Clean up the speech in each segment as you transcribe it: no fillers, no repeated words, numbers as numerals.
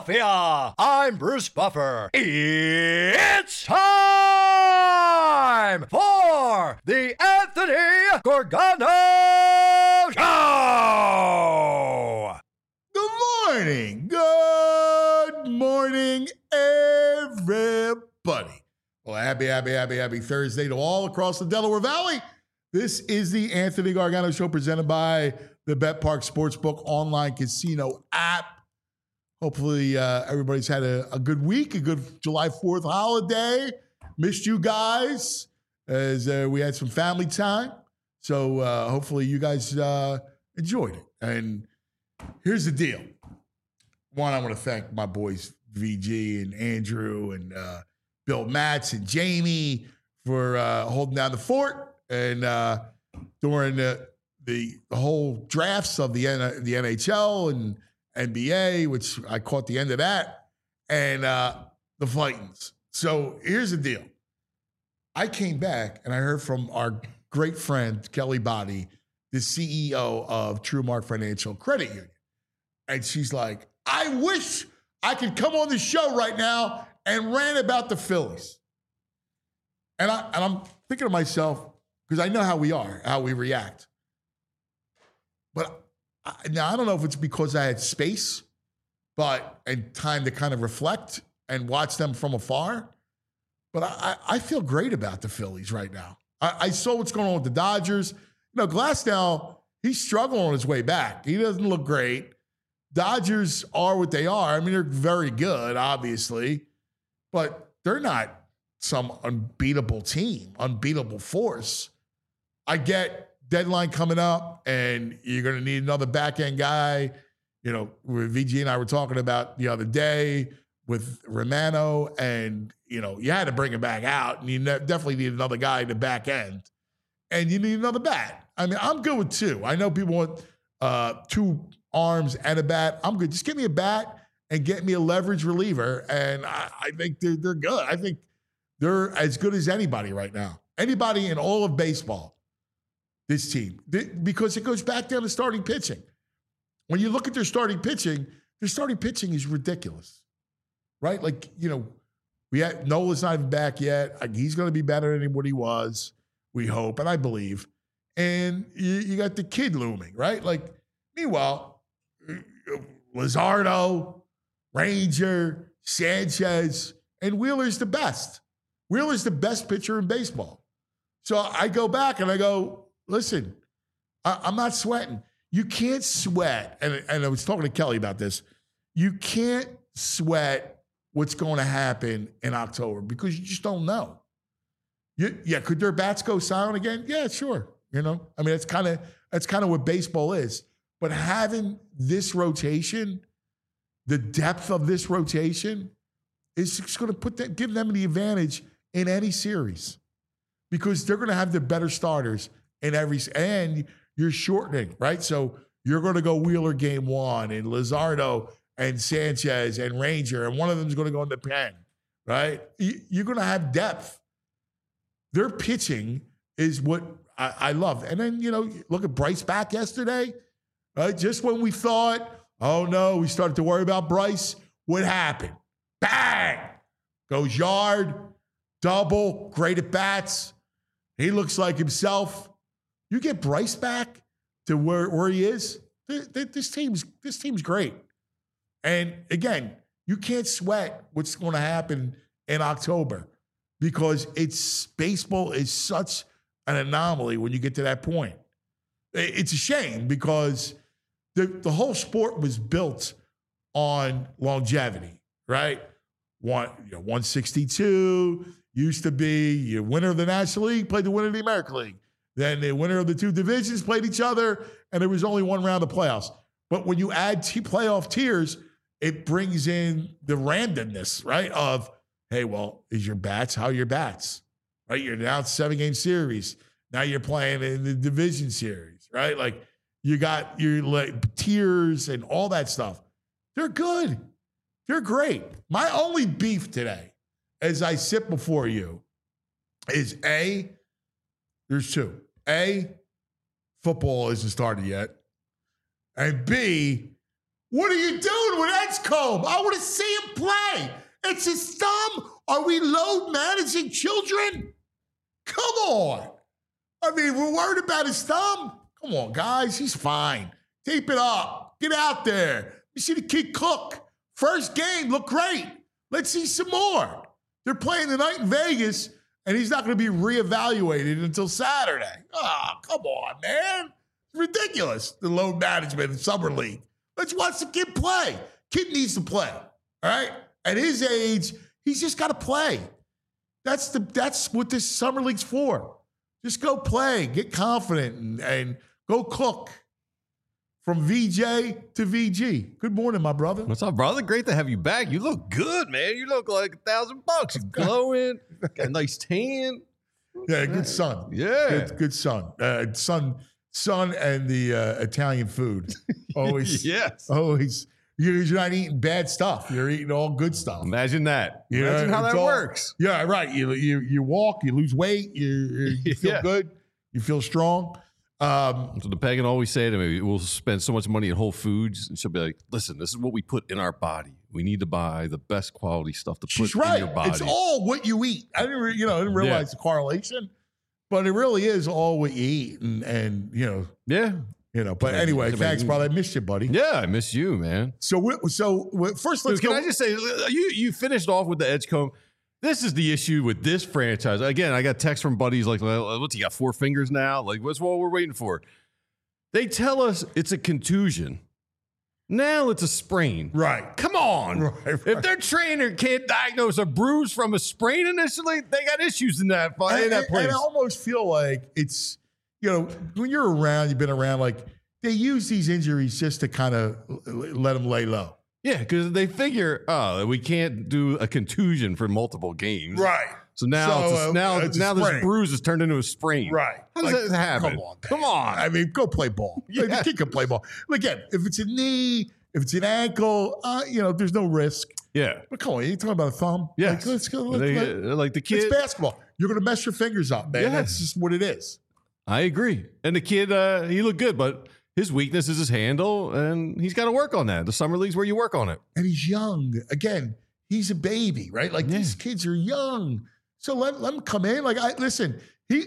Philadelphia. I'm Bruce Buffer. It's time for the Anthony Gargano Show. Good morning. Good morning, everybody. Well, happy Thursday to all across the Delaware Valley. This is the Anthony Gargano Show presented by the BetPark Sportsbook online casino app. Hopefully everybody's had a good week, a good July 4th holiday. Missed you guys as we had some family time. So hopefully you guys enjoyed it. And here's the deal. One, I want to thank my boys VG and Andrew and Bill Matz and Jamie for holding down the fort and during the whole drafts of the NHL and NBA, which I caught the end of that, and the Fightins. So here's the deal. I came back and I heard from our great friend, Kelly Body, the CEO of TrueMark Financial Credit Union. And she's like, I wish I could come on the show right now and rant about the Phillies. And I'm thinking to myself, because I know how we are, how we react. But now I don't know if it's because I had space, and time to kind of reflect and watch them from afar. But I feel great about the Phillies right now. I saw what's going on with the Dodgers. You know, Glasnow, he's struggling on his way back. He doesn't look great. Dodgers are what they are. I mean, they're very good, obviously, but they're not some unbeatable team, unbeatable force. I get deadline coming up, and you're going to need another back-end guy. You know, VG and I were talking about the other day with Romano, and, you know, you had to bring him back out, and you definitely need another guy in the back end, and you need another bat. I mean, I'm good with two. I know people want two arms and a bat. I'm good. Just give me a bat and get me a leverage reliever, and I think they're good. I think they're as good as anybody right now. Anybody in all of baseball, this team, because it goes back down to starting pitching. When you look at their starting pitching is ridiculous, right? Like, you know, Nola's not even back yet. He's going to be better than what he was, we hope, and I believe. And you got the kid looming, right? Like, meanwhile, Luzardo, Ranger, Sanchez, and Wheeler's the best. Wheeler's the best pitcher in baseball. So I go back and I go, listen, I'm not sweating. You can't sweat, and I was talking to Kelly about this, you can't sweat what's going to happen in October because you just don't know. Could their bats go silent again? Yeah, sure. You know, I mean, that's kind of what baseball is. But having this rotation, the depth of this rotation, is just going to give them the advantage in any series because they're going to have the better starters in and you're shortening, right? So you're going to go Wheeler game one and Luzardo and Sanchez and Ranger, and one of them is going to go in the pen, right? You're going to have depth. Their pitching is what I love. And then, you know, look at Bryce back yesterday. Right? Just when we thought, oh no, we started to worry about Bryce, what happened? Bang! Goes yard, double, great at bats. He looks like himself. You get Bryce back to where he is, this team's great. And again, you can't sweat what's going to happen in October because baseball is such an anomaly when you get to that point. It's a shame because the whole sport was built on longevity, right? 162 used to be your winner of the National League played the winner of the American League. Then the winner of the two divisions played each other, and there was only one round of playoffs. But when you add playoff tiers, it brings in the randomness, right? Of, hey, well, how are your bats? Right? You're now 7-game series. Now you're playing in the division series, right? Like, you got your tiers and all that stuff. They're good. They're great. My only beef today, as I sit before you, is there's two. Football isn't started yet. And B, What are you doing with Edgecombe? I want to see him play. It's his thumb. Are we load managing children? Come on. I mean, we're worried about his thumb. Come on, guys. He's fine. Tape it up. Get out there. You see the kid cook. First game, look great. Let's see some more. They're playing tonight in Vegas, and he's not going to be reevaluated until Saturday. Oh, come on, man. It's ridiculous, the load management in Summer League. Let's watch the kid play. Kid needs to play, all right? At his age, he's just got to play. That's what this Summer League's for. Just go play, get confident, and go cook. From VJ to VG. Good morning, my brother. What's up, brother? Great to have you back. You look good, man. You look like $1,000. You're glowing. Got a nice tan. Yeah, good son. Yeah. Good son. Son and the Italian food. Always. Yes. Always. You're not eating bad stuff. You're eating all good stuff. Imagine that. You Imagine know, how that works. Yeah, right. You walk, you lose weight, you feel good, you feel strong. So the pagan always say to me, we'll spend so much money at Whole Foods, and she'll be like, listen, this is what we put in our body. We need to buy the best quality stuff to put in your body. It's all what you eat. I didn't realize the correlation, but it really is all what you eat. And but anyway, thanks, brother. I missed you, buddy. Yeah, I miss you, man. So first, let's Dude, go. Can I just say, you finished off with the Edgecombe. This is the issue with this franchise. Again, I got texts from buddies like, what's he got, 4 fingers now? Like, what's what we're waiting for? They tell us it's a contusion. Now it's a sprain. Right. Come on. Right. If their trainer can't diagnose a bruise from a sprain initially, they got issues in that place. And I almost feel like it's, when you're around, you've been around, like they use these injuries just to kind of let them lay low. Yeah, because they figure, we can't do a contusion for multiple games. Right. So now, now this bruise is turned into a sprain. Right. How does that happen? Come on. I mean, go play ball. Yeah. The kid can play ball. Again, if it's a knee, if it's an ankle, there's no risk. Yeah. But come on, you're talking about a thumb? Yes. Like, let's go. Like the kid. It's basketball. You're going to mess your fingers up, man. Yeah. That's just what it is. I agree. And the kid, he looked good, but his weakness is his handle, and he's got to work on that. The Summer League's where you work on it. And he's young. Again, he's a baby, right? Like these kids are young. So let him come in. Like, listen,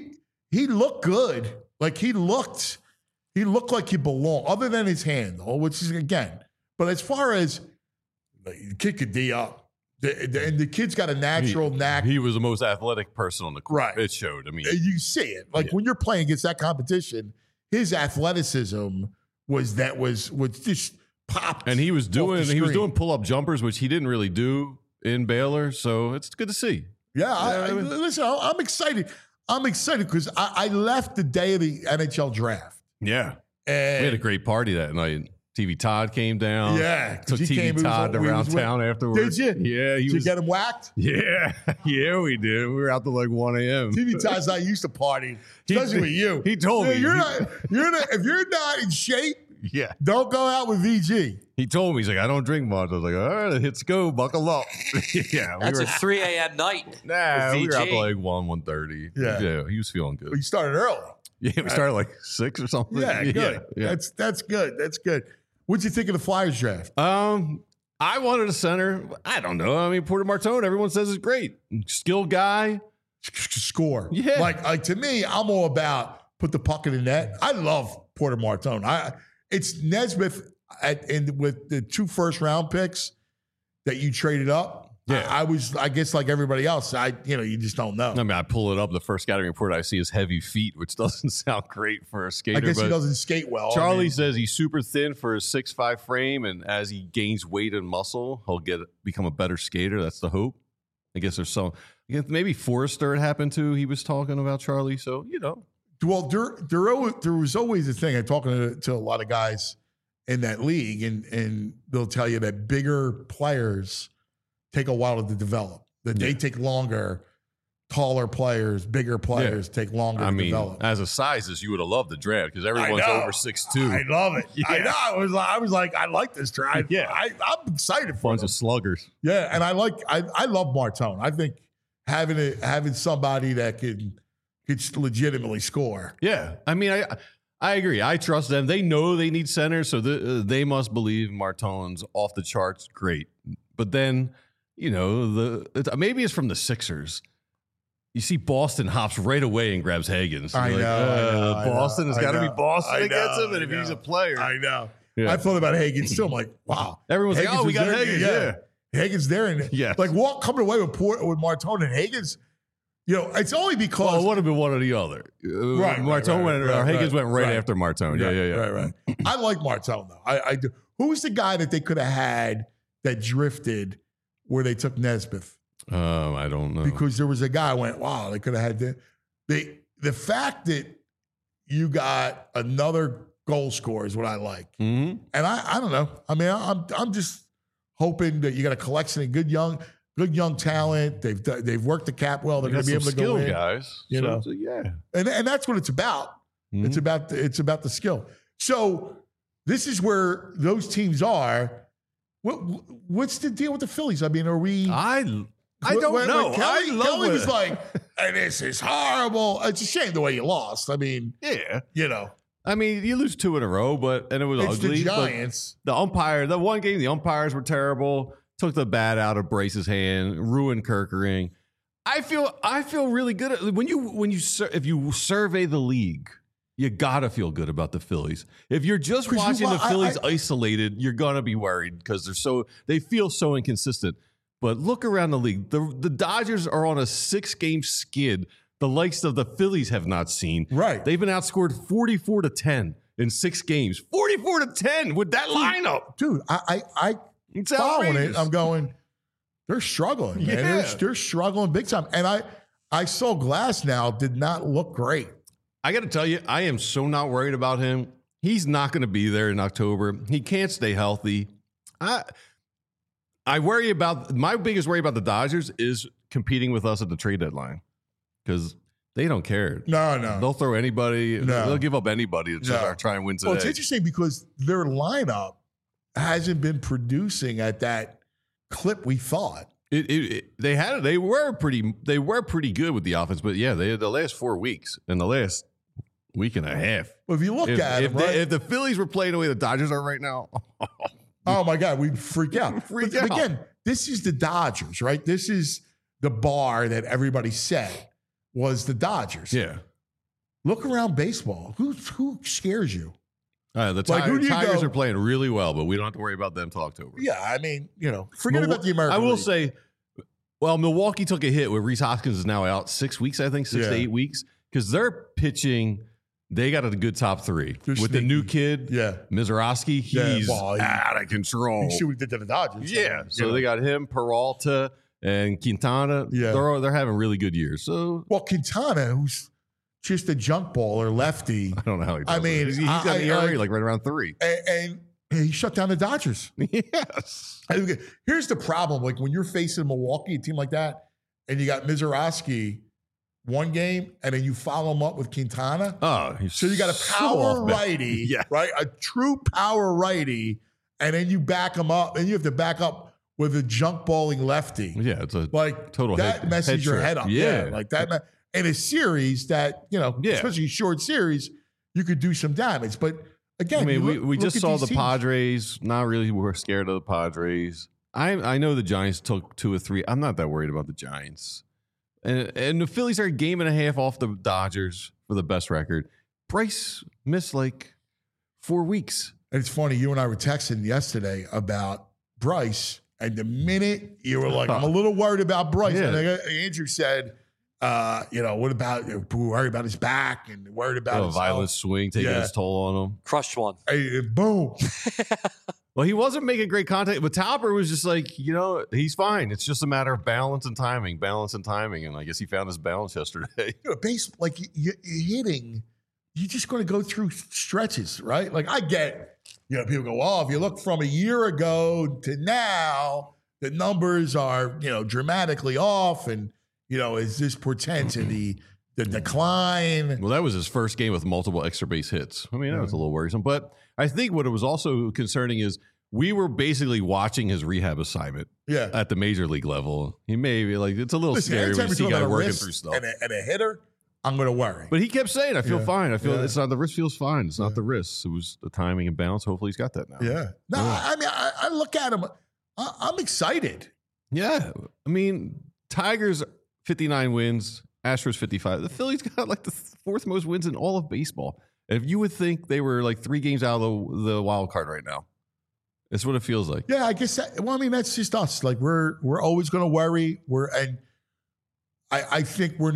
he looked good. Like he looked like he belonged, other than his hand, which is, again. But as far as the kid could D up, and the kid's got a natural knack. He was the most athletic person on the court. Right. It showed. I mean, you see it. Like when you're playing against that competition, his athleticism was just popped. And he was doing pull-up jumpers, which he didn't really do in Baylor. So it's good to see. Yeah, listen, I'm excited. I'm excited because I left the day of the NHL draft. Yeah. And we had a great party that night. TV Todd came down. Yeah. Took TV Todd around town afterwards. Did you? Yeah. Did you get him whacked? Yeah. Yeah, we did. We were out till like 1 a.m. TV Todd's not used to partying, especially with you. He told me. If you're not in shape, yeah, don't go out with VG. He told me, he's like, I don't drink much. I was like, all right, let's go, buckle up. Yeah, that's a 3 a.m. night. Nah, we were out till like 1:30. Yeah, he was feeling good. But you started early. Yeah, we started like 6 or something. Yeah, good. Yeah. That's good. That's good. What'd you think of the Flyers draft? I wanted a center. I don't know. I mean, Porter Martone, everyone says is great. Skilled guy. Score. Yeah. Like to me, I'm all about put the puck in the net. I love Porter Martone. It's Nesmith with the 2 first-round picks that you traded up. Yeah. I guess like everybody else, you just don't know. I mean, I pull it up. The first scouting report I see is heavy feet, which doesn't sound great for a skater. I guess he doesn't skate well. Charlie says he's super thin for his 6'5" frame, and as he gains weight and muscle, he'll become a better skater. That's the hope. I guess there's maybe Forrester it happened to. He was talking about Charlie, so Well, there was always a thing. I'm talking to a lot of guys in that league, and they'll tell you that bigger players take a while to develop. That they take longer. Taller players, bigger players take longer to develop. As a sizes, you would have loved the draft because everyone's over 6'2". I love it. Yeah. I know. I was like, I like this draft. Yeah, I'm excited for bunch of sluggers. Yeah, and I love Martone. I think having somebody that could legitimately score. Yeah, I mean, I agree. I trust them. They know they need center, so they must believe Martone's off the charts. Great. But then, maybe it's from the Sixers. You see Boston hops right away and grabs Higgins. I know. Boston has got to be Boston that gets him, and if he's a player. I know. Yeah. I thought about Higgins too. I'm like, wow. Everyone's Higgins like, we got there. Higgins. Yeah. Higgins there. And like, what coming away with Martone and Higgins? It's only because. Well, it would have been one or the other. Higgins went right after Martone. Right. I like Martone, though. I do. Who's the guy that they could have had that drifted where they took Nesmith? I don't know. Because there was a guy who went, wow, they could have had the fact that you got another goal scorer is what I like. Mm-hmm. And I don't know. I mean, I'm just hoping that you got a collection of good young talent. They've worked the cap well. They're going to be able to go in, guys. And that's what it's about. Mm-hmm. It's about the skill. So this is where those teams are. What's the deal with the Phillies? I mean, are we? I don't know. Kelly was like, and this is horrible. It's a shame the way you lost. I mean, I mean, you lose 2 in a row, and it was it's ugly. The Giants. The one game, the umpires were terrible. Took the bat out of Bryce's hand, ruined Kerkering. I feel really good if you survey the league, you gotta feel good about the Phillies. If you're just watching the Phillies isolated, you're gonna be worried because they feel so inconsistent. But look around the league. The Dodgers are on a 6-game skid the likes of the Phillies have not seen. Right. They've been outscored 44-10 in 6 games. 44-10 with that lineup. Dude, I it's following outrageous. it. I'm going, they're struggling, man. Yeah. They're struggling big time. And I saw Glass now did not look great. I got to tell you, I am so not worried about him. He's not going to be there in October. He can't stay healthy. My biggest worry about the Dodgers is competing with us at the trade deadline because they don't care. No. They'll throw anybody. No. They'll give up anybody to just try and win today. Well, it's interesting because their lineup hasn't been producing at that clip we thought. They were pretty good with the offense, but yeah, they had the last 4 weeks and the last week and a half. Well, if you look at it, right? If the Phillies were playing the way the Dodgers are right now, oh my God, we'd freak out. Freak But out. again, this is the Dodgers, right? This is the bar that everybody said was the Dodgers. yeah. Look around baseball. Who scares you? The who do you Tigers go- are playing really well, but we don't have to worry about them till October. Yeah, I mean, forget about the American I will League. say, well, Milwaukee took a hit where Rhys Hoskins is now out 6 weeks, I think, 6 to 8 weeks, because they're pitching. They got a good top 3 They're with the sneaky. new kid, Yeah. Mizorowski. He's well, out of control. You see what he did to the Dodgers. Yeah, so they got him, Peralta, and Quintana. Yeah. They're having really good years. So Well, Quintana, who's just a junk baller, lefty, I don't know how he does I mean, it. He's got the ERA like right around 3. and he shut down the Dodgers. Yes. Here's the problem. Like when you're facing Milwaukee, a team like that, and you got Mizorowski one game, and then you follow him up with Quintana. Oh, he's So you got a so power off balance. righty, Yeah. right? A true power righty, and then you back him up, and you have to back up with a junk balling lefty. Yeah, it's a Like total that head- messes head your trip. head up. Yeah. Like that. In a series that, especially a short series, you could do some damage. But again, I mean, you we look just at saw these the teams. Padres. Not really, we're scared of the Padres. I know the Giants took 2 or 3. I'm not that worried about the Giants. And the Phillies are a game and a half off the Dodgers for the best record. Bryce missed like 4 weeks. And it's funny, you and I were texting yesterday about Bryce, and the minute you were like, I'm a little worried about Bryce. Yeah. And Andrew said, what about, worried about his back and worried about his Violent swing taking its toll on him. Crushed one. Hey, boom. Well, he wasn't making great contact, but Tauber was just like, he's fine. It's just a matter of balance and timing. And I guess he found his balance yesterday. Base, like you're hitting, you're just going to go through stretches, right? Like I get, people go, oh, if you look from a year ago to now, the numbers are, dramatically off. And, is this portends in the decline? Well, that was his first game with multiple extra base hits. I mean, that was a little worrisome. But I think what it was also concerning is we were basically watching his rehab assignment at the major league level. He may be like, it's a little scary when you see guys working through stuff. And a hitter, I'm going to worry. But he kept saying, I feel fine. I feel it's not the wrist feels fine. It's not the wrist. It was the timing and balance. Hopefully he's got that now. Yeah. No, I mean, I look at him. I'm excited. Yeah. I mean, Tigers 59 wins, Astros 55. The Phillies got like the fourth most wins in all of baseball. And if you would think they were like 3 games out of the wild card right now. That's what it feels like. Yeah, I guess. That's just us. Like we're always going to worry. I think we're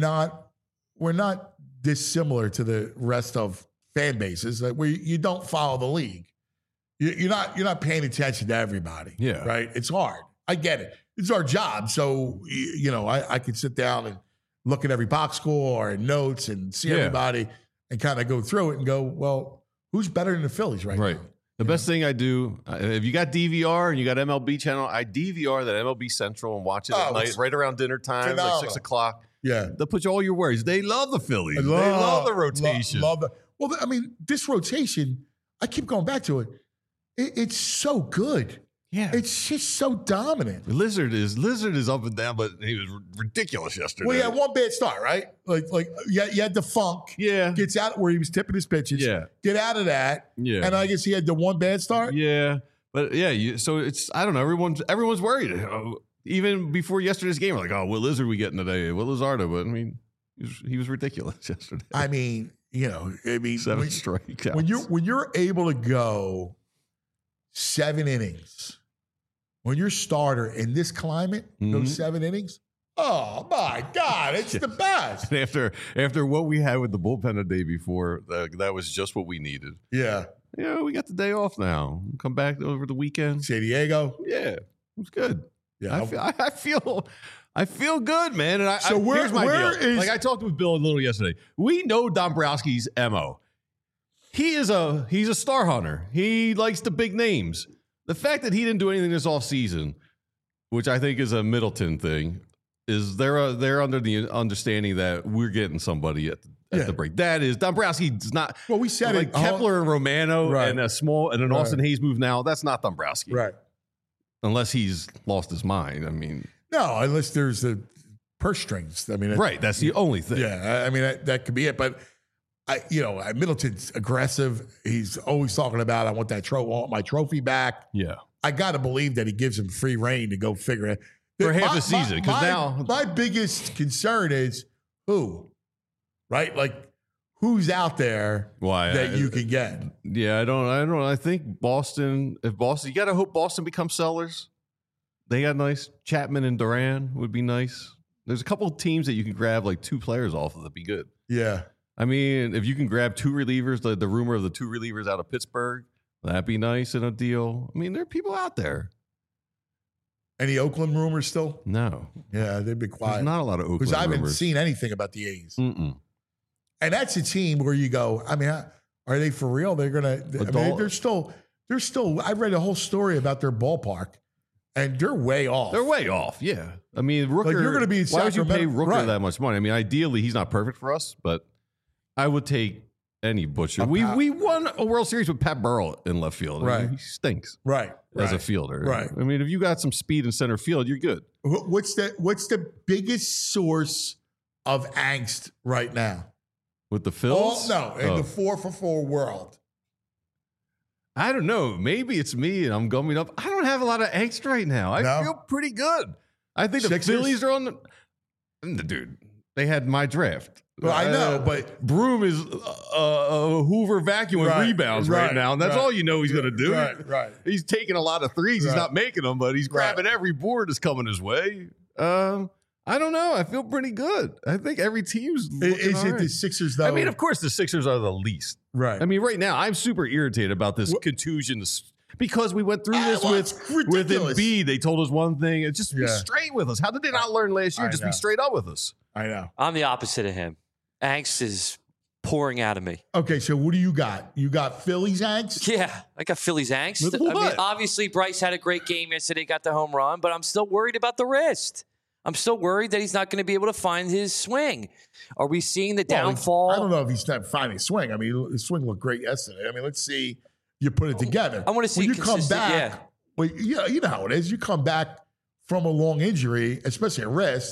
not dissimilar to the rest of fan bases. Like you don't follow the league. You're not paying attention to everybody. Yeah, right. It's hard. I get it. It's our job. So I could sit down and look at every box score and notes and see everybody and kind of go through it and go, well, who's better than the Phillies right now? The best thing I do, if you got DVR and you got MLB channel, I DVR that MLB Central and watch it at night, right around dinner time, like 6 o'clock. Yeah. They'll put you all your worries. They love the Phillies. They love the rotation. Love it. Well, I mean, this rotation, I keep going back to it. It's so good. Yeah. It's just so dominant. Lizard is up and down, but he was ridiculous yesterday. Well, he had one bad start, right? Like you had the funk. Yeah. Gets out where he was tipping his pitches. Yeah. Get out of that. Yeah. And I guess he had the one bad start. Yeah. But yeah, so it's, I don't know. Everyone's worried. Even before yesterday's game, we're like, oh, what Lizard we getting today? What Lizardo? But I mean, he was ridiculous yesterday. I mean, 7 strikeouts. When you're able to go 7 innings, when your starter in this climate goes 7 innings, oh my God, it's the best. After what we had with the bullpen the day before, that was just what we needed. Yeah. Yeah, we got the day off now. Come back over the weekend. San Diego. Yeah, it was good. Yeah, I feel good, man. And here's my deal. Like I talked with Bill a little yesterday. We know Dombrowski's MO. He's a star hunter. He likes the big names. The fact that he didn't do anything this offseason, which I think is a Middleton thing, is they're under the understanding that we're getting somebody at the break. That is Dombrowski's not. Well, we said like it. Kepler and Romano and an Austin Hayes move now. That's not Dombrowski, right? Unless he's lost his mind. I mean, no, unless there's the purse strings. I mean, right. That's the only thing. Yeah, I mean that could be it. But Middleton's aggressive. He's always talking about, I want my trophy back. Yeah, I got to believe that he gives him free reign to go figure it for half the season. Because now my biggest concern is who, right? Like who's out there that you can get. Yeah, I don't. I think Boston. If Boston, you got to hope Boston becomes sellers. They got nice. Chapman and Duran would be nice. There's a couple of teams that you can grab like 2 players off of that'd be good. Yeah. I mean, if you can grab 2 relievers, the rumor of the 2 relievers out of Pittsburgh, that'd be nice in a deal. I mean, there are people out there. Any Oakland rumors still? No. Yeah, they've been quiet. There's not a lot of Oakland rumors. Because I haven't seen anything about the A's. Mm-mm. And that's a team where you go, I mean, are they for real? They're going to, they're still, I read a whole story about their ballpark, and they're way off. They're way off, yeah. I mean, Rooker, like you're going to be in why would you pay Sacramento? Rooker that much money? I mean, ideally, he's not perfect for us, but I would take any butcher. We won a World Series with Pat Burrell in left field. Right. I mean, he stinks. Right. As a fielder. Right. I mean, if you got some speed in center field, you're good. What's the biggest source of angst right now? With the Phils? In the 4-for-4 world. I don't know. Maybe it's me and I'm gumming up. I don't have a lot of angst right now. I feel pretty good. I think the Phillies are on the dude. They had my draft. Well, I know, but Broom is a Hoover vacuum with rebounds right now, and that's all you know he's going to do. Right. He's taking a lot of threes. He's not making them, but he's grabbing every board that's coming his way. I don't know. I feel pretty good. I think every team's looking all right. The Sixers, though? I mean, of course, the Sixers are the least. Right. I mean, right now, I'm super irritated about this contusion because we went through this with Embiid. They told us one thing. It's just be straight with us. How did they not learn last year? Just be straight up with us. I know. I'm the opposite of him. Angst is pouring out of me. Okay, so what do you got? You got Phillies angst? Yeah, I got Phillies angst. I mean, obviously, Bryce had a great game yesterday, got the home run, but I'm still worried about the wrist. I'm still worried that he's not going to be able to find his swing. Are we seeing the downfall? I don't know if he's not finding his swing. I mean, his swing looked great yesterday. I mean, let's see you put it together. I want to see when you come back. Yeah. Well, you know how it is. You come back from a long injury, especially a wrist.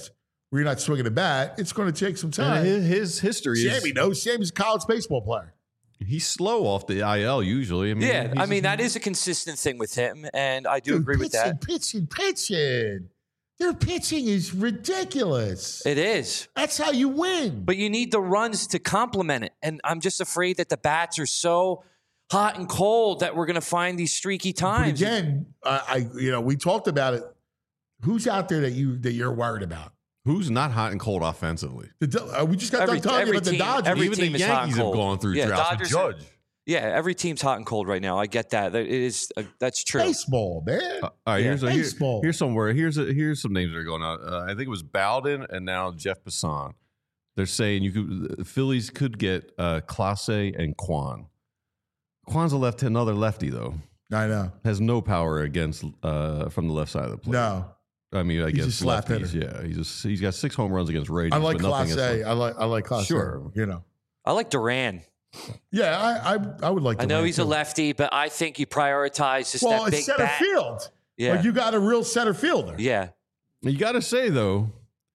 where you're not swinging a bat, it's going to take some time. And his history Sammy is knows. Sammy's a college baseball player. he's slow off the IL usually. I mean, that is a consistent thing with him, and I do agree with that. Pitching. Their pitching is ridiculous. It is. That's how you win. But you need the runs to complement it. And I'm just afraid that the bats are so hot and cold that we're going to find these streaky times. But again, we talked about it. Who's out there that you're worried about? Who's not hot and cold offensively? We just got done talking about the Dodgers. Even the Yankees have gone through droughts with Judge. Every team's hot and cold right now. I get that. That's true. Baseball, man. All right, here's baseball. Here's some names that are going out. I think it was Bowden and now Jeff Passan. They're saying the Phillies could get Clase and Kwan. Kwan's another lefty though. I know. Has no power against from the left side of the plate. No. I mean, I guess lefties. Hitter. Yeah, he's got 6 home runs against Rangers. I like Clase. I like Clase. Sure. I like Duran. Yeah, I would like to. I know he's a lefty, but I think you prioritize just that big center bat. field. Yeah. Like you got a real center fielder. Yeah. You got to say, though,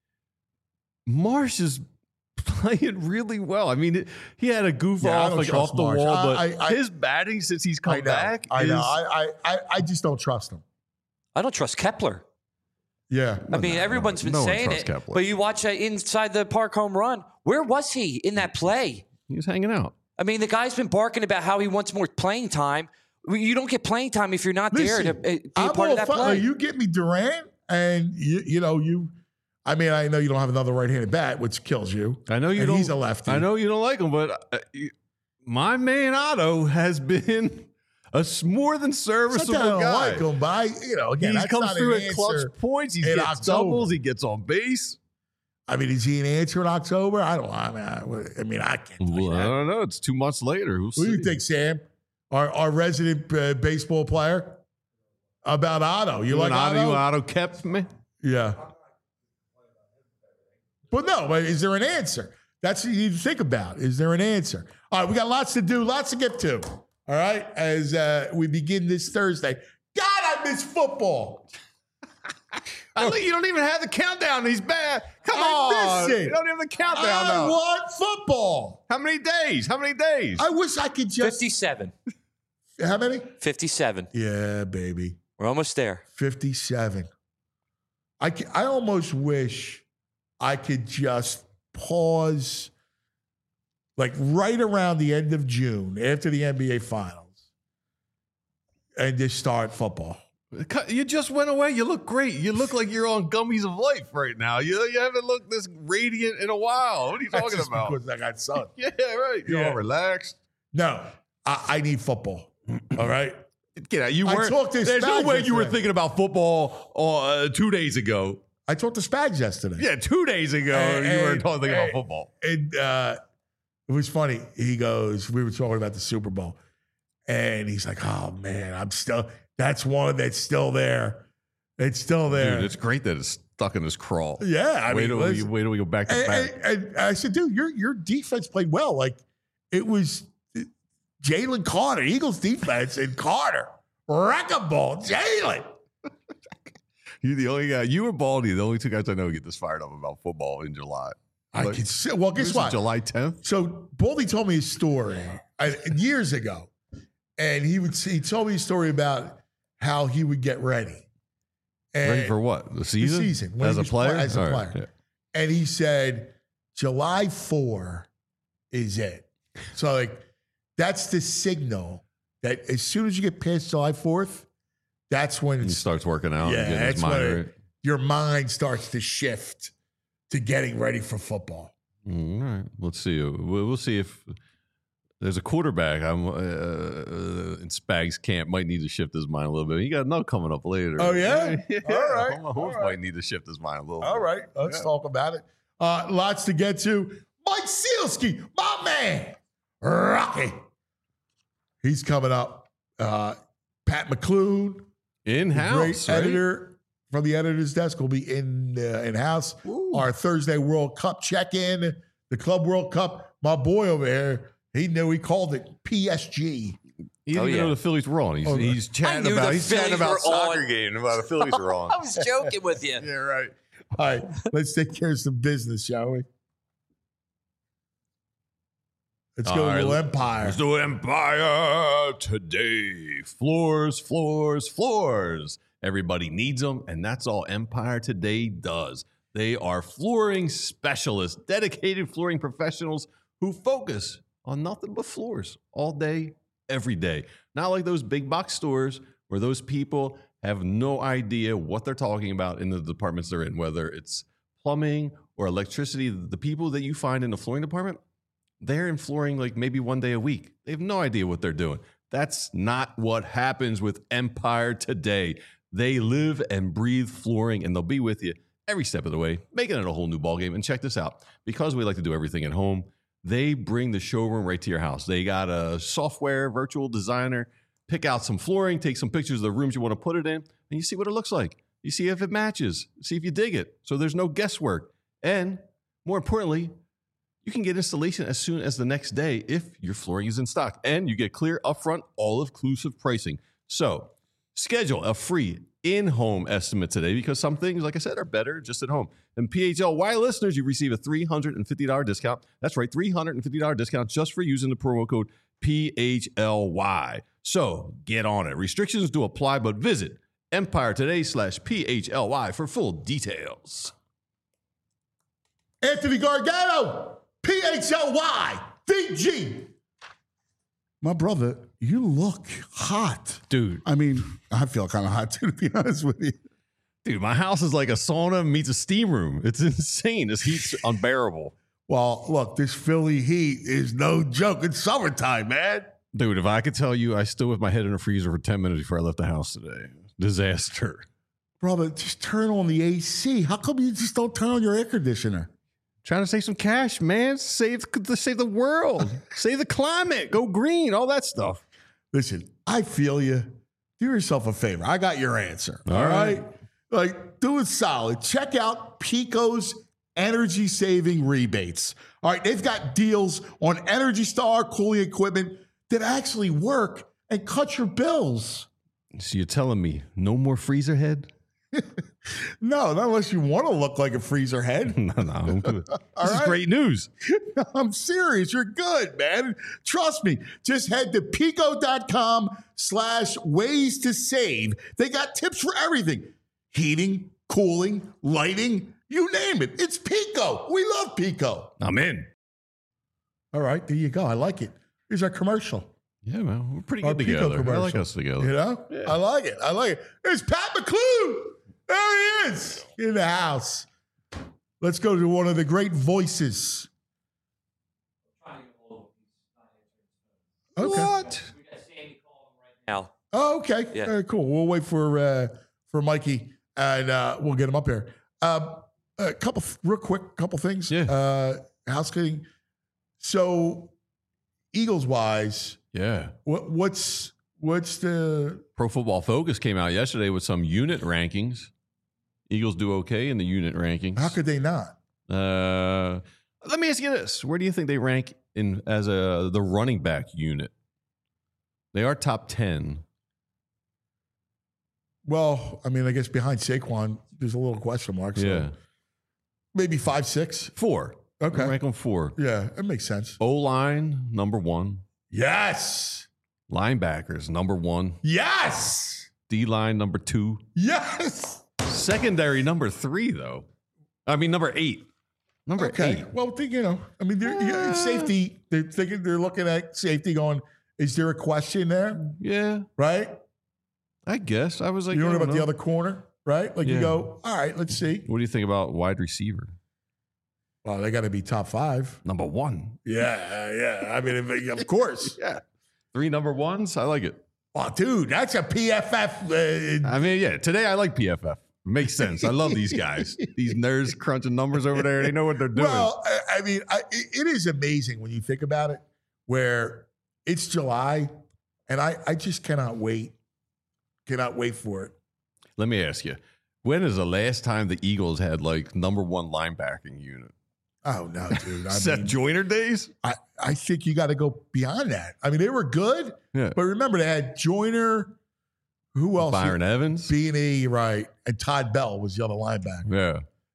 Marsh is playing really well. I mean, he had a goof off the Marsh. wall, but his batting since he's come back. I know. I just don't trust him. I don't trust Kepler. Yeah. I mean, everyone's been saying it, Kepler. but you watch that inside the park home run. Where was he in that play? He was hanging out. I mean, the guy's been barking about how he wants more playing time. You don't get playing time if you're not there to be a part of that play. You get me Durant, and I mean, I know you don't have another right-handed bat, which kills you. I know you don't. He's a lefty. I know you don't like him, but my man Otto has been a more than serviceable I don't guy. like him, but again, he comes through at clutch points. He gets doubles. He gets on base. I mean, is he an answer in October? I can't. Well, I don't know. It's 2 months later. What do you think, Sam? Our resident baseball player about Otto. You like Otto? Otto kept me. Yeah. But is there an answer? That's what you need to think about. Is there an answer? All right, we got lots to do, lots to get to. All right, as we begin this Thursday. God, I miss football. You don't even have the countdown. He's bad. Come on. Miss it. You don't have the countdown. I want football. How many days? I wish I could just. 57. How many? 57. Yeah, baby. We're almost there. 57. I almost wish I could just pause like right around the end of June after the NBA Finals and just start football. You just went away. You look great. You look like you're on gummies of life right now. You haven't looked this radiant in a while. What are you talking about? Because I got sun. Yeah, right. You're all relaxed. No, I need football. All right. Get out. You weren't. There's no way you were thinking about football 2 days ago. I talked to Spags yesterday. Yeah, 2 days ago you weren't thinking about football. And it was funny. He goes, we were talking about the Super Bowl, and he's like, "Oh man, that's one that's still there. It's still there. Dude, it's great that it's stuck in his crawl. Yeah, wait till we go back to back. And I said, dude, your defense played well. Like it was Jalen Carter, Eagles defense, and Carter. Wrecking ball, Jalen. You're the only guy. You and Baldy, the only 2 guys I know who get this fired up about football in July. Well, guess what? July 10th. So Baldy told me his story years ago, and he told me a story about how he would get ready. Ready for what? The season? The season. As a player? As a player. Yeah. And he said, July 4 is it. So, like, that's the signal that as soon as you get past July 4th, that's when he starts working out. Yeah, that's when your mind starts to shift to getting ready for football. All right. Let's see. We'll see if there's a quarterback in Spags' camp might need to shift his mind a little bit. He got another coming up later. Oh, yeah? Yeah. All right. Mahomes might need to shift his mind a little bit. All right. Let's talk about it. Lots to get to. Mike Sealski, my man. Rocky. He's coming up. Pat McClune. In-house, great editor from the editor's desk will be in-house. Our Thursday World Cup check-in, the Club World Cup. My boy over here, he called it PSG. He didn't even know the Phillies were on. He's chatting about soccer game about the Phillies were on. I was joking with you. Yeah, right. All right, let's take care of some business, shall we? Let's go to Empire. Let's do Empire Today. Floors, floors, floors. Everybody needs them, and that's all Empire Today does. They are flooring specialists, dedicated flooring professionals who focus on nothing but floors all day, every day. Not like those big box stores where those people have no idea what they're talking about in the departments they're in, whether it's plumbing or electricity. The people that you find in the flooring department, they're in flooring like maybe one day a week. They have no idea what they're doing. That's not what happens with Empire Today. They live and breathe flooring, and they'll be with you every step of the way, making it a whole new ballgame. And check this out. Because we like to do everything at home, they bring the showroom right to your house. They got a software virtual designer, pick out some flooring, take some pictures of the rooms you want to put it in, and you see what it looks like. You see if it matches, see if you dig it. So there's no guesswork. And more importantly, you can get installation as soon as the next day if your flooring is in stock. And you get clear, upfront, all-inclusive pricing. So schedule a free in-home estimate today because some things, like I said, are better just at home. And PHLY listeners, you receive a $350 discount. That's right, $350 discount just for using the promo code PHLY. So get on it. Restrictions do apply, but visit EmpireToday.com/PHLY for full details. Anthony Gargano, PHLY, VG. My brother, you look hot. Dude. I mean, I feel kind of hot too, to be honest with you. Dude, my house is like a sauna meets a steam room. It's insane. This heat's unbearable. Well, look, this Philly heat is no joke. It's summertime, man. Dude, if I could tell you, I stood with my head in the freezer for 10 minutes before I left the house today. Disaster. Brother, just turn on the AC. How come you just don't turn on your air conditioner? Trying to save some cash, man. Save the world. Save the climate. Go green. All that stuff. Listen, I feel you. Do yourself a favor. I got your answer. All right? Like, do it solid. Check out Pico's energy saving rebates. All right, they've got deals on Energy Star cooling equipment that actually work and cut your bills. So you're telling me no more freezer head? No, not unless you want to look like a freezer head. No. This is great news. I'm serious. You're good, man. Trust me. Just head to pico.com/ways to save. They got tips for everything. Heating, cooling, lighting, you name it. It's Pico. We love Pico. I'm in. All right, there you go. I like it. Here's our commercial. Yeah, man. We're pretty Our good Pico together. commercial. I like us together. You know? Yeah. I like it. There's Pat McClue. There he is in the house. Let's go to one of the great voices. Okay. What? Now. Oh, okay. Yeah. Very cool. We'll wait for Mikey and we'll get him up here. A couple things. Yeah. Housekeeping. So, Eagles wise, Yeah. what's the Pro Football Focus came out yesterday with some unit rankings. Eagles do okay in the unit rankings. how could they not? Let me ask you this: where do you think they rank in as the running back unit? They are top 10. Well, I mean, I guess behind Saquon, there's a little question mark. So Yeah, maybe 5, 6. 4. Okay. I rank them 4. Yeah, that makes sense. O-line number 1. Yes. Linebackers number 1. Yes. D-line number 2. Yes. Secondary number 3 though. I mean number 8. Number 8. Well, I mean, safety. They're looking at safety, going, is there a question there? Yeah, Right. I guess I was like, You don't I know don't about the other corner, right? Like you Yeah. go, all right, let's see. What do you think about wide receiver? Well, they got to be top 5. Number 1. Yeah. I mean, of course. Yeah. 3 number 1s. I like it. Oh, dude, that's a PFF. I mean, yeah, today I like PFF. Makes sense. I love these guys. These nerds crunching numbers over there. They know what they're doing. Well, I mean, it is amazing when you think about it, where it's July, and I just cannot wait. Cannot wait for it. Let me ask you, when is the last time the Eagles had like number 1 linebacking unit? Oh, no, dude. Seth Joyner days? I think you got to go beyond that. I mean, they were good, Yeah. but remember, they had Joyner. Who else? Byron Evans? B&E, right. And Todd Bell was the other linebacker. Yeah.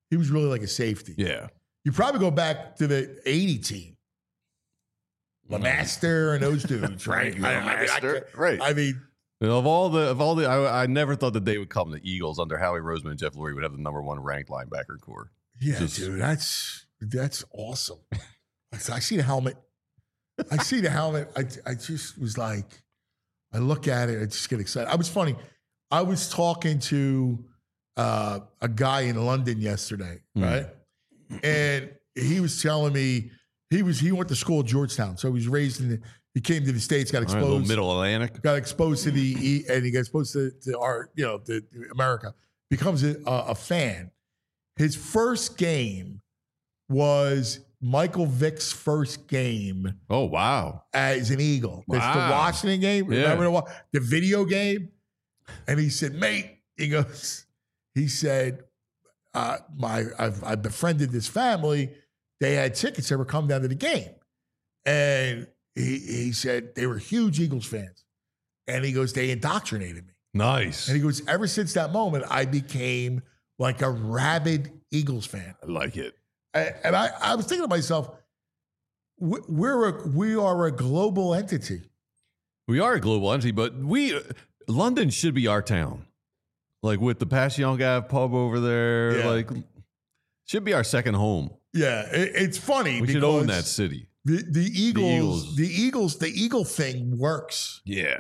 he was really like a safety. Yeah. You probably go back to the 80 team. LeMaster and those dudes, right? I mean, of all the, I never thought the day would come the Eagles under Howie Roseman and Jeff Lurie would have the number 1 ranked linebacker core. Yeah, dude, that's awesome. I see the helmet. I just was like, I look at it, I just get excited. I was funny. I was talking to a guy in London yesterday, right? And he was telling me he went to school at Georgetown, so he was raised he came to the States, got exposed, Middle Atlantic, got exposed to and he got exposed to our, to America. Becomes a fan. His first game was Michael Vick's first game. Oh, wow. As an Eagle. Wow. It's the Washington game. Yeah. Remember the video game? And he said, mate, he said, I've befriended this family. They had tickets. They were coming down to the game. And he said they were huge Eagles fans. And he goes, they indoctrinated me. Nice. And he goes, ever since that moment, I became like a rabid Eagles fan. I like it. And I was thinking to myself, we are a global entity. We are a global entity, but London should be our town. Like with the Passyunk Ave pub over there, like should be our second home. Yeah, it's funny. We should own that city. The Eagle thing works. Yeah,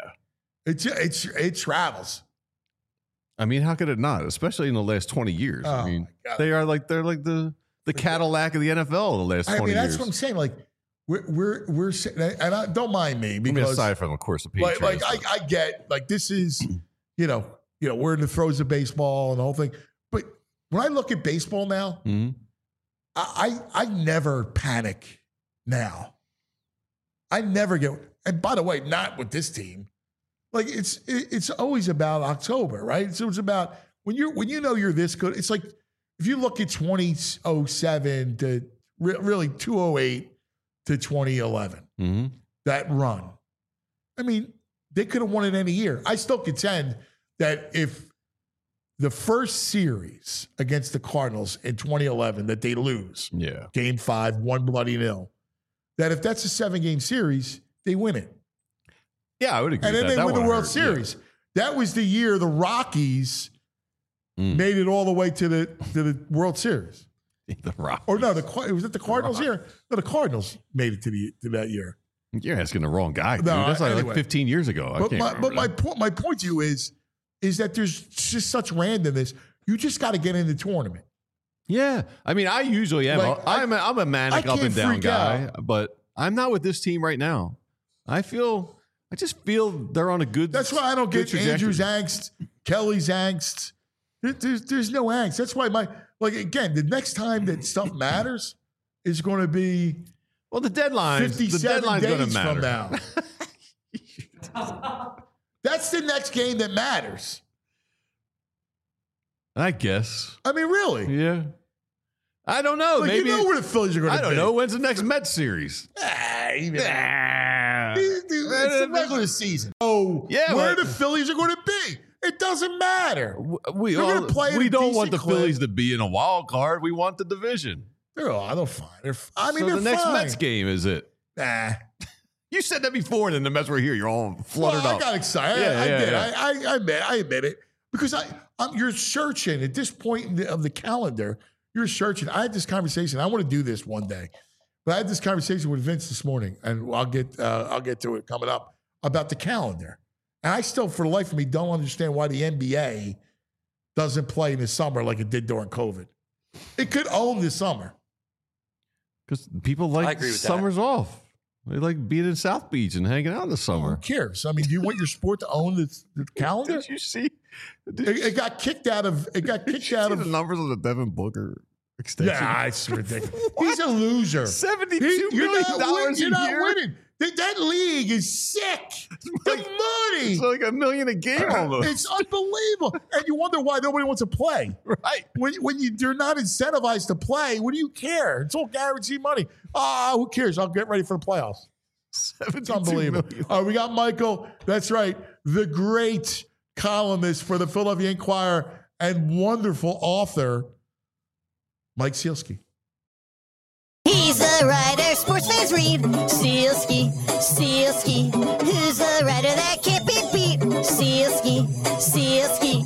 it travels. I mean, how could it not? Especially in the last 20 years. Oh, I mean, they're like the Cadillac of the NFL in the last 20 years. That's what I'm saying. Like we're and don't mind me because aside from, of course, the Patriots. Like I get like this is we're in the throes of baseball and the whole thing. But when I look at baseball now, I never panic now. I never get. And by the way, not with this team. Like it's always about October, right? So it's about when you know you're this good. It's like if you look at 2007 to really 2008 to 2011, that run. I mean, they could have won it any year. I still contend that if the first series against the Cardinals in 2011 that they lose, Game 5, 1 bloody nil, that if that's a 7-game series, they win it. Yeah, I would agree. And then they win the World Series. Yeah. That was the year the Rockies made it all the way to the World Series. The Rockies. Or no, was it the Cardinals year? No, the Cardinals made it to that year. You're asking the wrong guy, dude. No, That's like 15 years ago. My point to you is that there's just such randomness. You just got to get in the tournament. Yeah, I mean, I usually am. Like, I'm a manic up and down guy, but I'm not with this team right now. I just feel they're on a good. That's why I don't get Andrew's angst, Kelly's angst. There's no angst. That's why again, the next time that stuff matters is going to be the deadline. 57 days from now. That's the next game that matters. I guess. I mean, really? Yeah. I don't know. Maybe you know where the Phillies are going to be. I don't know. When's the next Mets series? It's the regular season. Oh, yeah, where the Phillies are going to be. It doesn't matter. We don't want the Phillies to be in a wild card. We want the division. They're fine. They're the next Mets game is it? Nah. You said that before, and then the Mets were here. You're all fluttered up. I got excited. I admit it. Because you're searching at this point of the calendar. You're searching. I had this conversation. I want to do this one day. But I had this conversation with Vince this morning, and I'll get to it coming up, about the calendar. And I still, for the life of me, don't understand why the NBA doesn't play in the summer like it did during COVID. It could own the summer. Because people like summers off. They like being in South Beach and hanging out in the summer. Who cares? I mean, do you want your sport to own the calendar? Did you see? It got kicked out of. It got kicked out of the numbers of the Devin Booker extension. Yeah, it's ridiculous. He's a loser. $72 million a You're not year. winning. That league is sick. The money. It's like $1 million a game almost. It's unbelievable. And you wonder why nobody wants to play. Right. When you're not incentivized to play, what do you care? It's all guaranteed money. Who cares? I'll get ready for the playoffs. It's unbelievable. We got Michael. That's right. The great columnist for the Philadelphia Inquirer and wonderful author Mike Sealski. He's a writer, sports fans read. Sealski, Sealski. Who's a writer that can't be beat? Sealski, Sealski.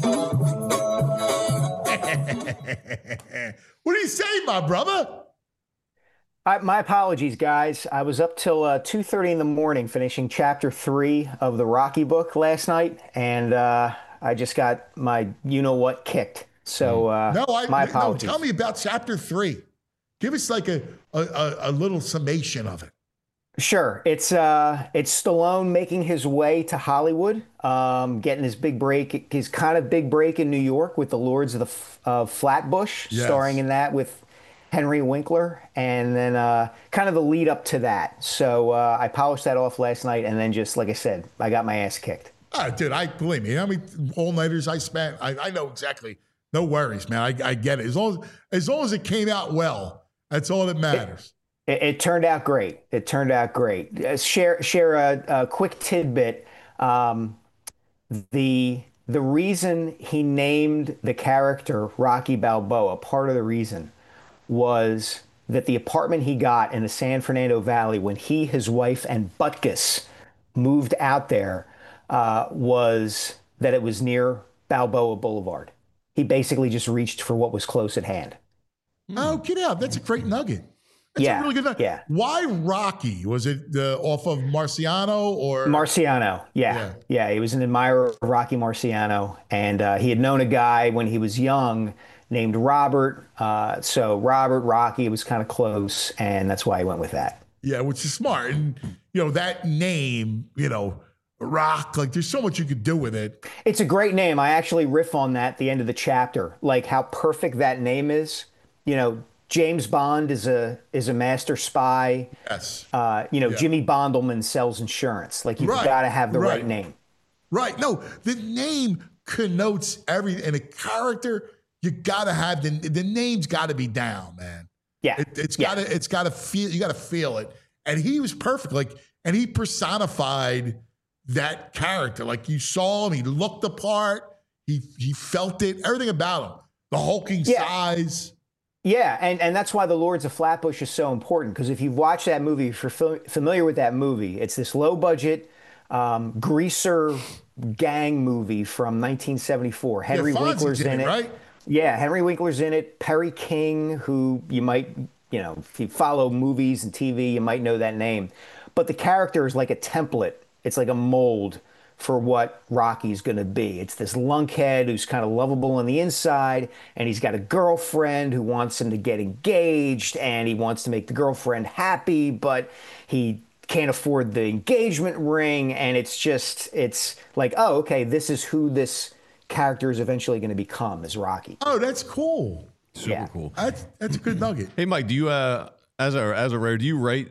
What do you say, my brother? My apologies, guys. I was up till 2:30 in the morning finishing chapter 3 of the Rocky book last night, and I just got my you-know-what kicked. So my apologies. No, tell me about chapter 3. Give us like a little summation of it. Sure. It's Stallone making his way to Hollywood, getting his big break, his kind of big break in New York with the Lords of Flatbush, yes. starring in that with Henry Winkler, and then kind of the lead up to that. So I polished that off last night, and then just like I said, I got my ass kicked. Dude, believe me. How many all-nighters I spent? I know exactly. No worries, man. I get it. As long as it came out well. That's all that matters. It turned out great. It turned out great. Share a quick tidbit. The reason he named the character Rocky Balboa, part of the reason was that the apartment he got in the San Fernando Valley when he, his wife, and Butkus moved out there was that it was near Balboa Boulevard. He basically just reached for what was close at hand. Oh, get out. That's a great nugget. That's a really good nugget. Yeah. Why Rocky? Was it off of Marciano or? Marciano, yeah. He was an admirer of Rocky Marciano, and he had known a guy when he was young named Robert. So Robert, Rocky, it was kind of close, and that's why he went with that. Yeah, which is smart. And, that name, Rock, like there's so much you could do with it. It's a great name. I actually riff on that at the end of the chapter, like how perfect that name is. James Bond is a master spy. Yes. Jimmy Bondelman sells insurance. Like you've got to have the right name. Right. No, the name connotes everything. And a character, you got to have the name's got to be down, man. Yeah. It's got to feel. You got to feel it. And he was perfect. And he personified that character. Like you saw him, he looked the part. He felt it. Everything about him. The hulking size. Yeah, and that's why the Lords of Flatbush is so important, because if you've watched that movie, if you're familiar with that movie, it's this low-budget greaser gang movie from 1974. Henry Winkler's in it. Right? Yeah, Henry Winkler's in it. Perry King, who you might, if you follow movies and TV, you might know that name. But the character is like a template. It's like a mold for what Rocky's going to be. It's this lunkhead who's kind of lovable on the inside, and he's got a girlfriend who wants him to get engaged, and he wants to make the girlfriend happy, but he can't afford the engagement ring, and it's like, oh, okay, this is who this character is eventually going to become, is Rocky. Oh, that's cool. Super cool. That's a good nugget. Hey, Mike, do you as a writer, do you write?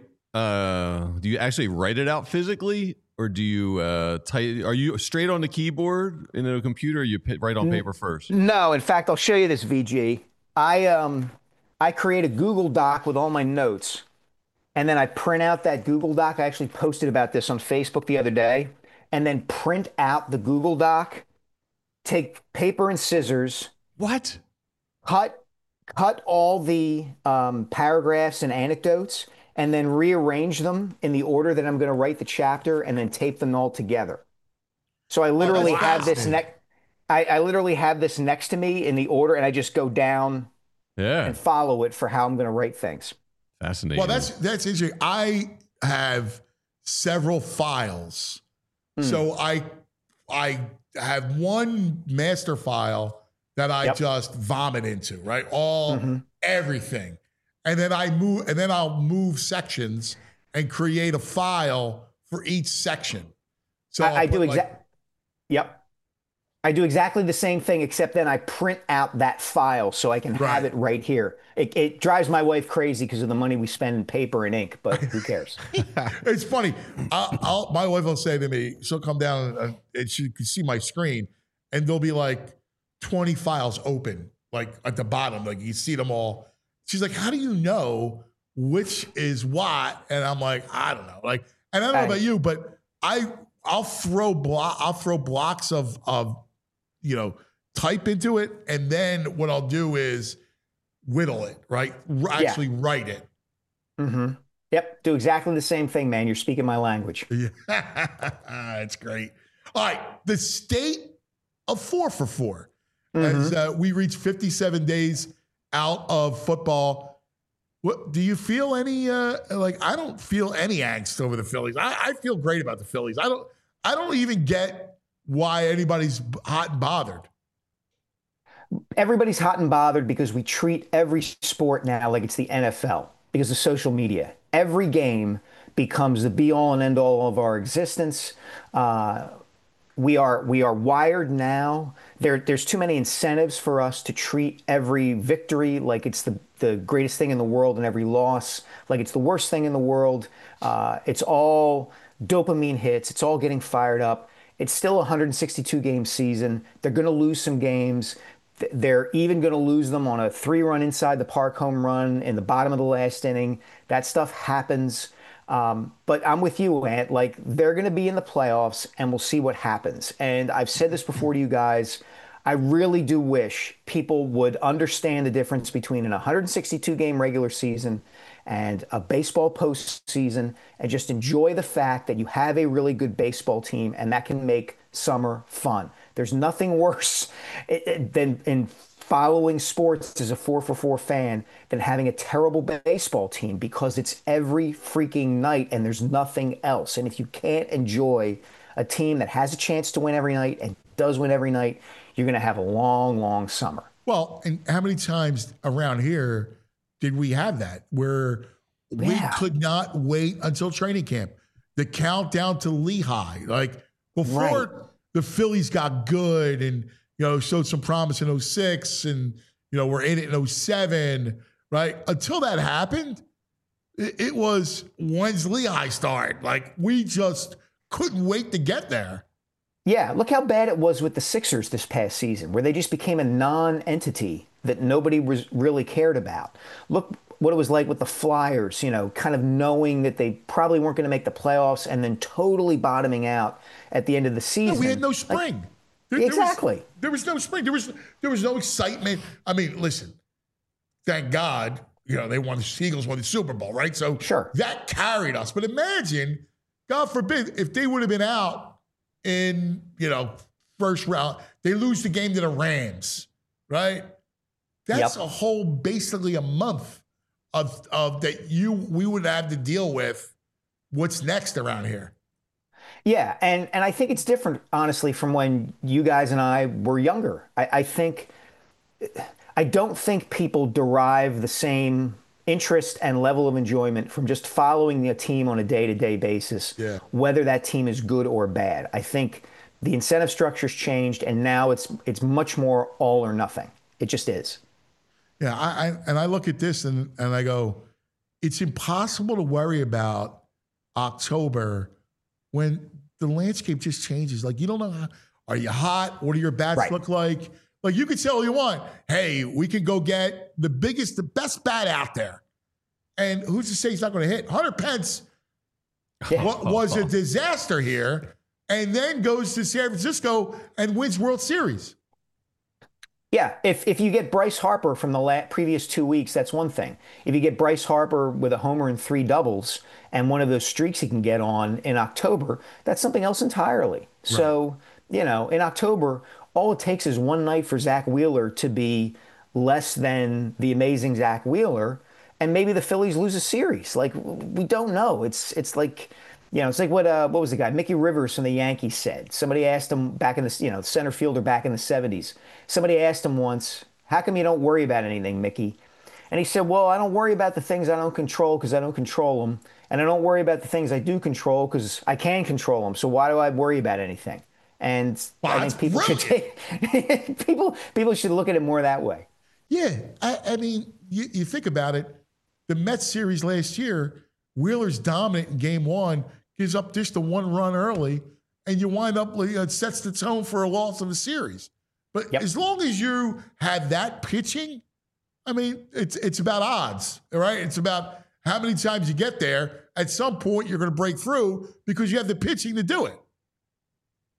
Do you actually write it out physically? Or do you are you straight on the keyboard in a computer, or you write on paper first? No, in fact, I'll show you this, VG. I create a Google Doc with all my notes, and then I print out that Google Doc. I actually posted about this on Facebook the other day, and then print out the Google Doc, take paper and scissors. What? Cut all the paragraphs and anecdotes, and then rearrange them in the order that I'm going to write the chapter, and then tape them all together. So I literally have this I literally have this next to me in the order, and I just go down and follow it for how I'm going to write things. Fascinating. Well, that's interesting. I have several files. So I have one master file that I just vomit into, right? Everything. And then I'll move sections and create a file for each section. So I do exactly the same thing, except then I print out that file so I can have it right here. It drives my wife crazy because of the money we spend in paper and ink, but who cares? It's funny. My wife will say to me, she'll come down and she can see my screen, and there'll be like 20 files open, like at the bottom, like you see them all. She's like, how do you know which is what? And I'm like, I don't know. Like, and I don't know about you, but I'll throw blocks of type into it. And then what I'll do is whittle it, right? Actually write it. Mm-hmm. Yep. Do exactly the same thing, man. You're speaking my language. Yeah. That's great. All right. The state of 4 for 4. As we reach 57 days out of football. What do you feel any I don't feel any angst over the Phillies. I feel great about the Phillies. I don't even get why anybody's hot and bothered. Everybody's hot and bothered because we treat every sport now like it's the NFL because of social media. Every game becomes the be-all and end-all of our existence. We are wired now. There's too many incentives for us to treat every victory like it's the greatest thing in the world and every loss like it's the worst thing in the world. It's all dopamine hits. It's all getting fired up. It's still a 162-game season. They're going to lose some games. They're even going to lose them on a 3-run inside the park home run in the bottom of the last inning. That stuff happens. But I'm with you, Ant. Like, they're going to be in the playoffs, and we'll see what happens. And I've said this before to you guys. I really do wish people would understand the difference between an 162-game regular season and a baseball postseason and just enjoy the fact that you have a really good baseball team, and that can make summer fun. There's nothing worse than in following sports as a 4 for 4 fan than having a terrible baseball team because it's every freaking night and there's nothing else. And if you can't enjoy a team that has a chance to win every night and does win every night, you're going to have a long, long summer. Well, and how many times around here did we have that where we could not wait until training camp? The countdown to Lehigh, like before the Phillies got good and showed some promise in 06 and, we're in it in 07, right? Until that happened, it was when's Lehigh start? Like, we just couldn't wait to get there. Yeah, look how bad it was with the Sixers this past season, where they just became a non-entity that nobody was really cared about. Look what it was like with the Flyers, kind of knowing that they probably weren't going to make the playoffs and then totally bottoming out at the end of the season. No, we had no spring. Exactly. There was no spring. There was no excitement. I mean, listen, thank God, they won, the Eagles won the Super Bowl, right? So that carried us. But imagine, God forbid, if they would have been out in, first round, they lose the game to the Rams, right? That's a whole, basically a month of that we would have to deal with what's next around here. Yeah, and I think it's different, honestly, from when you guys and I were younger. I don't think people derive the same interest and level of enjoyment from just following a team on a day-to-day basis, whether that team is good or bad. I think the incentive structure's changed, and now it's much more all or nothing. It just is. Yeah, I look at this and I go, it's impossible to worry about October when the landscape just changes. Like, you don't know, are you hot? What do your bats look like? Like, you can say all you want. Hey, we can go get the best bat out there. And who's to say he's not going to hit? Hunter Pence was a disaster here and then goes to San Francisco and wins World Series. Yeah, if you get Bryce Harper from the previous 2 weeks, that's one thing. If you get Bryce Harper with a homer and 3 doubles and one of those streaks he can get on in October, that's something else entirely. Right. So, in October, all it takes is one night for Zach Wheeler to be less than the amazing Zach Wheeler, and maybe the Phillies lose a series. Like, we don't know. It's like... it's like what was the guy, Mickey Rivers from the Yankees said. Somebody asked him back in the, center fielder back in the 70s. Somebody asked him once, how come you don't worry about anything, Mickey? And he said, well, I don't worry about the things I don't control because I don't control them. And I don't worry about the things I do control because I can control them. So why do I worry about anything? And I think people should people should look at it more that way. Yeah. I mean, you think about it. The Mets series last year, Wheeler's dominant in game 1. Gives up just the 1 run early, and you wind up, it sets the tone for a loss of a series. But as long as you have that pitching, I mean, it's about odds, all right? It's about how many times you get there. At some point, you're going to break through because you have the pitching to do it.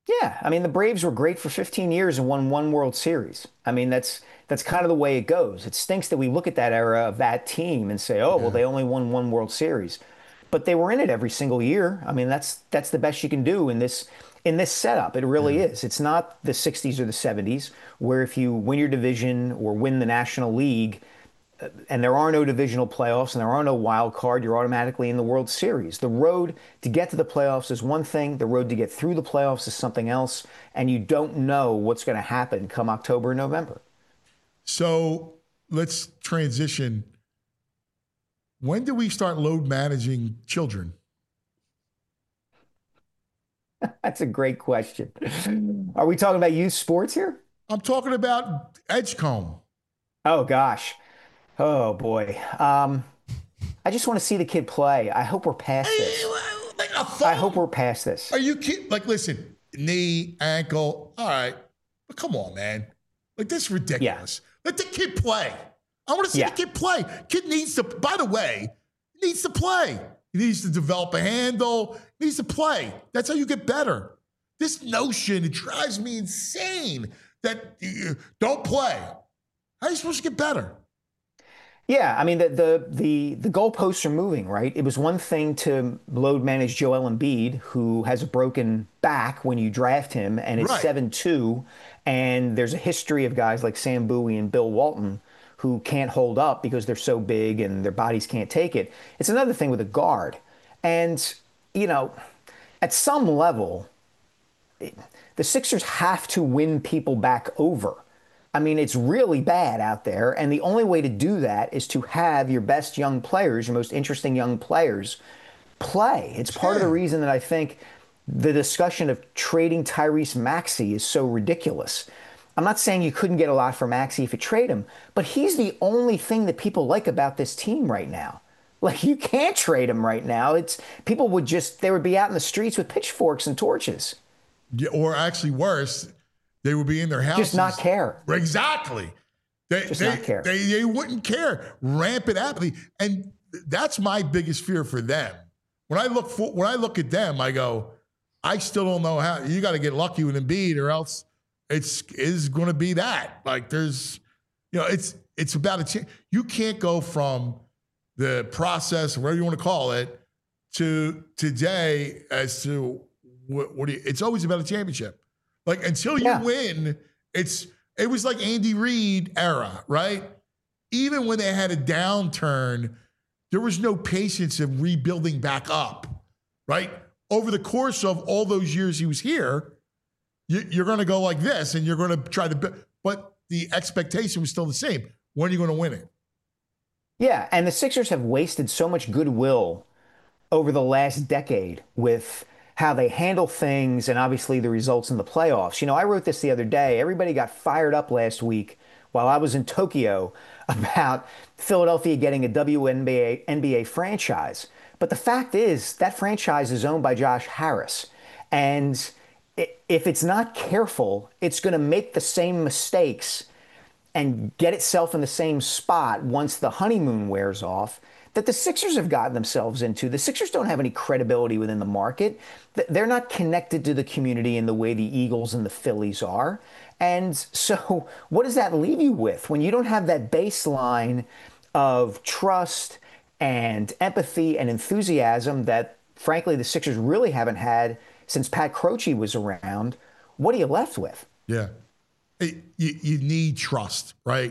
Yeah, I mean the Braves were great for 15 years and won one World Series. I mean that's kind of the way it goes. It stinks that we look at that era of that team and say, "Oh, well, they only won one World Series." But they were in it every single year. I mean, that's the best you can do in this setup. It really is. It's not the 60s or the 70s where if you win your division or win the National League, and there are no divisional playoffs and there are no wild card, you're automatically in the World Series. The road to get to the playoffs is one thing. The road to get through the playoffs is something else. And you don't know what's going to happen come October and November. So let's transition. When do we start load managing children? That's a great question. Are we talking about youth sports here? I'm talking about Edgecombe. Oh, gosh. Oh, boy. I just want to see the kid play. I hope we're past this. I hope we're past this. Are you kidding? Like, listen, knee, ankle. All right. But come on, man. Like, this is ridiculous. Yeah. Let the kid play. I want to see the kid play. Kid needs to, by the way, needs to play. He needs to develop a handle. He needs to play. That's how you get better. This notion, it drives me insane that you don't play. How are you supposed to get better? Yeah, I mean, the goalposts are moving, right? It was one thing to load manage Joel Embiid, who has a broken back when you draft him, and it's 7-2, and there's a history of guys like Sam Bowie and Bill Walton who can't hold up because they're so big and their bodies can't take it. It's another thing with a guard. And, you know, at some level, the Sixers have to win people back over. I mean, it's really bad out there. And the only way to do that is to have your best young players, your most interesting young players, play. It's part of the reason that I think the discussion of trading Tyrese Maxey is so ridiculous. I'm not saying you couldn't get a lot for Maxey if you trade him, but he's the only thing that people like about this team right now. Like, you can't trade him right now. People would they would be out in the streets with pitchforks and torches. Yeah, or actually worse, they would be in their houses. Just not care. Exactly. They not care. They wouldn't care. Rampant apathy. And that's my biggest fear for them. When I look at them, I go, I still don't know how. You got to get lucky with Embiid or else is going to be that. Like, there's, it's about a chance. You can't go from the process, whatever you want to call it, to today as to what do you, it's always about a championship. Like, until you win, it was like Andy Reid era, right? Even when they had a downturn, there was no patience of rebuilding back up, right? Over the course of all those years he was here, you're going to go like this, and you're going to try to, but the expectation was still the same. When are you going to win it? Yeah, and the Sixers have wasted so much goodwill over the last decade with how they handle things and obviously the results in the playoffs. You know, I wrote this the other day. Everybody got fired up last week while I was in Tokyo about Philadelphia getting a WNBA franchise. But the fact is that franchise is owned by Josh Harris. And if it's not careful, it's going to make the same mistakes and get itself in the same spot once the honeymoon wears off that the Sixers have gotten themselves into. The Sixers don't have any credibility within the market. They're not connected to the community in the way the Eagles and the Phillies are. And so what does that leave you with when you don't have that baseline of trust and empathy and enthusiasm that, frankly, the Sixers really haven't had since Pat Croce was around? What are you left with? Yeah. You need trust, right?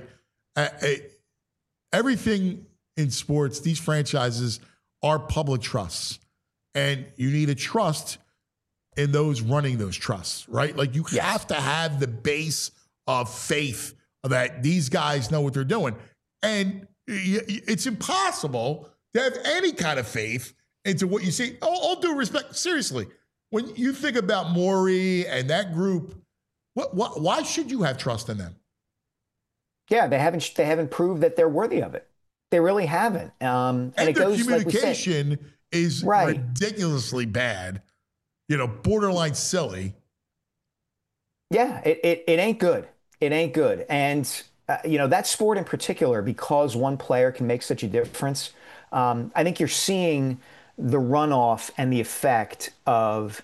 Everything in sports, these franchises are public trusts. And you need a trust in those running those trusts, right? Like, you have to have the base of faith that these guys know what they're doing. And it's impossible to have any kind of faith into what you see. All due respect, seriously, when you think about Morey and that group, why should you have trust in them? Yeah, they haven't proved that they're worthy of it. They really haven't. And it their goes, communication like is ridiculously bad, borderline silly. Yeah, it ain't good. It ain't good. And, that sport in particular, because one player can make such a difference, I think you're seeing the runoff and the effect of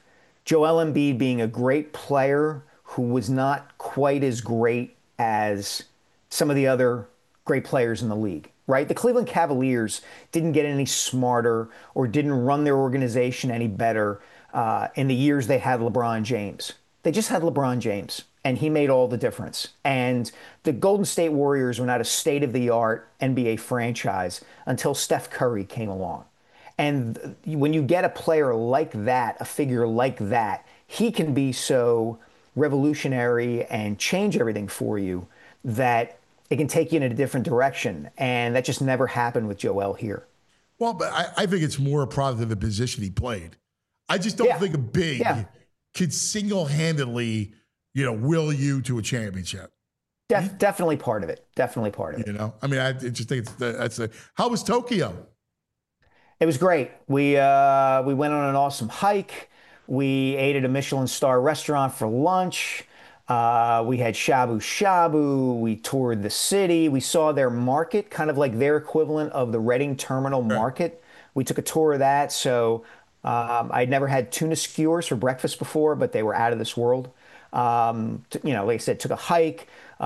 Joel Embiid being a great player who was not quite as great as some of the other great players in the league, right? The Cleveland Cavaliers didn't get any smarter or didn't run their organization any better in the years they had LeBron James. They just had LeBron James, and he made all the difference. And the Golden State Warriors were not a state-of-the-art NBA franchise until Steph Curry came along. And when you get a player like that, a figure like that, he can be so revolutionary and change everything for you that it can take you in a different direction. And that just never happened with Joel here. Well, but I think it's more a product of the position he played. I just don't think a big could single-handedly, will you to a championship. Definitely part of it. Definitely part of it. I mean, I just think how was Tokyo? It was great. We went on an awesome hike. We ate at a Michelin star restaurant for lunch. We had shabu shabu. We toured the city. We saw their market, kind of like their equivalent of the Reading Terminal Market. We took a tour of that. So I'd never had tuna skewers for breakfast before, but they were out of this world. Like I said, took a hike.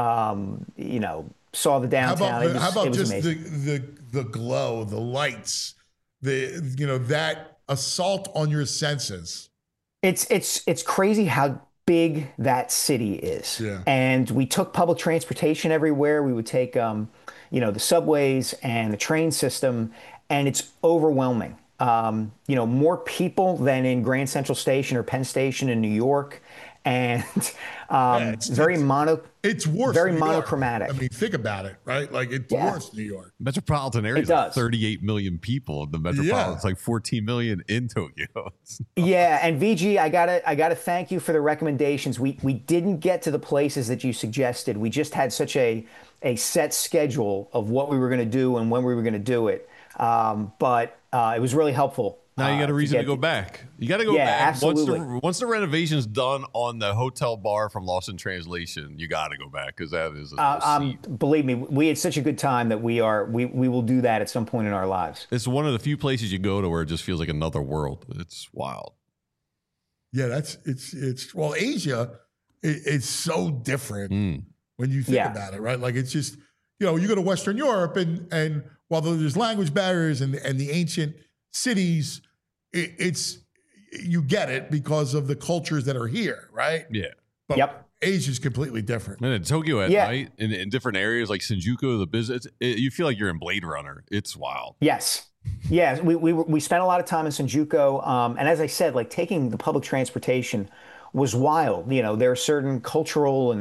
Saw the downtown. How about just amazing. the glow, the lights, that assault on your senses? It's crazy how big that city is. Yeah. And we took public transportation everywhere. We would take, the subways and the train system, and it's overwhelming. More people than in Grand Central Station or Penn Station in New York. And it's very monochromatic. I mean, think about it, right? Like it's worse than New York. Metropolitan area is like 38 million people. The metropolitan it's like 14 million in Tokyo. And VG, I gotta thank you for the recommendations. We didn't get to the places that you suggested. We just had such a set schedule of what we were going to do and when we were going to do it. But it was really helpful. Now you got a reason to go back. You got to go back. Absolutely. Once the renovation's done on the hotel bar from Lost in Translation, you got to go back because that is believe me, we had such a good time that we will do that at some point in our lives. It's one of the few places you go to where it just feels like another world. It's wild. Yeah, it's Asia it's so different when you think about it, right? Like it's just, you go to Western Europe and while there's language barriers and the ancient cities, it's you get it because of the cultures that are here, right? Yeah. But Asia's completely different. And in Tokyo at night, in different areas like Shinjuku, the business, you feel like you're in Blade Runner. It's wild. Yes. Yeah, we spent a lot of time in Shinjuku, and as I said, like taking the public transportation was wild. There are certain cultural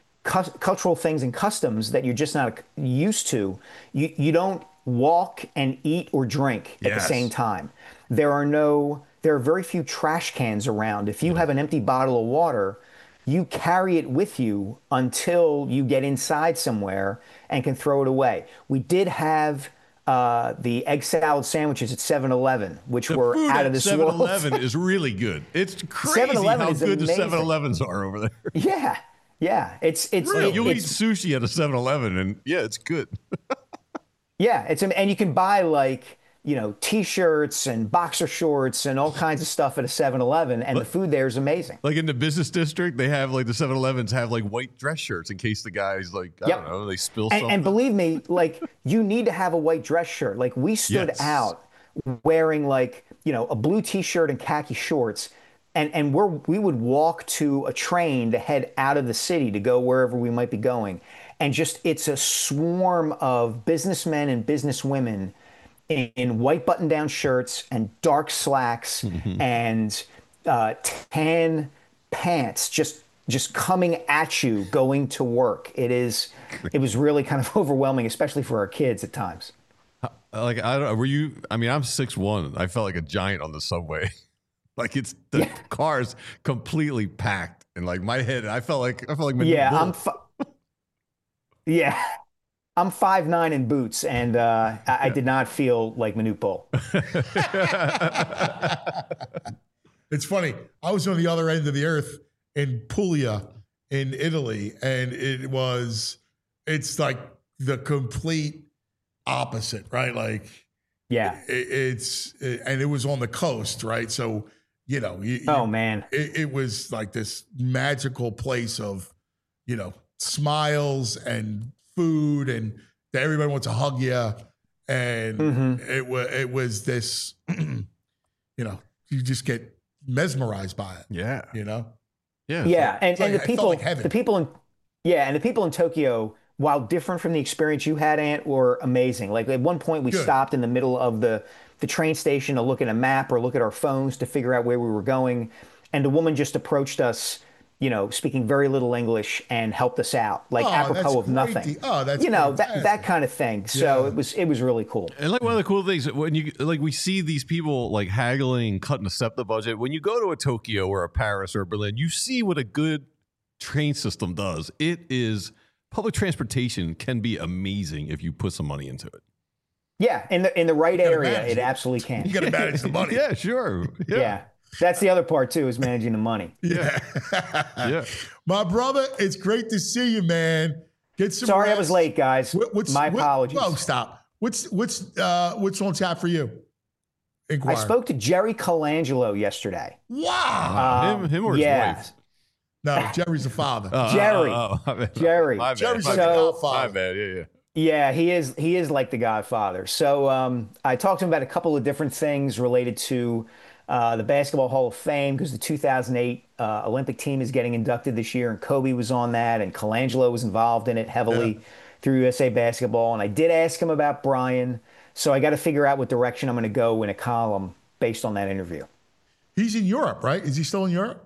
things and customs that you're just not used to. You don't walk and eat or drink at the same time. There are very few trash cans around. If you have an empty bottle of water, you carry it with you until you get inside somewhere and can throw it away. We did have the egg salad sandwiches at 7-Eleven, which were out of this world. 7-Eleven is really good. It's crazy how good the 7-Elevens are over there. Yeah. It's really? You'll eat sushi at a 7-Eleven and it's good. And you can buy T-shirts and boxer shorts and all kinds of stuff at a 7-Eleven, and the food there is amazing. Like in the business district, they have the 7-Elevens have white dress shirts in case the guys I don't know, they spill something. And believe me, you need to have a white dress shirt. We stood out wearing a blue T-shirt and khaki shorts, and we would walk to a train to head out of the city to go wherever we might be going. And it's a swarm of businessmen and businesswomen in white button-down shirts and dark slacks and tan pants, just coming at you going to work. It was really kind of overwhelming, especially for our kids at times. I don't know. Were you? I mean, I'm 6'1". I felt like a giant on the subway. It's the car's completely packed, and my head. I felt like I'm 5'9" in boots, and I did not feel like Manute Bol. It's funny. I was on the other end of the earth in Puglia in Italy, and it's like the complete opposite, right? And it was on the coast, right? So Man. It was like this magical place of, smiles and food, and everybody wants to hug you. And it was this, you just get mesmerized by it. Yeah. Yeah. And the people, like heaven. the people in Tokyo, while different from the experience you had, Ant, were amazing. Like at one point we stopped in the middle of the train station to look at a map or look at our phones to figure out where we were going. And the woman just approached us, speaking very little English, and helped us out, like apropos of nothing. That's that kind of thing. So it was really cool. And like one of the cool things when we see these people like haggling, cutting a SEPTA budget. When you go to a Tokyo or a Paris or a Berlin, you see what a good train system does. Public transportation can be amazing if you put some money into it. Yeah, in the right area, it absolutely can. You got to manage the money. Yeah, sure. Yeah. That's the other part too, is managing the money. Yeah. Yeah. My brother, it's great to see you, man. Get some Sorry rest. I was late, guys. My apologies. Whoa, stop. What's on tap for you? Inquire. I spoke to Jerry Colangelo yesterday. Wow. Him or his wife? No, Jerry's the father. Jerry. Jerry. My bad. Jerry's My like the bad. godfather. My bad. Yeah. Yeah, he is like the Godfather. So I talked to him about a couple of different things related to the Basketball Hall of Fame, because the 2008 Olympic team is getting inducted this year, and Kobe was on that, and Colangelo was involved in it heavily through USA Basketball. And I did ask him about Brian, so I got to figure out what direction I'm going to go in a column based on that interview. He's in Europe, right? Is he still in Europe?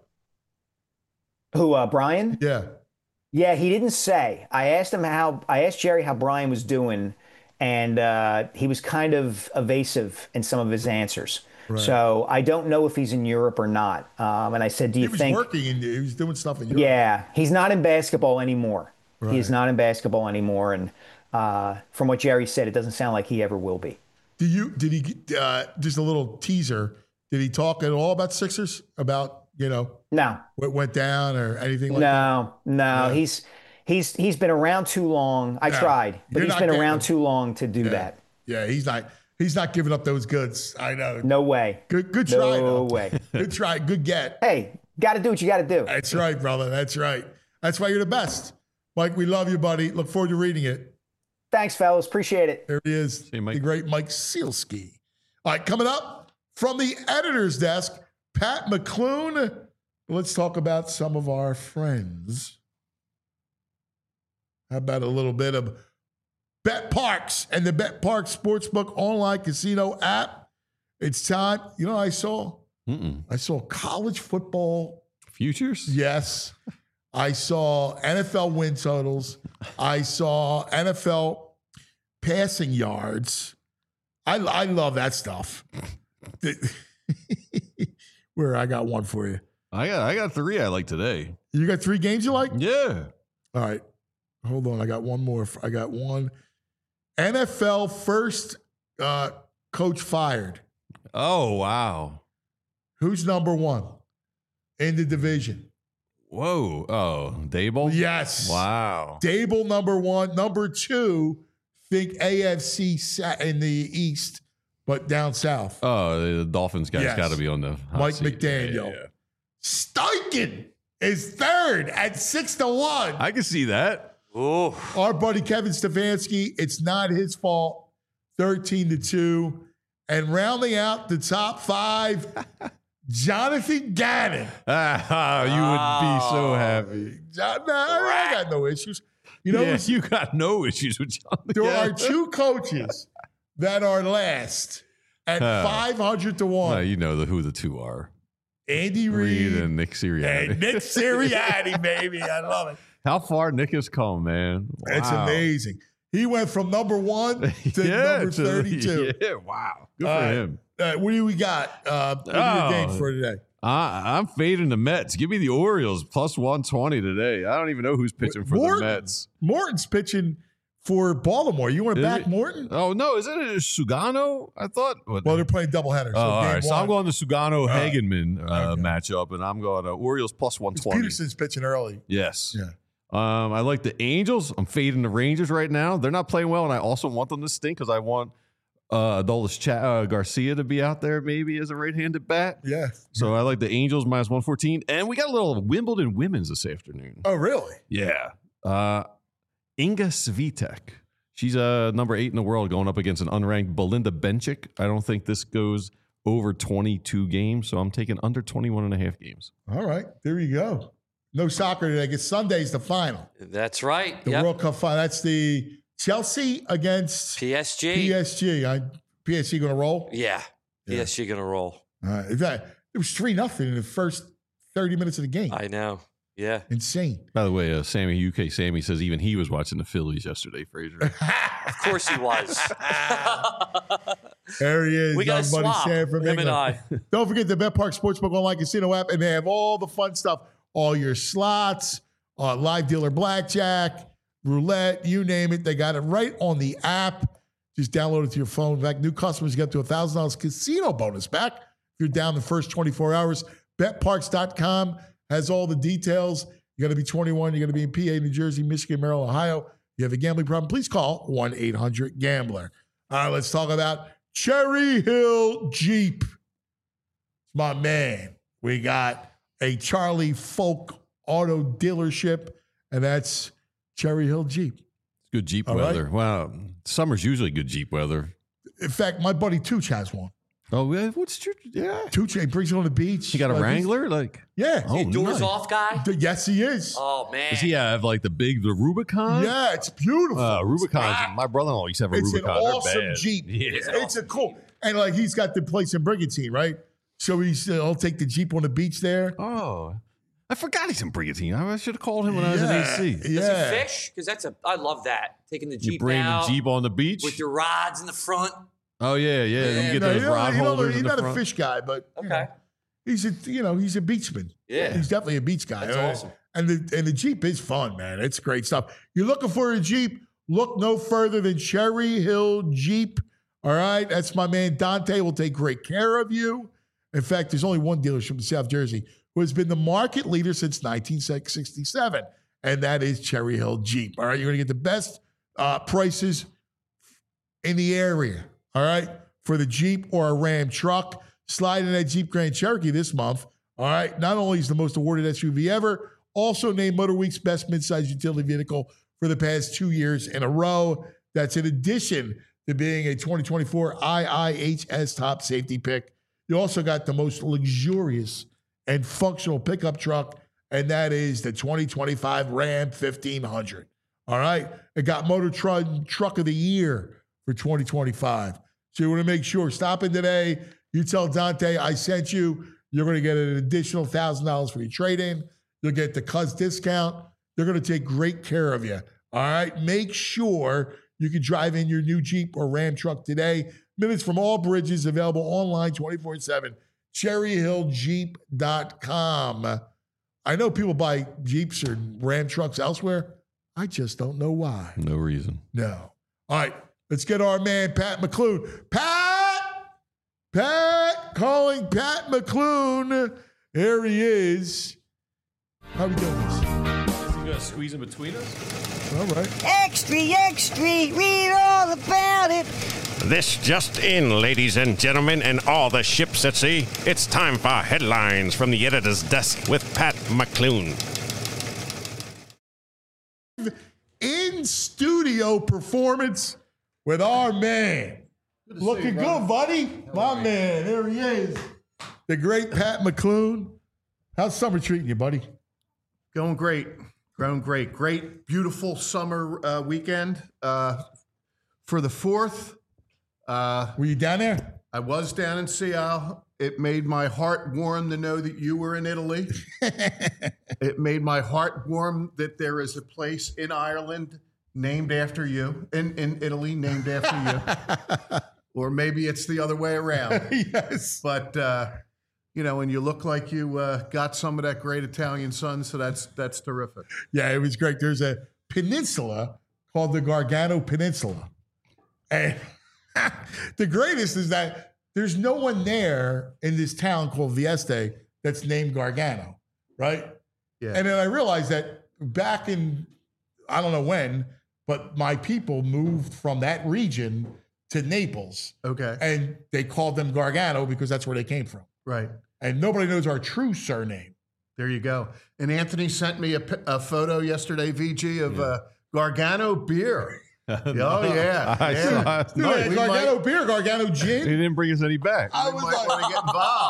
Who, Brian? Yeah. Yeah, he didn't say. I asked Jerry how Brian was doing, and he was kind of evasive in some of his answers. Right. So I don't know if he's in Europe or not. And I said, he was doing stuff in Europe. Yeah, he's not in basketball anymore. Right. He is not in basketball anymore. And from what Jerry said, it doesn't sound like he ever will be. Did he just a little teaser? Did he talk at all about Sixers? About, no, what went down or anything like that? No. He's been around too long. I tried, but he's been around too long to do that. Yeah, he's not giving up those goods. I know. No way. Good try. No way. Good try. Good get. Hey, got to do what you got to do. That's right, brother. That's right. That's why you're the best. Mike, we love you, buddy. Look forward to reading it. Thanks, fellas. Appreciate it. There he is, the great Mike Sealski. All right, coming up from the editor's desk, Pat McClune. Let's talk about some of our friends. How about a little bit of Bet Parks and the Bet Parks Sportsbook online casino app? It's time. You know what I saw? I saw college football futures. Yes. I saw NFL win totals. I saw NFL passing yards. I love that stuff. Where I got one for you. I got 3 I like today. You got 3 games you like? Yeah. All right. Hold on. I got one more. I got one. NFL first coach fired. Oh, wow. Who's number 1 in the division? Whoa. Oh, Dable? Yes. Wow. Dable, number 1. Number 2, think AFC in the East, but down south. Oh, the Dolphins guys got to be on the hot Mike seat. McDaniel. Yeah. Steichen is third at 6-1. I can see that. Oh, Our buddy Kevin Stefanski, it's not his fault, 13-2. And rounding out the top 5, Jonathan Gannon. You would be so happy. I got no issues. You know, you got no issues with Jonathan. there are 2 coaches that are last at 500-1. You know who the 2 are. Andy Reid and Nick Sirianni. And Nick Sirianni, baby. I love it. How far Nick has come, man. Wow. It's amazing. He went from number 1 to number 32. Yeah, wow. Good for him. What do we got? What are your games for today? I'm fading the Mets. Give me the Orioles plus 120 today. I don't even know who's pitching for the Mets. Morton's pitching for Baltimore. You want to back Morton? Oh, no. Isn't it Sugano? I thought. Well, they're playing doubleheader. All right. So I'm going to Sugano Hagenman matchup, and I'm going to Orioles plus 120. Peterson's pitching early. Yes. Yeah. I like the Angels. I'm fading the Rangers right now. They're not playing well, and I also want them to stink because I want Adolis Garcia to be out there maybe as a right-handed bat. Yeah. So I like the Angels minus 114. And we got a little Wimbledon women's this afternoon. Oh, really? Yeah. Inga Swiatek. She's number 8 in the world going up against an unranked Belinda Bencic. I don't think this goes over 22 games, so I'm taking under 21.5 games. All right. There you go. No soccer today. I guess Sunday's the final. That's right. The World Cup final. That's the Chelsea against PSG. PSG going to roll? Yeah. PSG going to roll. All right. It was 3-0 in the first 30 minutes of the game. I know. Yeah. Insane. By the way, Sammy says even he was watching the Phillies yesterday, Fraser. Of course he was. There he is. We got to swap, him and I. Don't forget the BetPark Sportsbook online casino app, and they have all the fun stuff, all your slots, live dealer blackjack, roulette, you name it. They got it right on the app. Just download it to your phone. In fact, new customers get to $1,000 casino bonus back if you're down the first 24 hours. BetParks.com has all the details. You got to be 21. You got to be in PA, New Jersey, Michigan, Maryland, Ohio. You have a gambling problem, please call 1-800-GAMBLER. All right, let's talk about Cherry Hill Jeep. My man, we got a Charlie Folk auto dealership, and that's Cherry Hill Jeep. Good Jeep all weather. Right? Wow. Summer's usually good Jeep weather. In fact, my buddy Tooch has one. Oh, what's your, yeah. Tooch, he brings it on the beach. He got a Wrangler? Yeah. Oh, doors nice. off guy? Yes, he is. Oh, man. Does he have like the Rubicon? Yeah, it's beautiful. Rubicons. My brother-in-law used to have a it's Rubicon. It's an They're awesome bad. Jeep. Yeah. It's a cool. And like he's got the place in Brigantine, right? So he'll take the Jeep on the beach there. Oh, I forgot he's in Brigantine. I should have called him when I was in AC. Yeah. Does he fish? Because I love that. Taking the Jeep You bring out the Jeep on the beach? with your rods in the front. Oh, yeah. You get those rod holders He's in the not front. a fish guy, but Okay. he's a beachman. Yeah. He's definitely a beach guy. That's awesome. And the Jeep is fun, man. It's great stuff. You're looking for a Jeep? Look no further than Cherry Hill Jeep. All right, that's my man Dante. Will take great care of you. In fact, there's only one dealership in South Jersey who has been the market leader since 1967, and that is Cherry Hill Jeep. All right, you're going to get the best prices in the area. All right, for the Jeep or a Ram truck. Slide in that Jeep Grand Cherokee this month. All right, not only is the most awarded SUV ever, also named MotorWeek's best midsize utility vehicle for the past 2 years in a row. That's in addition to being a 2024 IIHS top safety pick. You also got the most luxurious and functional pickup truck, and that is the 2025 Ram 1500. All right, it got Motor Truck of the Year for 2025. So you want to make sure, stop in today. You tell Dante I sent you. You're going to get an additional $1,000 for your trade-in. You'll get the Cuz discount. They're going to take great care of you. All right, make sure you can drive in your new Jeep or Ram truck today. Minutes from all bridges, available online 24/7. CherryHillJeep.com. I know people buy Jeeps or Ram trucks elsewhere. I just don't know why. No reason. No. All right, let's get our man, Pat McClune. Pat, calling Pat McClune. Here he is. How we doing this? You got to squeeze in between us? All right. Extra, extra, read all about it. This just in, ladies and gentlemen, and all the ships at sea. It's time for headlines from the editor's desk with Pat McClune. In studio performance with our man. Looking good, buddy. My man, there he is. The great Pat McClune. How's summer treating you, buddy? Going great. Great, beautiful summer weekend. For the 4th, Were you down there? I was down in Seattle. It made my heart warm to know that you were in Italy. It made my heart warm that there is a place in Ireland named after you, in Italy named after you. Or maybe it's the other way around. Yes. But, and you look like you got some of that great Italian sun, so that's terrific. Yeah, it was great. There's a peninsula called the Gargano Peninsula. And the greatest is that there's no one there in this town called Vieste that's named Gargano, right? Yeah. And then I realized that back in, I don't know when, but my people moved from that region to Naples. Okay. And they called them Gargano because that's where they came from. Right. And nobody knows our true surname. There you go. And Anthony sent me a photo yesterday, VG, of Gargano beer. Oh, yeah. Dude, Gargano beer, Gargano He gin. didn't bring us any back. I was might want to get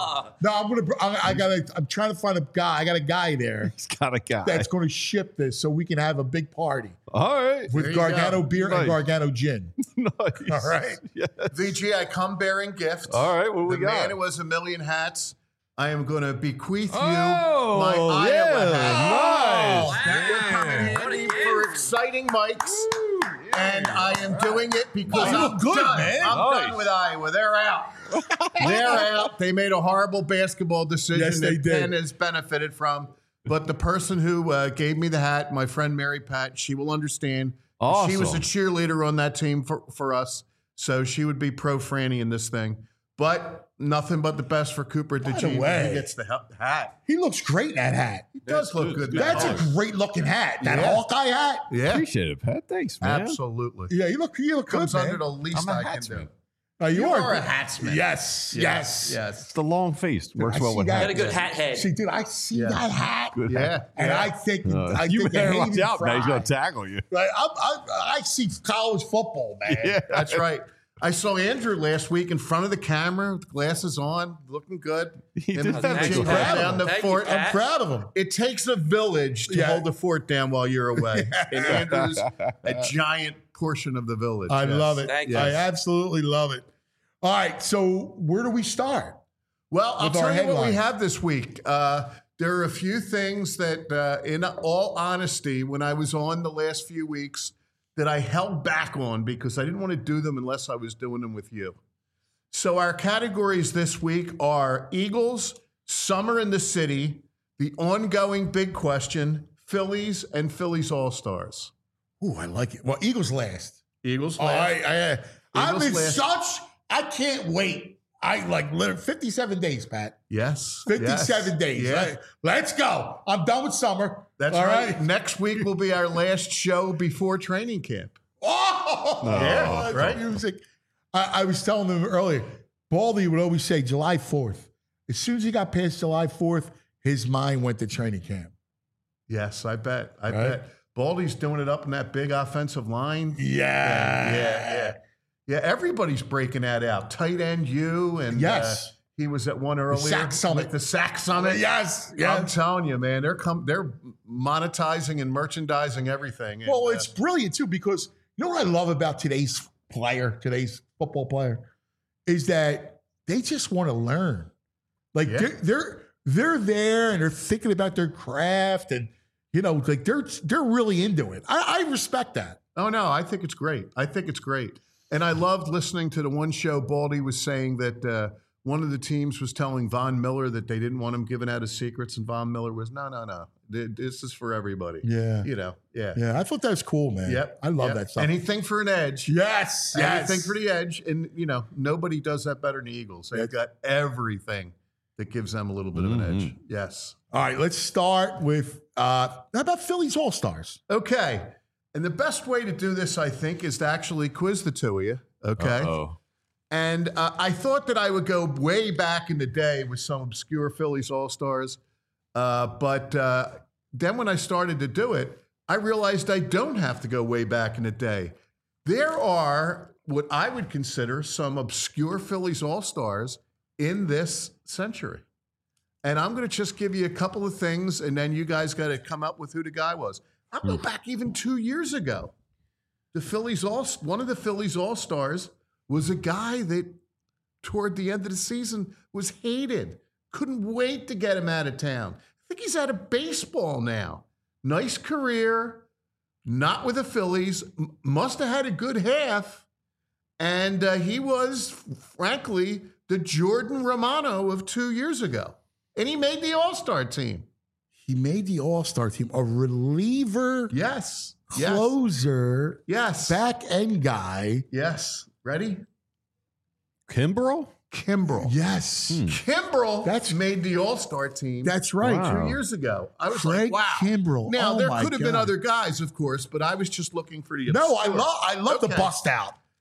involved. No, I'm trying to find a guy. I got a guy there He's got a guy. that's going to ship this so we can have a big party All right. with There you Gargano go. beer Nice. and Gargano gin. Nice. All right. Yes. VG, I come bearing gifts. All right, what we the got? man who was a million hats. I am going to bequeath you Oh, my yeah, Iowa hat. nice. That will come in handy for exciting mics. And I am doing it because you I'm look good, done. man. I'm Nice. done with Iowa. They're out. They're out. They made a horrible basketball decision Yes, they that did. Penn has benefited from. But the person who gave me the hat, my friend Mary Pat, she will understand. Awesome. She was a cheerleader on that team for us, so she would be pro Franny in this thing. But nothing but the best for Cooper DeJean. way. He gets the hat. He looks great in that hat. He does look good. in that That's hat. a great looking hat. That Yeah. Hawkeye hat. Yeah, Appreciate it, Pat. Thanks, man. absolutely. Yeah, you look good, Comes man. under the least I'm a I can hatsman. do. You are a hatsman. Yes, yes. Yes. The long face works I well see with that. Got a hats. good hat head. See, dude, I see Yeah. that hat, Good Yeah. hat. and I think I You think better of watch Hayden out, man. He's Fry. going to tackle you. Like, I see college football, man. Yeah. That's right. I saw Andrew last week in front of the camera, with glasses on, looking good. He And did the have a Jim good held hat. down the Thank you, fort. Pat. I'm proud of him. It takes a village to Yeah. hold the fort down while you're away. And Andrew's a giant portion of the village. I Yes. love it. Thank you. I absolutely love it. All right, so where do we start? Well, I'll With our tell you what we headlines. have this week. There are a few things that, in all honesty, when I was on the last few weeks, that I held back on because I didn't want to do them unless I was doing them with you. So our categories this week are Eagles, Summer in the City, the ongoing big question, Phillies, and Phillies All-Stars. Ooh, I like it. Well, Eagles last. Eagles Oh, last. I'm in last. I can't wait. I like literally 57 days, Pat. Yes. 57 yes, days. Yeah. Right? Let's go. I'm done with summer. That's all right. right. Next week will be our last show before training camp. Oh, Yeah, that's right? music. I was telling them earlier, Baldy would always say July 4th. As soon as he got past July 4th, his mind went to training camp. Yes, I bet. I Right? bet. Baldy's doing it up in that big offensive line. Yeah. Yeah, everybody's breaking that out. Tight end you and Yes. he was at one earlier. Sack Summit. The Sack Summit. Yes. I'm Yes. telling you, man, they're monetizing and merchandising everything. Well, And, it's brilliant too because you know what I love about today's football player, is that they just want to learn. Like Yeah. they're there and they're thinking about their craft and like they're really into it. I respect that. Oh, no, I think it's great. And I loved listening to the one show Baldy was saying that one of the teams was telling Von Miller that they didn't want him giving out his secrets. And Von Miller was, no. This is for everybody. Yeah. Yeah. Yeah, I thought that was cool, man. Yep. I love Yep. that stuff. Anything for an edge. Yes. Anything for the edge. And, nobody does that better than the Eagles. They've got everything that gives them a little bit of an edge. Yes. All right, let's start with how about Phillies All-Stars? Okay. And the best way to do this, I think, is to actually quiz the two of you. Okay. Uh-oh. And I thought that I would go way back in the day with some obscure Phillies All-Stars. But then when I started to do it, I realized I don't have to go way back in the day. There are what I would consider some obscure Phillies All-Stars in this century. And I'm going to just give you a couple of things, and then you guys got to come up with who the guy was. I'll go back even 2 years ago. One of the Phillies All-Stars was a guy that toward the end of the season was hated. Couldn't wait to get him out of town. I think he's out of baseball now. Nice career, not with the Phillies. Must have had a good half. And he was, frankly, the Jordan Romano of 2 years ago. And he made the All-Star team. He made the All-Star team, a reliever, Yes. closer, Yes. back end guy. Yes. Ready? Kimbrel? Kimbrel. Yes. Kimbrel That's- made the All-Star team. That's right. Wow. 2 years ago. I was Craig like, wow. Kimbrel. Now, Oh there my could have been God. other guys, of course, but I was just looking for the No, obscure. I love the Okay. bust out.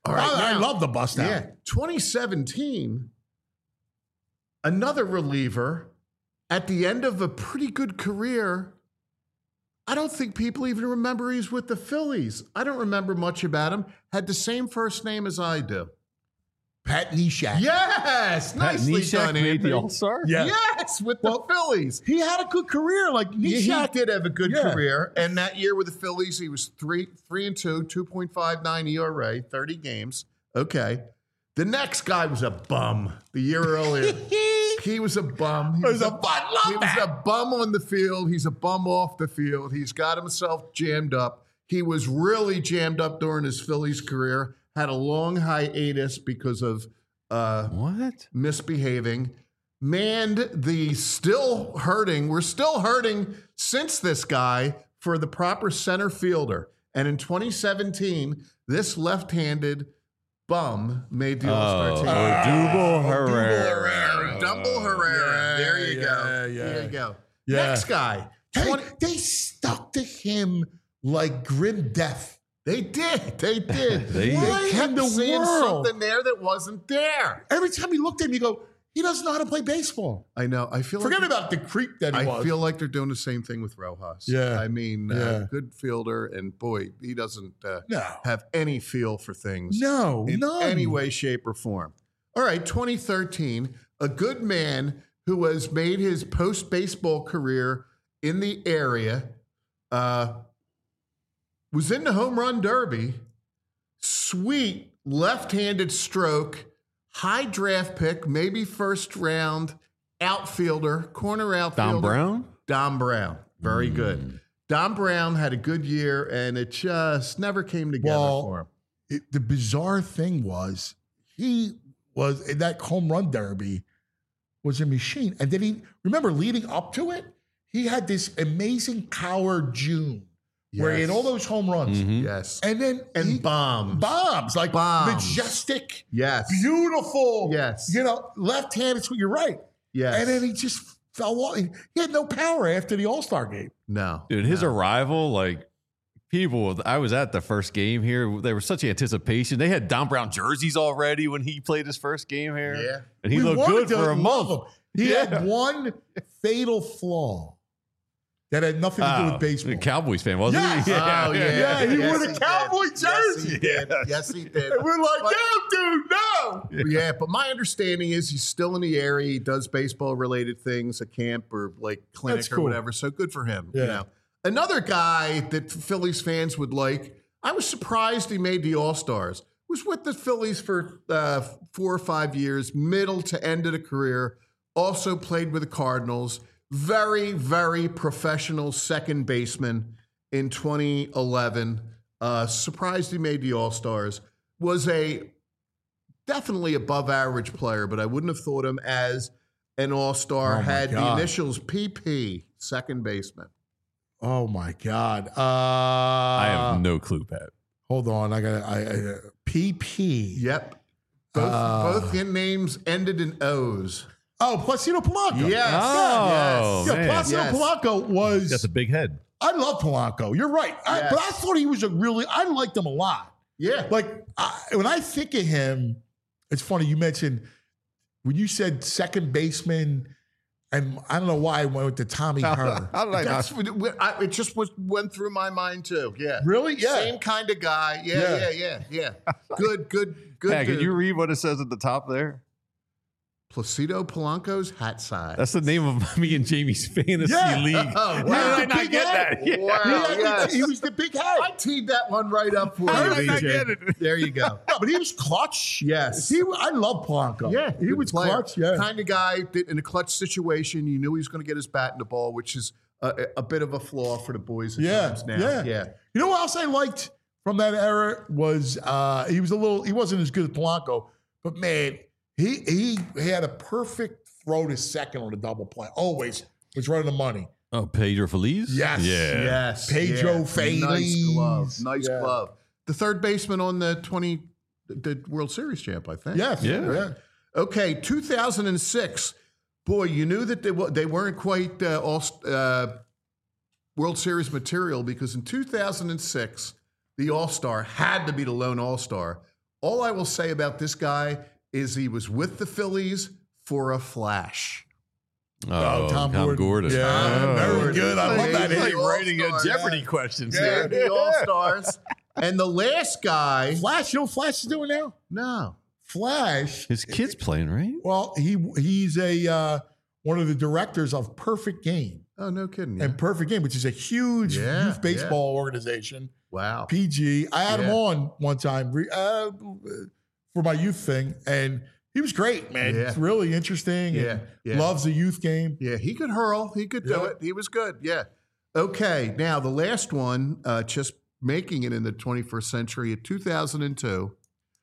All right, I now- love the bust out. Yeah, 2017, another reliever at the end of a pretty good career. I don't think people even remember he's with the Phillies. I don't remember much about him. Had the same first name as I do. Pat Neshek. Yes, Pat nicely Neshek done, made Anthony. the All-Star? Yeah. Yes, with the Phillies. He had a good career. Like He Neshek. did have a good Yeah. career, and that year with the Phillies, he was 3-2, 2.59 ERA, 30 games. Okay, the next guy was a bum. The year earlier, he was a bum. He was a bum on the field. He's a bum off the field. He's got himself jammed up. He was really jammed up during his Phillies career. Had a long hiatus because of misbehaving. Manned the still hurting. We're still hurting since this guy for the proper center fielder. And in 2017, this left-handed bum made the All-Star team. Odubel Herrera. Dumble Herrera. There you go. yeah. There you go. Yeah. Next guy. Hey, they stuck to him like grim death. They did. They did. They kept in the seeing world? something there that wasn't there. Every time you looked at him, you go, he doesn't know how to play baseball. I know. I feel Forget like about the creep that he I was. feel like they're doing the same thing with Rojas. Yeah. I mean, Yeah. good fielder, and boy, he doesn't No. have any feel for things. No, in none. any way, shape, or form. All right, 2013, a good man who has made his post-baseball career in the area, was in the home run derby. Sweet left-handed stroke, high draft pick, maybe first round outfielder, corner outfielder. Don Brown? Don Brown. Very good. Don Brown had a good year, and it just never came together for him. The bizarre thing was he was in that home run derby was a machine. And then he, remember leading up to it, he had this amazing power June where he had all those home runs. Yes. And then bombs. like Bombs. majestic, Yes. beautiful. Yes. You know, left-handed, you're right. Yes. And then he just fell off. He had no power after the All-Star game. No. Dude, his arrival, like people, I was at the first game here. There was such anticipation. They had Don Brown jerseys already when he played his first game here. Yeah. And he We looked wanted good to for a love month. him. He had one fatal flaw that had nothing to do with A baseball. Cowboys fan, wasn't Yes. he? Oh, Yeah, he wore the did. cowboy jersey. Yes, he did. Yes, he did. And we're like, But- no, dude, no. Yeah, but my understanding is he's still in the area. He does baseball-related things, a camp or like clinic That's or cool. whatever. So good for him. You Yeah. know, another guy that Phillies fans would like. I was surprised he made the All-Stars. Was with the Phillies for 4 or 5 years, middle to end of the career. Also played with the Cardinals. Very, very professional second baseman in 2011. Surprised he made the All-Stars. Was a definitely above average player, but I wouldn't have thought him as an All-Star. Oh, my Had the God. initials PP, second baseman. Oh my God. I have no clue, Pat. Hold on. I got PP. Yep. Both names ended in O's. Oh, Placido Polanco. Yes. Oh, Yeah, man. Placido Yes. Polanco was. Got the big head. I love Polanco. You're right. Yes. But I thought he was I liked him a lot. Yeah. Like, when I think of him, it's funny. You mentioned when you said second baseman, and I don't know why I went with the Tommy Hearn. How did I That's not? it just went through my mind too. Yeah. Really? Yeah. Same kind of guy. Yeah. Good. Pat, can dude. you read what it says at the top there? Placido Polanco's hat size. That's the name of me and Jamie's fantasy Yeah. league. Oh, How wow. did I not get that? Yeah. Wow. Yes. He was the big head. I teed that one right up for How you, did I not BJ. get it? There you go. No, but he was clutch. Yes. I love Polanco. Yeah, he good was player. clutch. Yeah. Kind of guy that in a clutch situation, you knew he was going to get his bat in the ball, which is a bit of a flaw for the boys at times now. Yeah. You know what else I liked from that era was he wasn't as good as Polanco, but man, he had a perfect throw to second on a double play. Always was right on the money. Oh, Pedro Feliz? Yes. Yeah. Yes. Pedro yeah. Feliz. Nice glove. Nice Yeah. glove. The third baseman on the World Series champ, I think. Yes. Yeah. Okay, 2006. Boy, you knew that they weren't quite World Series material because in 2006, the All-Star had to be the lone All-Star. All I will say about this guy is he was with the Phillies for a flash. Oh, Tom Gordon. Yeah, very good. I love that. He's like All-Star, writing a Jeopardy questions Yeah, here. the All-Stars. And the last guy. Flash, you know what Flash is doing now? No. Flash. His kid's playing, right? Well, he's a one of the directors of Perfect Game. Oh, no kidding. Yeah. And Perfect Game, which is a huge youth baseball organization. Wow. PG. I had him on one time for my youth thing, and he was great, man. Yeah. It's really interesting. Yeah, And loves the youth game. Yeah, he could hurl. He could do it. He was good. Yeah. Okay. Now, the last one, just making it in the 21st century, in 2002,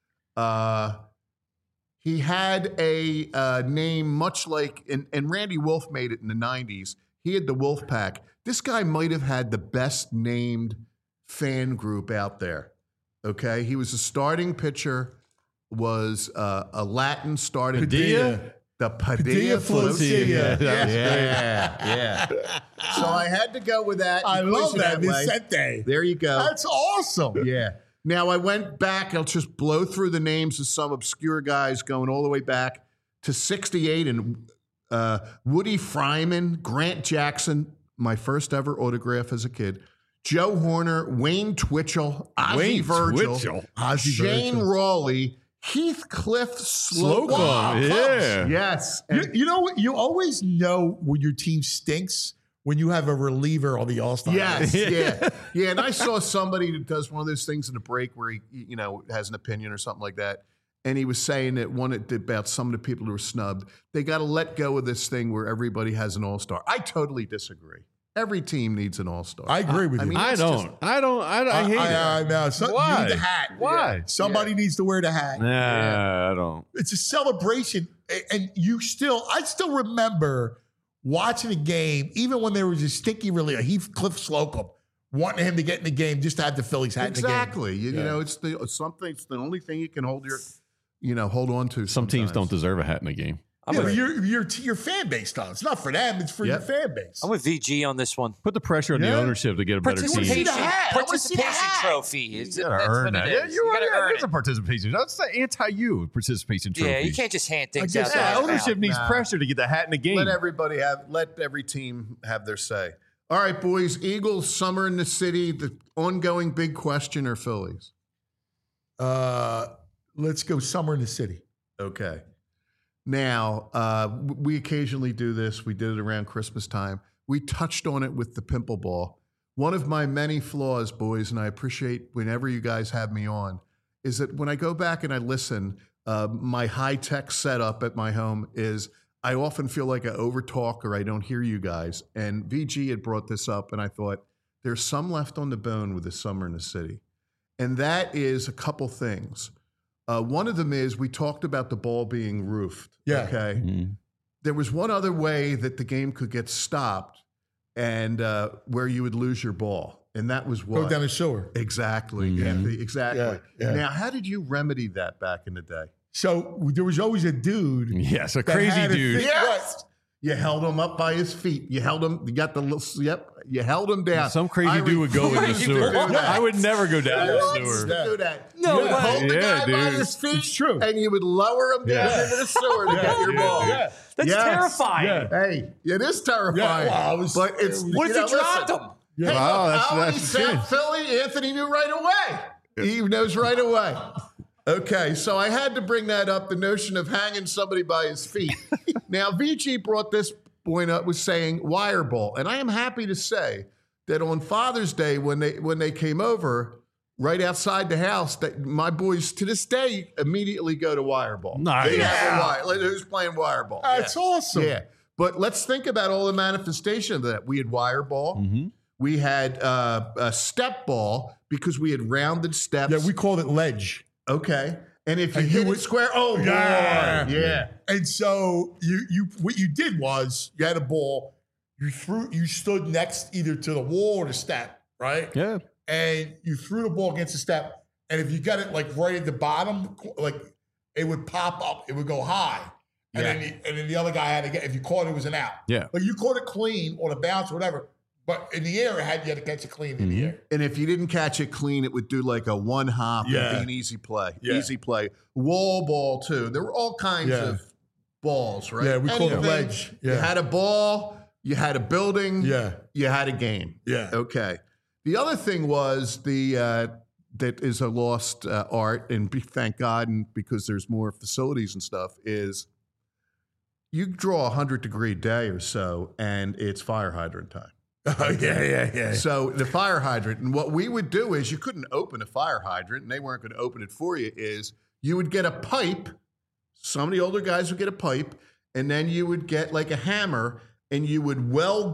he had a name much like, and Randy Wolf made it in the 90s. He had the Wolf Pack. This guy might have had the best named fan group out there. Okay. He was a starting pitcher, was a Latin starting pitcher. The Padilla Flotilla. Yeah. So I had to go with that. I love that. way. Vicente. There you go. That's awesome. Yeah. Now I went back. I'll just blow through the names of some obscure guys going all the way back to 68 and Woody Fryman, Grant Jackson, my first ever autograph as a kid, Joe Horner, Wayne Twitchell, Ozzie Virgil, Shane Rawley, Heathcliff Slocum. Yeah. Yes. You know what? You always know when your team stinks when you have a reliever on the All-Star. Yes, yeah. And I saw somebody that does one of those things in the break where he, has an opinion or something like that. And he was saying that about some of the people who were snubbed. They got to let go of this thing where everybody has an All-Star. I totally disagree. Every team needs an All-Star. I agree with you. I don't. I hate it. I know. Why? You need the hat. Why? Yeah. Somebody needs to wear the hat. Nah, I don't. It's a celebration. And I still remember watching a game, even when there was a stinky reliever, Heathcliff Slocum, wanting him to get in the game just to have the Phillies hat Exactly. in the game. It's the only thing you can hold on to. Some teams don't deserve a hat in a game. But your fan base does. It's not for them. It's for your fan base. I'm with VG on this one. Put the pressure on the ownership to get a better team. Participation trophy. You gotta earn that. Yeah, you gotta earn it. It's a participation. That's the anti-you participation trophy. Yeah, you can't just hand things out. Ownership needs pressure to get the hat in the game. Let every team have their say. All right, boys. Eagles, summer in the city. The ongoing big question are Phillies. Let's go summer in the city. Okay. Now, we occasionally do this. We did it around Christmas time. We touched on it with the pimple ball. One of my many flaws, boys, and I appreciate whenever you guys have me on, is that when I go back and I listen, my high-tech setup at my home is I often feel like I overtalk or I don't hear you guys. And VG had brought this up, and I thought, there's some left on the bone with the summer in the city. And that is a couple things. One of them is we talked about the ball being roofed. Yeah. Okay. Mm-hmm. There was one other way that the game could get stopped and where you would lose your ball. And that was what? Go down the sewer. Exactly. Mm-hmm. Anthony, exactly. Yeah. Now, how did you remedy that back in the day? So there was always a dude. Yes, a crazy dude. Yes. You held him up by his feet. You held him. You got the little. Yep. You held him down. Some crazy dude would go in the sewer. I would never go down the sewer. Do that. No, you hold the guy by his feet. It's true. And you would lower him down into the sewer to get your ball. Yeah. That's terrifying. Yeah. Hey, it is terrifying. Yeah, well, but it's what if you dropped him? Hey, that's South Philly. Anthony knew right away. He knows right away. Okay, so I had to bring that up, the notion of hanging somebody by his feet. Now, VG brought this point up, was saying wire ball. And I am happy to say that on Father's Day, when they came over, right outside the house, that my boys to this day immediately go to wire ball. Nice. Who's playing wire ball? That's awesome. Yeah. But let's think about all the manifestation of that. We had wire ball. Mm-hmm. We had a step ball because we had rounded steps. Yeah, we called it ledge. Okay. And if you hit it square, boy. Yeah. And so what you did was you had a ball, you stood next either to the wall or the step, right? Yeah. And you threw the ball against the step. And if you got it like right at the bottom, like it would pop up, it would go high. And then the other guy had to get, if you caught it, it was an out. Yeah. But you caught it clean on a bounce or whatever, But in the air, you had to catch it clean in the air. And if you didn't catch it clean, it would do like a one hop and be an easy play. Easy play. Wall ball, too. There were all kinds of balls, right? Yeah, we called it ledge. Yeah. You had a ball, you had a building, you had a game. Yeah. Okay. The other thing was that is a lost art, and thank God, and because there's more facilities and stuff, is you draw a 100-degree day or so, and it's fire hydrant time. Oh, yeah. So the fire hydrant, and what we would do is you couldn't open a fire hydrant, and they weren't going to open it for you, is you would get a pipe. Some of the older guys would get a pipe, and then you would get like a hammer, and you would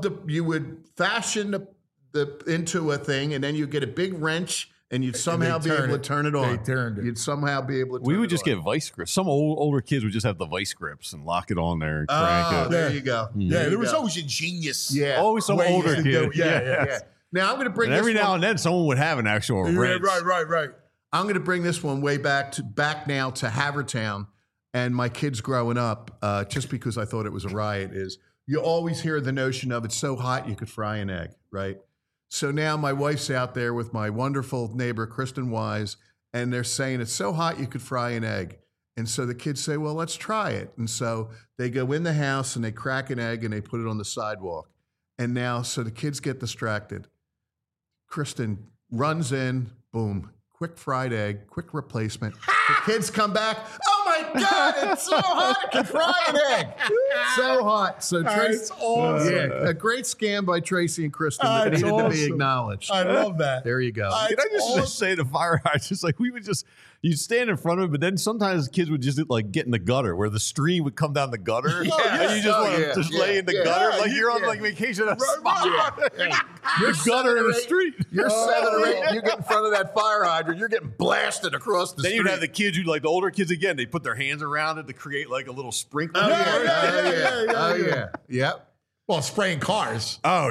fashion the into a thing, and then you get a big wrench, and you'd somehow be able to turn it on. They turned it. You'd somehow be able to turn We would it just on. get vice grips. Some older kids would just have the vice grips and lock it on there and crank it. There you go. Yeah, there was always a genius. Yeah. Always some way you older could kid. do- yeah. Now I'm going to bring And this every now one- and then someone would have an actual wrench. Right. I'm going to bring this one way back now to Havertown, and my kids growing up, just because I thought it was a riot, is you always hear the notion of it's so hot you could fry an egg, right? So now my wife's out there with my wonderful neighbor, Kristen Wise, and they're saying it's so hot you could fry an egg. And so the kids say, well, let's try it. And so they go in the house and they crack an egg and they put it on the sidewalk. And now, so the kids get distracted. Kristen runs in, boom, quick fried egg, quick replacement. The kids come back. Oh my God, it's so hot, I can fry an egg. So hot. So Tracy, That's awesome. a great scam by Tracy and Kristen that That's needed to be awesome. acknowledged. I love that. There you go. Can I just say the fire hydrants? Like we would just, you'd stand in front of it, but then sometimes kids would just like get in the gutter where the stream would come down the gutter. And you just want to just lay in the gutter like you're on like vacation at a spa. You're The gutter in the street. You're 7 or 8. You get in front of that fire hydrant. You're getting blasted across the Then street. you'd have the kids, you'd like the older kids again, they put their hands around it to create like a little sprinkler. Oh yeah. Yep. Well, spraying cars. Oh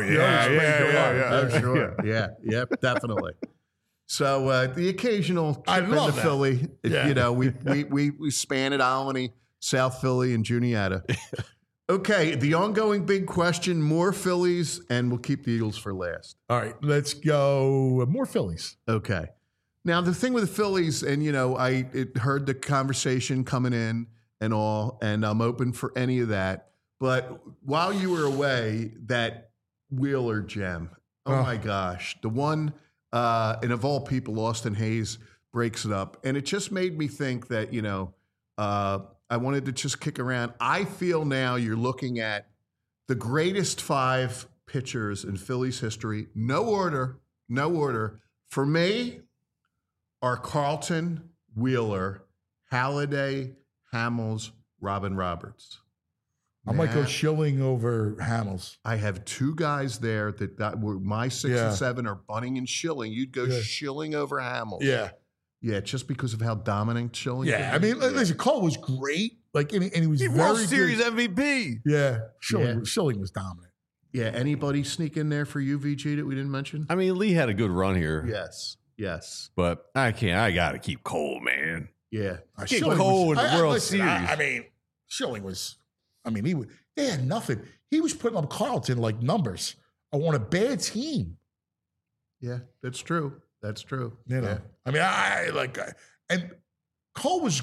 Oh sure. Yeah. Definitely. So the occasional trip I love into that. Philly, Yeah. you know, we span at Albany, South Philly, and Juniata. Okay, the ongoing big question: more Phillies, and we'll keep the Eagles for last. All right, let's go. More Phillies. Okay. Now the thing with the Phillies, and you know, I heard the conversation coming in and all, and I'm open for any of that. But while you were away, that Wheeler gem, oh my gosh, the one, and of all people, Austin Hayes breaks it up, and it just made me think that, you know, I wanted to just kick around. I feel now you're looking at the greatest 5 pitchers in Phillies history. No order. For me, are Carlton, Wheeler, Halladay, Hamels, Robin Roberts. I might go Now, Schilling over Hamels. I have 2 guys there that were my 6 and 7 are Bunning and Schilling. You'd go Schilling over Hamels. Yeah, just because of how dominant Schilling is. I mean, listen, Cole was great. Like, and he was He very World Series good. MVP. Yeah, Schilling was dominant. Yeah, anybody sneak in there for UVG that we didn't mention? I mean, Lee had a good run here. Yes. But I got to keep Cole, man. Yeah. Keep Schilling Cole was- in the I- World listen, Series. I mean, Schilling was. I mean, they had nothing. He was putting up Carlton like numbers. I want a bad team. Yeah, that's true. You know, I mean, and Cole was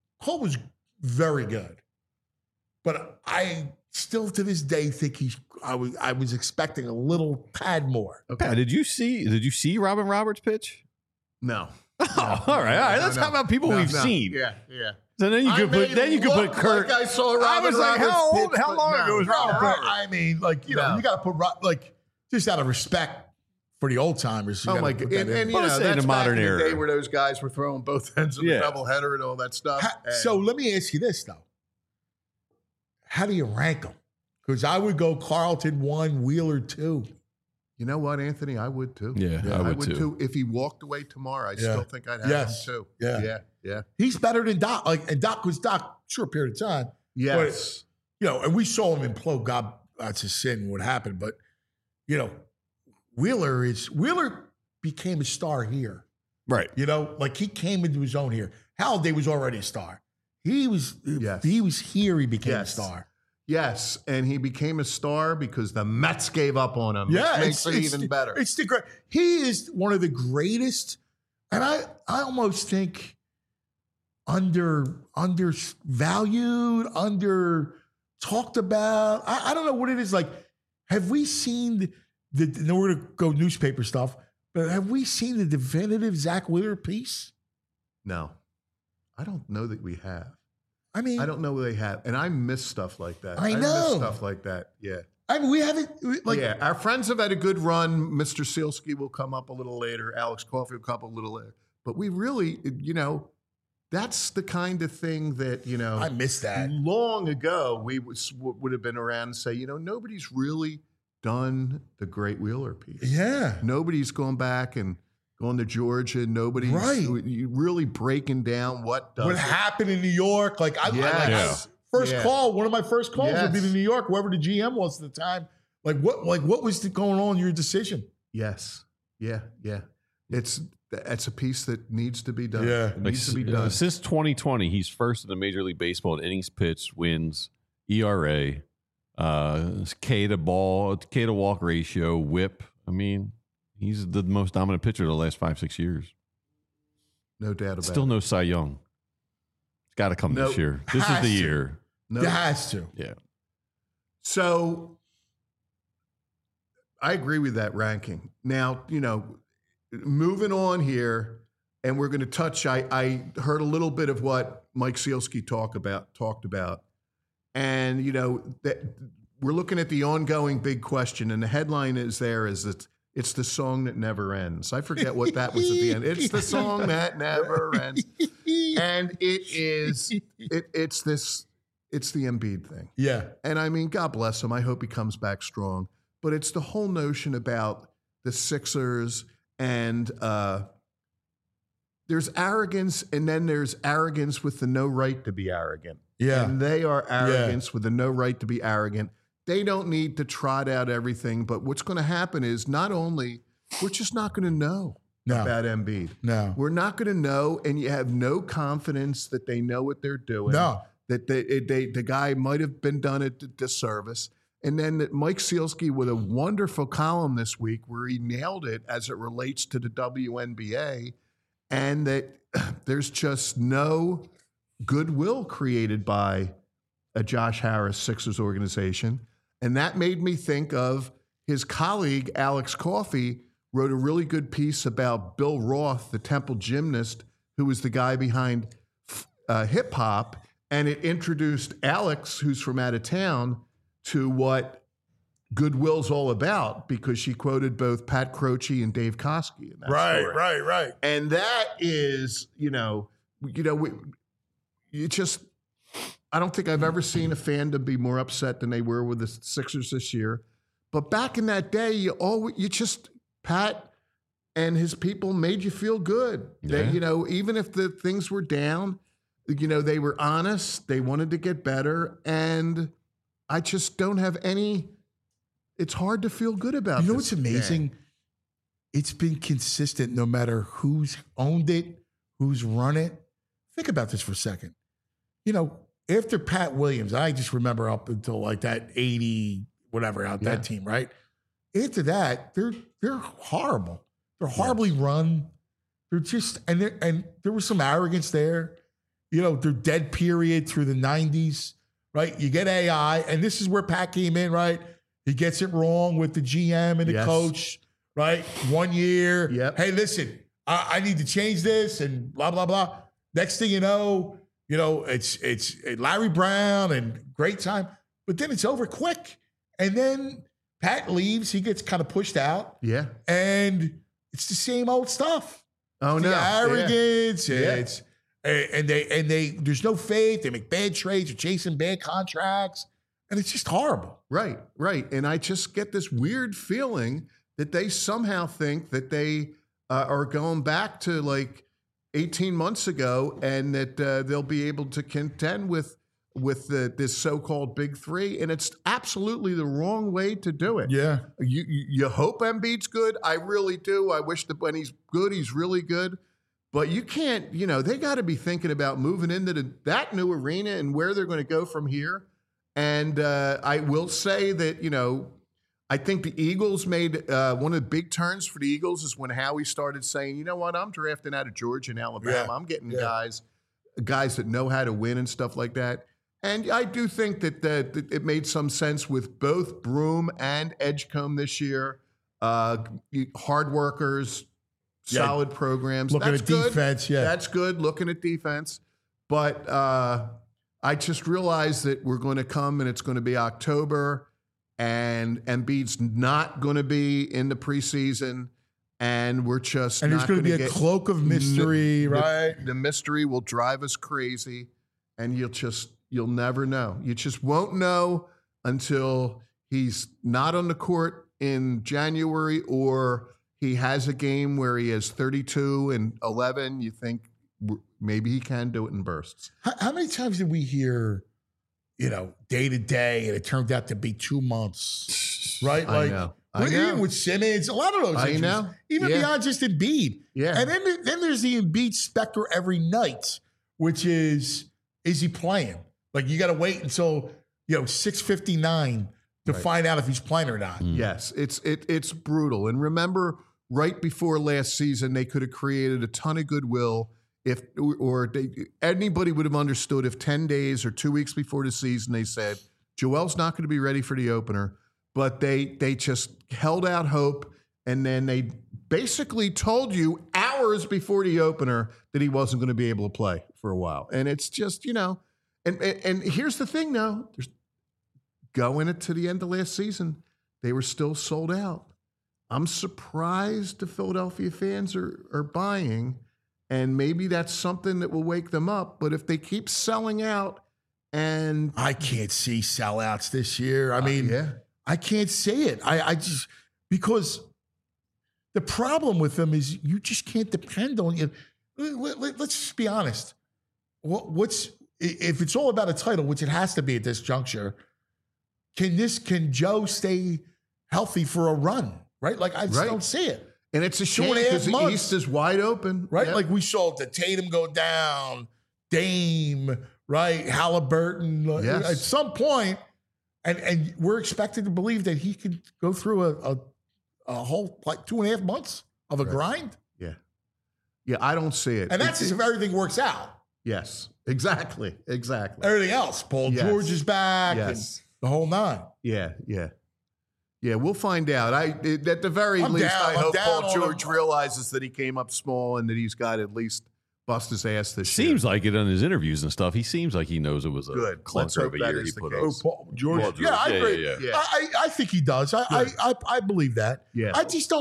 very good, but I still to this day think I was expecting a little tad more. Pat, did you see Robin Roberts pitch? No. Oh, all right. Let's talk about people we've seen. Yeah. So then you could put Kurt. Like I saw Robin I was like, Roberts pitch, how but long no. ago was Robin No, Roberts? I mean, like, you know, you got to put like just out of respect for the old timers. Oh my god! And you Well, know, let's say that's the back modern in the era. day where those guys were throwing both ends of the doubleheader and all that stuff. So let me ask you this though: how do you rank them? Because I would go Carlton 1, Wheeler 2. You know what, Anthony? I would too. Yeah, I would too. If he walked away tomorrow, I still think I'd have Yes. him too. Yeah. He's better than Doc. And Doc was Doc short period of time. Yes. But, you know, and we saw him implode. God, that's a sin. What happened? But you know, Wheeler became a star here. Right. You know, like he came into his own here. Halladay was already a star. He was here. He became a star. Yes, and he became a star because the Mets gave up on him. Yeah, which makes it even better. It's the great. He is one of the greatest, and I almost think undervalued, under talked about. I don't know what it is. Like, have we seen no, we're gonna go newspaper stuff, but have we seen the definitive Zach Wheeler piece? No, I don't know that we have. I mean, I don't know they have, and I miss stuff like that. I know miss stuff like that. Yeah. I mean, we haven't. Yeah, our friends have had a good run. Mr. Sealski will come up a little later. Alex Coffey will come up a little later. But we really, that's the kind of thing that, I miss that. Long ago, we would have been around and say, nobody's really done the Great Wheeler piece. Yeah. Nobody's gone back and gone to Georgia. Nobody's really breaking down what happened in New York. Like, First call, one of my first calls would be to New York, whoever the GM was at the time. What was going on in your decision? Yes. Yeah. It's a piece that needs to be done. Yeah. It needs to be done. Since 2020, he's first in the Major League Baseball in innings pitched, wins, ERA, K to walk ratio, whip. I mean, he's the most dominant pitcher of the last 5-6 years. No doubt about it. Still no Cy Young. It's got to come this year. This is the year. No. It has to. Yeah. So I agree with that ranking. Now, moving on here, and we're going to touch, I heard a little bit of what Mike Sealski talked about. And, that we're looking at the ongoing big question, and the headline is that it's the song that never ends. I forget what that was at the end. It's the song that never ends. And it's the Embiid thing. Yeah. And I mean, God bless him. I hope he comes back strong. But it's the whole notion about the Sixers and there's arrogance, and then there's arrogance with the no right to be arrogant. Yeah. And they are arrogance with the no right to be arrogant. They don't need to trot out everything, but what's going to happen is not only we're just not going to know about Embiid. No. We're not going to know, and you have no confidence that they know what they're doing. No. That the guy might have been done a disservice. And then that Mike Sealski with a wonderful column this week where he nailed it as it relates to the WNBA, and that there's just no goodwill created by a Josh Harris Sixers organization. And that made me think of his colleague, Alex Coffey, wrote a really good piece about Bill Roth, the Temple gymnast, who was the guy behind hip hop. And it introduced Alex, who's from out of town, to what goodwill's all about, because she quoted both Pat Croce and Dave Koski in that story. Right. And that is, I don't think I've ever seen a fandom be more upset than they were with the Sixers this year. But back in that day, Pat and his people made you feel good. Yeah. They, even if the things were down, they were honest. They wanted to get better. And I just don't have it's hard to feel good about. You know what's amazing? Game. It's been consistent no matter who's owned it, who's run it. Think about this for a second. After Pat Williams, I just remember up until like that 80, whatever, that team, right? After that, they're horrible. They're horribly run. They're just, and there was some arrogance there. Their dead period through the 90s, right? You get AI, and this is where Pat came in, right? He gets it wrong with the GM and the coach, right? 1 year. Yep. Hey, listen, I need to change this and blah, blah, blah. Next thing you know, it's Larry Brown and great time, but then it's over quick. And then Pat leaves, he gets kind of pushed out. Yeah. And it's the same old stuff. Oh, it's no. The arrogance. Yeah. It's and they there's no faith. They make bad trades, they're chasing bad contracts, and it's just horrible. Right. And I just get this weird feeling that they somehow think that they are going back to like 18 months ago, and that they'll be able to contend with this so-called big three, and it's absolutely the wrong way to do it. Yeah. You hope Embiid's good. I really do. I wish that when he's good, he's really good. But you can't, they got to be thinking about moving into that new arena and where they're going to go from here. And I will say that, I think the Eagles made one of the big turns for the Eagles is when Howie started saying, you know what, I'm drafting out of Georgia and Alabama. Yeah. I'm getting guys that know how to win and stuff like that. And I do think that it made some sense with both Broome and Edgecombe this year. Hard workers, solid programs. Looking That's at good. defense, That's good, looking at defense. But I just realized that we're going to come and it's going to be October and Embiid's not going to be in the preseason. And we're just and not there's going to be a cloak of mystery, right? The mystery will drive us crazy, and you'll never know. You just won't know until he's not on the court in January or he has a game where he has 32 and 11. You think maybe he can do it in bursts. How many times did we hear, day to day, and it turned out to be 2 months, right? I know. Even with Simmons, a lot of those injuries, even beyond just Embiid. Yeah. And then there's the Embiid specter every night, which is he playing? Like you got to wait until 6:59 to find out if he's playing or not. Yes, it's brutal. And remember, right before last season, they could have created a ton of goodwill anybody would have understood if 10 days or 2 weeks before the season they said Joel's not going to be ready for the opener, but they just held out hope, and then they basically told you hours before the opener that he wasn't going to be able to play for a while. And it's just and here's the thing now, going into the end of last season, they were still sold out. I'm surprised the Philadelphia fans are buying, and maybe that's something that will wake them up. But if they keep selling out, and I can't see sellouts this year. I mean, I can't see it. I just, because the problem with them is you just can't depend on you. Let's just be honest. If it's all about a title, which it has to be at this juncture, can Joe stay healthy for a run? Right? Like I just don't see it. And it's a shame because the East is wide open. Right? Yep. Like we saw the Tatum go down, Dame, right? Halliburton. Yes. At some point, and we're expected to believe that he could go through a whole 2.5 months of a grind. Yeah. Yeah, I don't see it. And that's if everything works out. Yes, exactly. Everything else. Paul George is back. Yes. And the whole nine. Yeah, we'll find out. At the very least, I hope Paul George realizes that he came up small and that he's got to at least bust his ass this year. Seems like it on his interviews and stuff. He seems like he knows it was a clunker of a year he put up. Paul George. Yeah, I agree. Yeah. I think he does. I believe that. Yeah.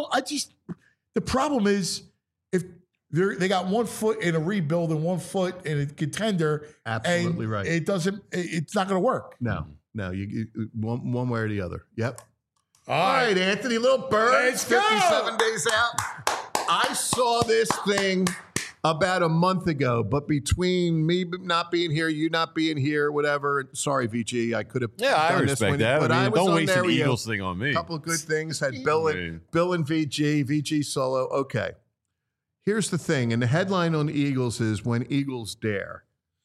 The problem is if they got 1 foot in a rebuild and 1 foot in a contender. Absolutely right. It's not going to work. No, you one way or the other. Yep. All right, Anthony, little birds, 57 days out. I saw this thing about a month ago, but between me not being here, you not being here, whatever. Sorry, VG, I could have. Yeah, I respect that. But I was don't on waste there an with Eagles thing on me. A couple of good things. Had Bill and VG solo. Okay. Here's the thing, and the headline on the Eagles is "When Eagles Dare."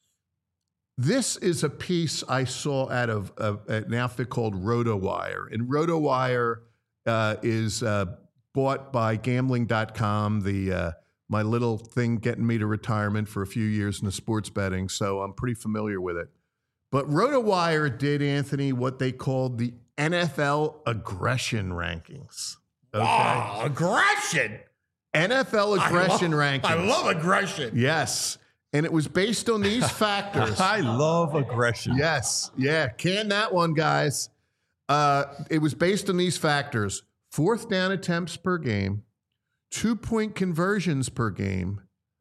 This is a piece I saw out of an outfit called RotoWire. And RotoWire is bought by Gambling.com, my little thing getting me to retirement for a few years in the sports betting. So I'm pretty familiar with it. But RotoWire did, Anthony, what they called the NFL aggression rankings. Okay? Wow, aggression. NFL aggression rankings. I love aggression. Yes. And it was based on these factors. I love aggression. Yes. Yeah. Can that one, guys. It was based on these factors: 4th down attempts per game, 2-point conversions per game,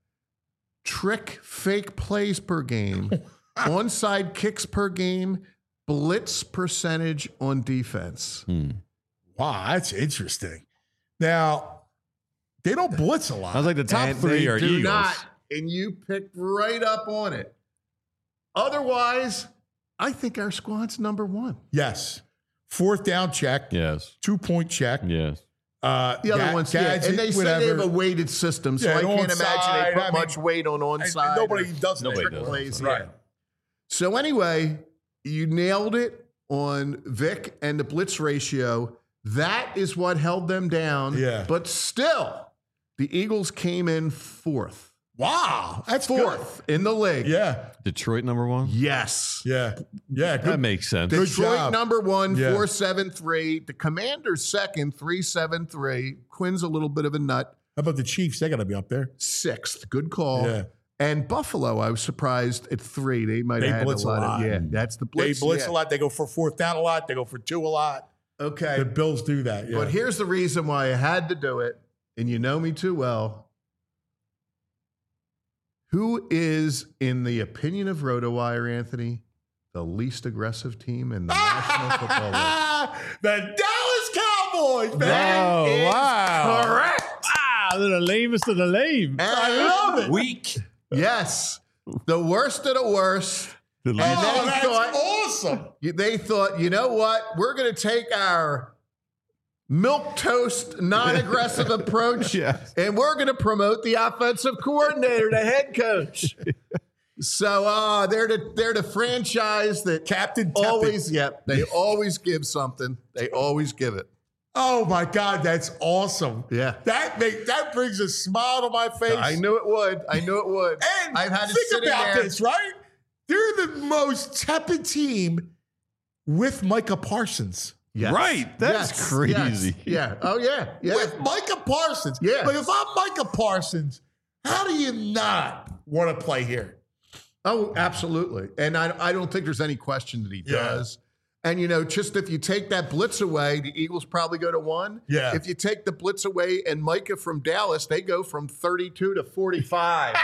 fake plays per game, onside kicks per game, blitz percentage on defense. Wow, that's interesting. Now, they don't blitz a lot. I was like, the top three are do Eagles. Not, and you picked right up on it. Otherwise, I think our squad's number one. Yes. 4th down check. Yes. 2-point check. Yes. The other ones, and they say they have a weighted system, so I can't imagine they put much weight on onside. Nobody does that. Nobody does. Plays. Right. So anyway, You nailed it on Vic and the blitz ratio. That is what held them down. Yeah. But still, the Eagles came in fourth. Wow. That's Fourth in the league. Yeah. Detroit number one? Yes. Yeah. Yeah. That makes sense. Good Detroit job. number one, Yeah. 4.73. The Commanders second, 3.73. Quinn's a little bit of a nut. How about the Chiefs? They got to be up there. Sixth. Good call. Yeah. And Buffalo, I was surprised at 3. They might They have had blitz a lot a lot. of, yeah, that's the blitz. They blitz yeah. a lot. They go for fourth down a lot. They go for 2 a lot. Okay. The Bills do that. Yeah. But here's the reason why I had to do it, and you know me too well. Who is, in the opinion of RotoWire, Anthony, the least aggressive team in the National Football League? The Dallas Cowboys, man. Oh, is wow. correct. Wow, they're the lamest of the lame. I love it. Weak. Yes. The worst of the worst. The And least- Oh, they that's thought, awesome. they thought, you know what? We're going to take our milk toast, non-aggressive approach, Yes. and we're going to promote the offensive coordinator, the head coach. So they're the franchise that Captain Tepid. always, they always give something. They always give it. Oh my God, that's awesome. Yeah. That brings a smile to my face. I knew it would. I knew it would. And I've had to think sit in about there. this, right? They're the most tepid team with Micah Parsons. Yes. Right. That's Yes. crazy. Yes. Yeah. Oh yeah. Yeah. With Micah Parsons. Yeah. Like if I'm Micah Parsons, how do you not want to play here? Oh, absolutely. And I don't think there's any question that he Yeah. does. And, you know, just if you take that blitz away, the Eagles probably go to 1. Yeah. If you take the blitz away and Micah from Dallas, they go from 32 to 45.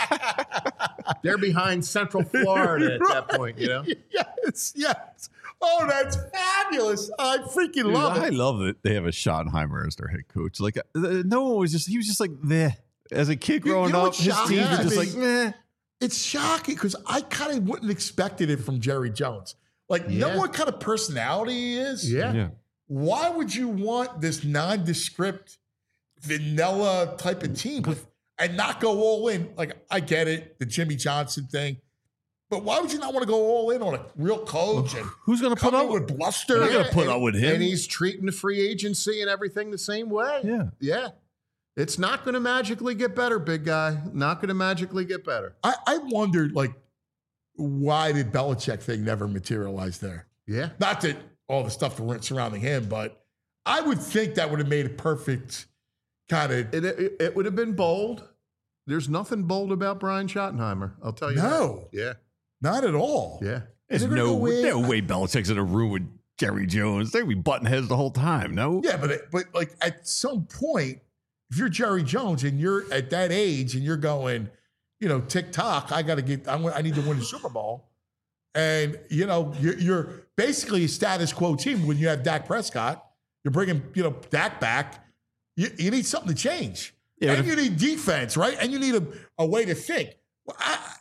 They're behind Central Florida at that point, you know? Yes, yes. Oh, that's fabulous. I freaking love I it. love that they have a Schottenheimer as their head coach. Like, no one was just, he was just like, meh. As a kid You growing know up, what's his shocking teams were to just me? like, meh. It's shocking because I kind of wouldn't expected it from Jerry Jones. Like, Yeah. know what kind of personality he is? Yeah. Why would you want this nondescript, vanilla type of team and not go all in? Like, I get it, the Jimmy Johnson thing. But why would you not want to go all in on a real coach and Who's going to put come up in with bluster? They're gonna put up with him. And he's treating the free agency and everything the same way. Yeah. Yeah. It's not going to magically get better, big guy. Not going to magically get better. I wondered, like, why did Belichick thing never materialize there? Yeah. Not that all the stuff surrounding him, but I would think that would have made a perfect kind of. It would have been bold. There's nothing bold about Brian Schottenheimer. I'll tell you. No. That. Not at all. Yeah. There's They're gonna no go in- way Belichick's in a room with Jerry Jones. They'd be button heads the whole time, no? Yeah, but like at some point, if you're Jerry Jones and you're at that age and you're going, you know, TikTok, I need to win the Super Bowl. And, you know, you're basically a status quo team when you have Dak Prescott. You're bringing, you know, Dak back. You need something to change. Yeah, and you need defense, right? And you need a way to think. Well,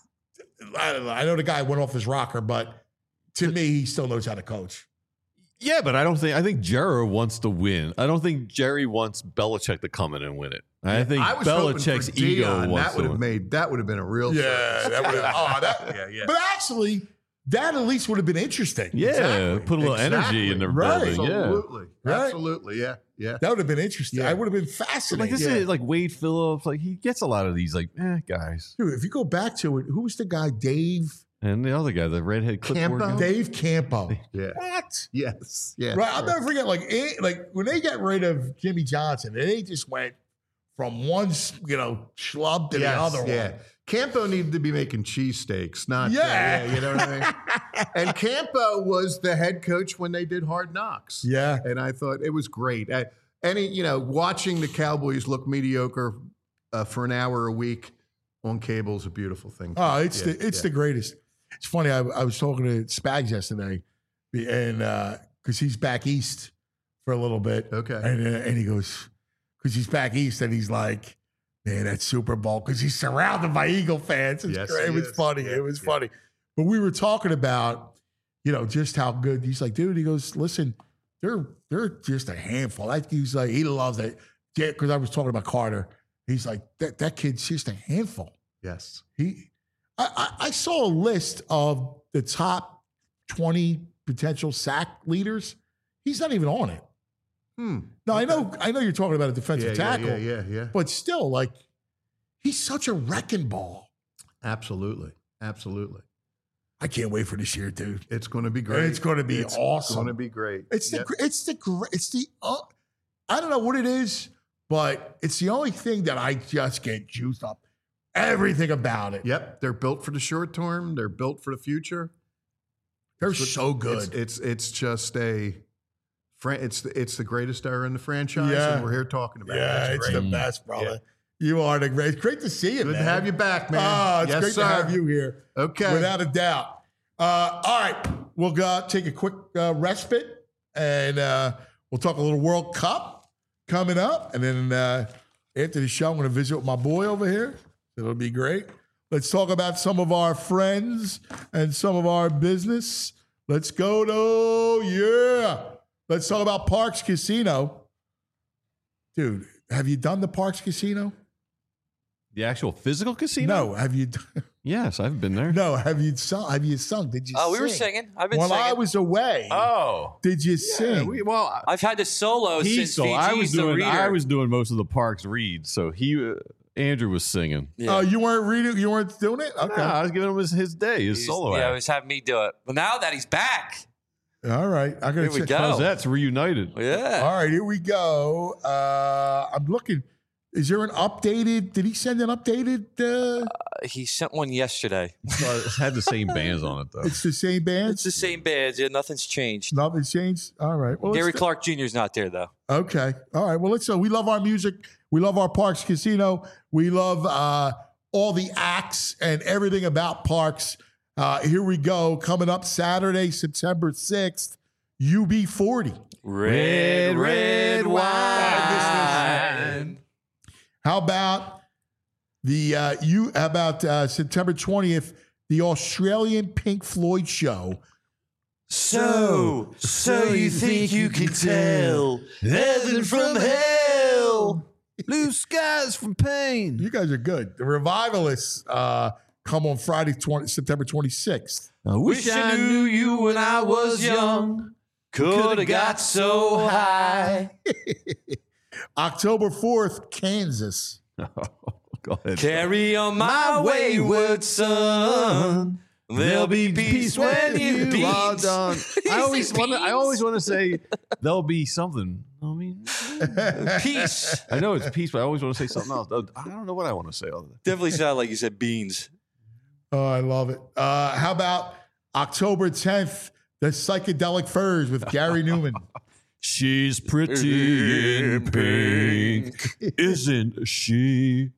I don't know. I know the guy went off his rocker, but to me, he still knows how to coach. Yeah, but I think Jerry wants to win. I don't think Jerry wants Belichick to come in and win it. I think I was hoping Belichick's for ego Dion. wants That would to have win. that would have been a real Yeah, that would have. But actually, that at least would have been interesting. Yeah, Exactly. put a little energy in the Right. building. Yeah. Absolutely. Right. Absolutely. Yeah. Yeah. That would have been interesting. Yeah. I would have been Like fascinated. this is like Wade Phillips. Like he gets a lot of these like guys. Dude, if you go back to it, who was the guy? Dave And the other guy, the redhead clipboard Campo? guy. Dave Campo. Yeah. What? Yes. Yeah. Right. I'll never forget. Like when they got rid of Jimmy Johnson, they just went from one, you know, schlub to the other yeah. one. Campo needed to be making cheesesteaks, not Yeah. you know what I mean? And Campo was the head coach when they did Hard Knocks. Yeah. And I thought it was great. Watching the Cowboys look mediocre for an hour a week on cable is a beautiful thing. Oh, it's Yeah, the greatest. It's funny. I was talking to Spags yesterday, and because he's back east for a little bit. Okay. And he goes, because he's back east, and he's like, man, that Super Bowl, because he's surrounded by Eagle fans. It's Yes, great. It he was is. funny. Yeah, It was yeah. funny. But we were talking about, you know, just how good. He's like, dude. He goes, listen, they're just a handful. He's like, he loves it. Yeah, because I was talking about Carter. He's like, that kid's just a handful. Yes. I saw a list of the top 20 potential sack leaders. He's not even on it. No, I know you're talking about a defensive tackle. Yeah. But still, like, he's such a wrecking ball. Absolutely. I can't wait for this year, dude. It's going to be great. It's going to be awesome. It's going to be great. It's the I don't know what it is, but it's the only thing that I just get juiced up. Everything about it. Yep, they're built for the short term. They're built for the future. They're so good. It's just it's the greatest era in the franchise, and we're here talking about it. Yeah, it's the best, brother. Yeah. You are the great. It's great to see you, Good man. to have you back, man. Oh, it's yes, great sir. to have you here. Okay. Without a doubt. All right. We'll take a quick respite, and we'll talk a little World Cup coming up. And then after the show, I'm going to visit with my boy over here. It'll be great. Let's talk about some of our friends and some of our business. Let's go Let's talk about Parks Casino. Dude, have you done the Parks Casino? The actual physical casino? No. Have you? Yes, I've been there. No. Have you sung? Did you sing? Oh, we were singing. I've been While singing. I was away. Oh. Did you sing? I've had to solo since VG's I was reader. doing most of the Parks reads, so Andrew was singing. Oh, you weren't reading? You weren't doing it? Okay. No, I was giving him his day, his solo Yeah, act. he was having me do it. But now that he's back, All right. I'm going Here we to go. How's that's reunited? yeah. All right, here we go. I'm looking. Is there an updated? Did he send an updated? He sent one yesterday. It had the same bands on it, though. It's the same band? It's the same band. Yeah, nothing's changed. Nothing's changed? All right. Well, Gary let's- Clark Jr.'s not there, though. Okay. All right. Well, let's. We love our music. We love our Parks Casino. We love all the acts and everything about Parks. Here we go. Coming up Saturday, September 6th, UB40. Red wine. How about September 20th, the Australian Pink Floyd show? So you think you can tell heaven from hell? Blue skies from pain. You guys are good. The Revivalists come on Friday, September 26th. I Wish I knew you when I was young. Could have got so high. October 4th, Kansas. Go ahead. Carry on my wayward son. There'll be peace when you beat. Well done. I always want to say there'll be something. I mean, Peace. I know it's peace, but I always want to say something else. I don't know what I want to say other than Definitely sounded like you said beans. Oh, I love it. How about October 10th, the Psychedelic Furs with Gary Newman? she's pretty in pink, isn't she?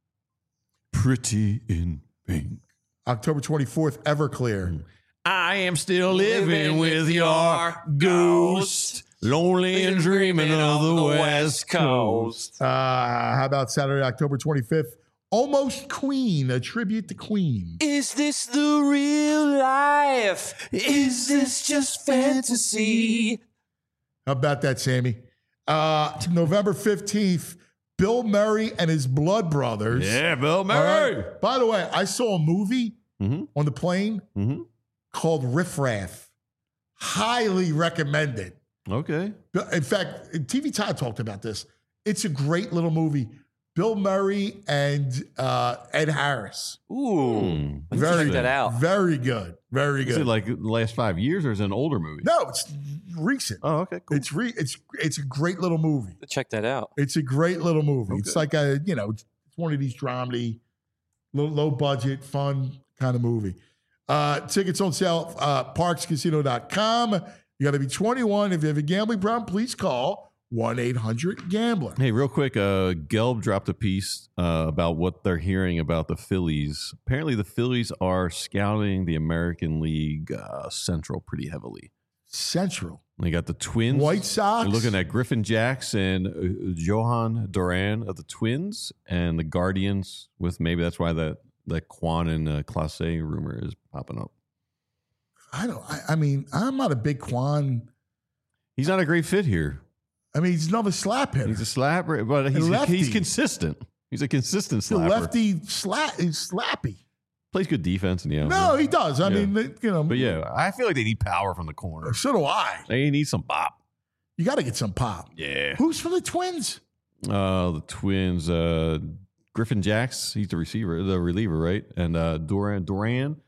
Pretty in pink. October 24th, Everclear. I am still living with your ghost, lonely and dreaming of the West Coast. How about Saturday, October 25th? Almost Queen, a tribute to Queen. Is this the real life? Is this just fantasy? How about that, Sammy? November 15th, Bill Murray and his Blood Brothers. Yeah, Bill All Murray. right. By the way, I saw a movie on the plane called Riff Raff. Highly recommended. Okay. In fact, TV Time talked about this. It's a great little movie. Bill Murray and Ed Harris. Ooh. Very check that out. Very good. Very Is good. it like the last 5 years or is it an older movie? No, it's recent. Oh, okay, cool. It's a great little movie. Check that out. It's a great little movie. It's like it's one of these dramedy, low budget, fun kind of movie. Tickets on sale, parkscasino.com. You got to be 21. If you have a gambling problem, please call 1-800-GAMBLER. Hey, real quick, Gelb dropped a piece about what they're hearing about the Phillies. Apparently, the Phillies are scouting the American League Central pretty heavily. Central. They got the Twins. White Sox. They're looking at Griffin Jacks and Johan Duran of the Twins and the Guardians with maybe that's why that Quan and Clase rumor is popping up. I mean, I'm not a big Quan. He's not a great fit here. I mean, he's another slap hitter. He's a slapper, but he's lefty. consistent. He's a consistent The slapper. lefty is slappy. Plays good defense in the end. No, he does. I mean, But yeah, I feel like they need power from the corner. So do I. They need some bop. You got to get some pop. Yeah. Who's from the Twins? The Twins, Griffin Jacks, he's the reliever, right? And Duran,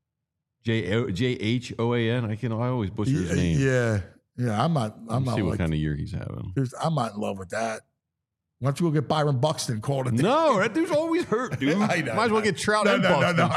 Jhoan. I always butcher his name. Yeah. I'm not. See what kind of year he's having. I'm not in love with that. Why don't you go get Byron Buxton called it? No, that dude's always hurt, dude. I know. Might as well get Trout and Buxton. No,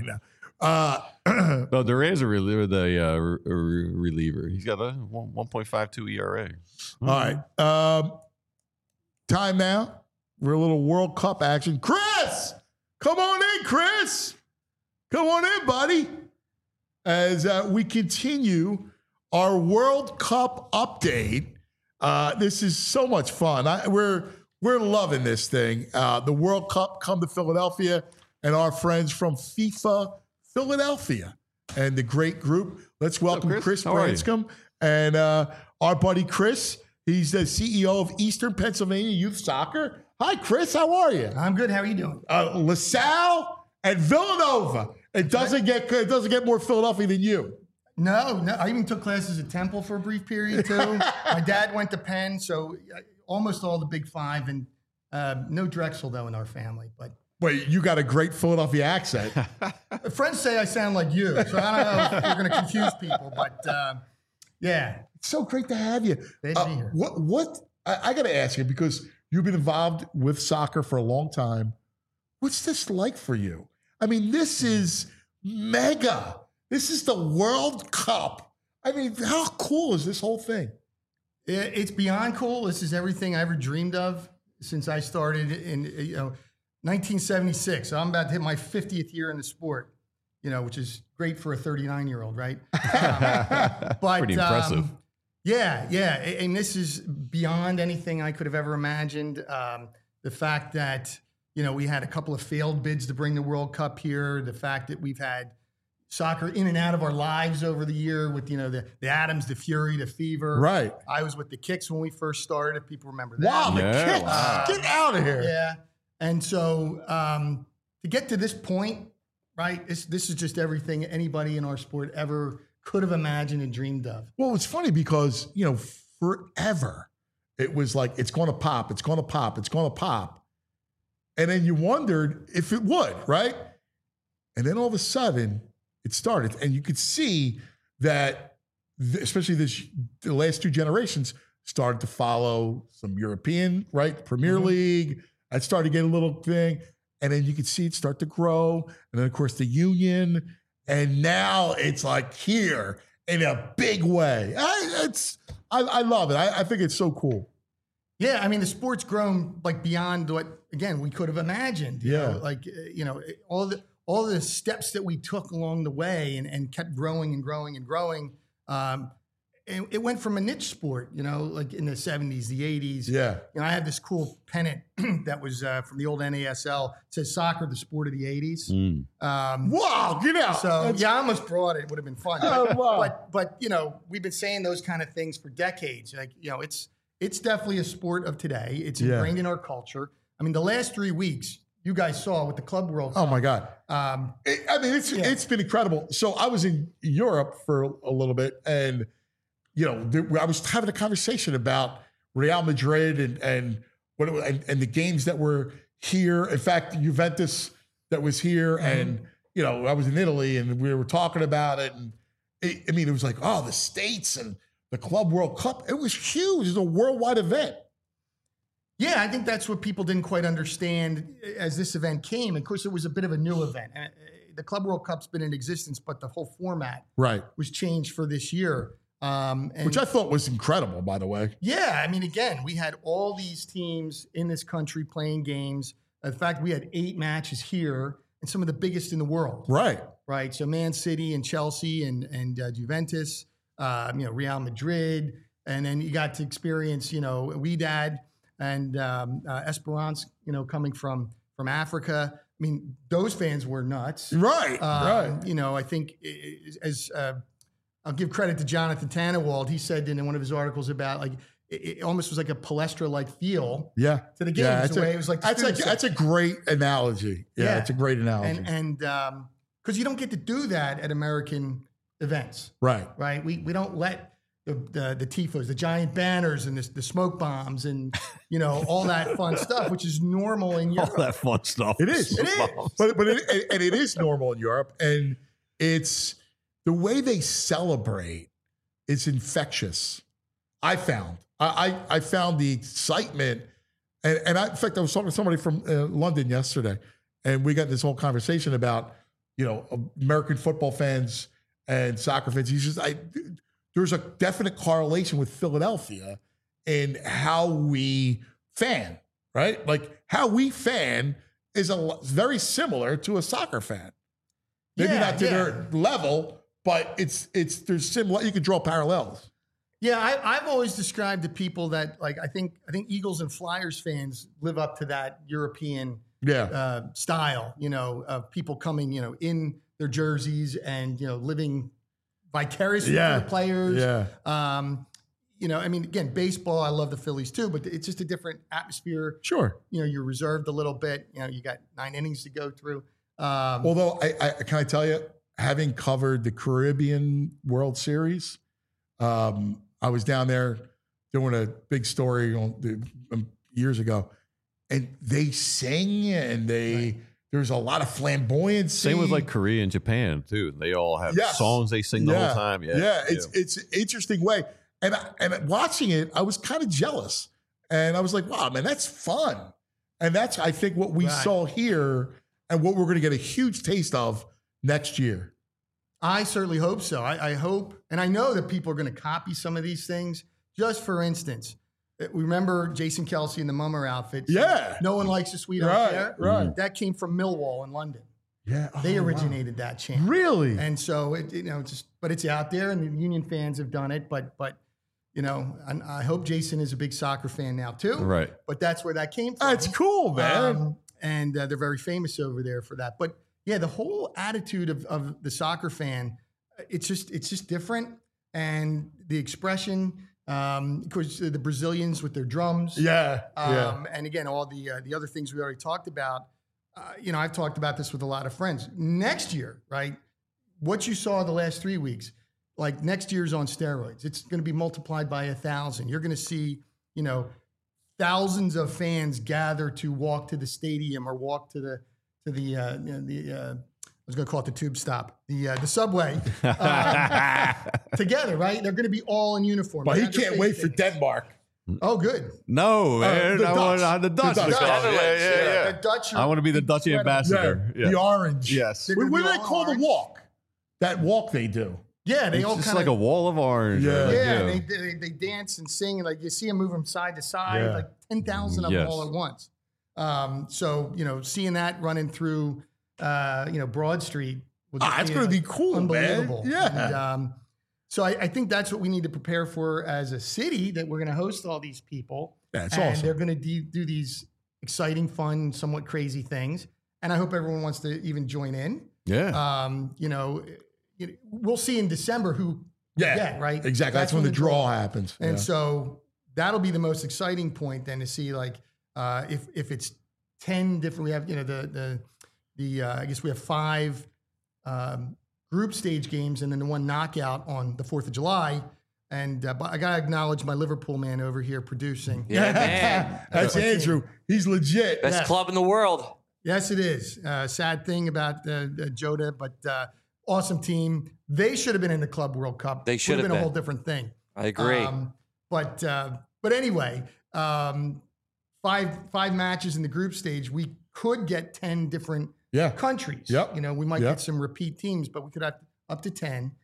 I know. No, Duran's a reliever. Reliever. He's got a 1.52 ERA. All right. Time now. We're a little World Cup action. Chris, come on in, Chris. Come on in, buddy. As we continue our World Cup update. This is so much fun. We're loving this thing. The World Cup come to Philadelphia, and our friends from FIFA Philadelphia and the great group. Let's welcome Chris Branscombe and our buddy Chris. He's the CEO of Eastern Pennsylvania Youth Soccer. Hi, Chris. How are you? I'm good. How are you doing? LaSalle and Villanova. It doesn't get more Philadelphia than you. No. I even took classes at Temple for a brief period too. My dad went to Penn, so almost all the Big Five, and no Drexel though in our family. But wait, you got a great Philadelphia accent. Friends say I sound like you, so I don't know if you're going to confuse people. But yeah, it's so great to have you. Great to be here. What I got to ask you, because you've been involved with soccer for a long time. What's this like for you? I mean, this is mega. This is the World Cup. I mean, how cool is this whole thing? It's beyond cool. This is everything I ever dreamed of since I started in 1976. So I'm about to hit my 50th year in the sport, which is great for a 39-year-old, right? But pretty impressive. Yeah. And this is beyond anything I could have ever imagined. The fact that, we had a couple of failed bids to bring the World Cup here. The fact that we've had soccer in and out of our lives over the year with, the Adams, the Fury, the Fever. Right. I was with the Kicks when we first started, if people remember that. Wow, the Kicks. Wow. Get out of here. Yeah. And so to get to this point, right, this is just everything anybody in our sport ever could have imagined and dreamed of. Well, it's funny because, forever it was like, it's going to pop, it's going to pop, it's going to pop. And then you wondered if it would, right? And then all of a sudden, it started, and you could see that, especially the last two generations started to follow some European, right? Premier League. I started to get a little thing, and then you could see it start to grow, and then of course the Union, and now it's like here in a big way. I love it. I think it's so cool. Yeah, I mean the sport's grown like beyond what again we could have imagined. You know, all the steps that we took along the way and kept growing and growing and growing. And it went from a niche sport, like in the 70s, the 80s. Yeah. I had this cool pennant that was from the old NASL. It says soccer, the sport of the 80s. Wow, So, I almost brought it. It would have been fun. But we've been saying those kind of things for decades. Like, it's definitely a sport of today. It's ingrained in our culture. I mean, the last 3 weeks, you guys saw with the Club World Cup. Oh my God! It's been incredible. So I was in Europe for a little bit, and I was having a conversation about Real Madrid and the games that were here. In fact, Juventus that was here, and I was in Italy, and we were talking about it. And it was like, the States and the Club World Cup. It was huge. It was a worldwide event. Yeah, I think that's what people didn't quite understand as this event came. Of course, it was a bit of a new event. The Club World Cup's been in existence, but the whole format was changed for this year. Which I thought was incredible, by the way. Yeah, I mean, again, we had all these teams in this country playing games. In fact, we had 8 matches here and some of the biggest in the world. Right. So Man City and Chelsea and Juventus, Real Madrid. And then you got to experience, Wydad and Esperance, coming from Africa. I mean, those fans were nuts. Right. I think as I'll give credit to Jonathan Tannenwald. He said in one of his articles about like it almost was like a Palestra-like feel to the games. The way it was like that's a great analogy. Yeah, it's a great analogy. And because you don't get to do that at American events. Right. Right. We don't let the tifos, the giant banners, and the smoke bombs, and all that fun stuff, which is normal in Europe. All that fun stuff. It is. But it is normal in Europe, and it's the way they celebrate. It's infectious. I found the excitement, and in fact, I was talking to somebody from London yesterday, and we got this whole conversation about American football fans and soccer fans. He's just there's a definite correlation with Philadelphia in how we fan, right? Like how we fan is very similar to a soccer fan. Maybe not to their level, but there's similar. You could draw parallels. Yeah, I've always described to people that I think Eagles and Flyers fans live up to that European style, of people coming, in their jerseys and living vicariously for the players. Yeah. Again, baseball, I love the Phillies too, but it's just a different atmosphere. Sure. You're reserved a little bit. You got 9 innings to go through. Although can I tell you, having covered the Caribbean World Series, I was down there doing a big story years ago, and they sing and there's a lot of flamboyancy. Same with Korea and Japan too. They all have songs they sing the whole time. Yeah, it's an interesting way. And watching it, I was kind of jealous, and I was like, "Wow, man, that's fun." And that's, I think, what we saw here, and what we're going to get a huge taste of next year. I certainly hope so. I hope, and I know that people are going to copy some of these things. Just for instance, remember Jason Kelce in the Mummer outfit? Yeah. No one likes a sweet affair. Right. That came from Millwall in London. Yeah. They originated that chant. Really? And so but it's out there, and the Union fans have done it. But I hope Jason is a big soccer fan now too. Right. But that's where that came from. That's cool, man. And they're very famous over there for that. But yeah, the whole attitude of the soccer fan, it's just different, and the expression. Of course, the Brazilians with their drums. And again, all the other things we already talked about. I've talked about this with a lot of friends. Next year, right? What you saw the last 3 weeks, next year's on steroids. It's going to be multiplied by 1,000. You're going to see, thousands of fans gather to walk to the stadium or walk to the I was going to call it the tube stop, the subway, together, right? They're going to be all in uniform. But he can't wait for Denmark. Oh, good. No, man. The I want the Dutch. The Dutch. I want to be the Dutch ambassador. The orange. Yes. What do they call the walk? That walk they do. Yeah, they all just kind of like a wall of orange. They dance and sing, and you see them move from side to side, 10,000 of them all at once. So seeing that running through, Broad Street, it's going to be cool, unbelievable. Man. Yeah. And, so I think that's what we need to prepare for as a city, that we're going to host all these people. That's and awesome. They're going to do these exciting, fun, somewhat crazy things. And I hope everyone wants to even join in. Yeah. We'll see in December who right? Exactly. That's when the draw happens. And so that'll be the most exciting point then, to see if it's 10 different, we have, I guess we have 5 group stage games and then the one knockout on the 4th of July. And I got to acknowledge my Liverpool man over here producing. Yeah, man. That's Andrew. He's legit. Best club in the world. Yes, it is. Sad thing about Jota, but awesome team. They should have been in the Club World Cup. They should have been been a whole different thing. I agree. But anyway, 5 matches in the group stage. We could get 10 different countries. Yep. We might get some repeat teams, but we could have up to 10.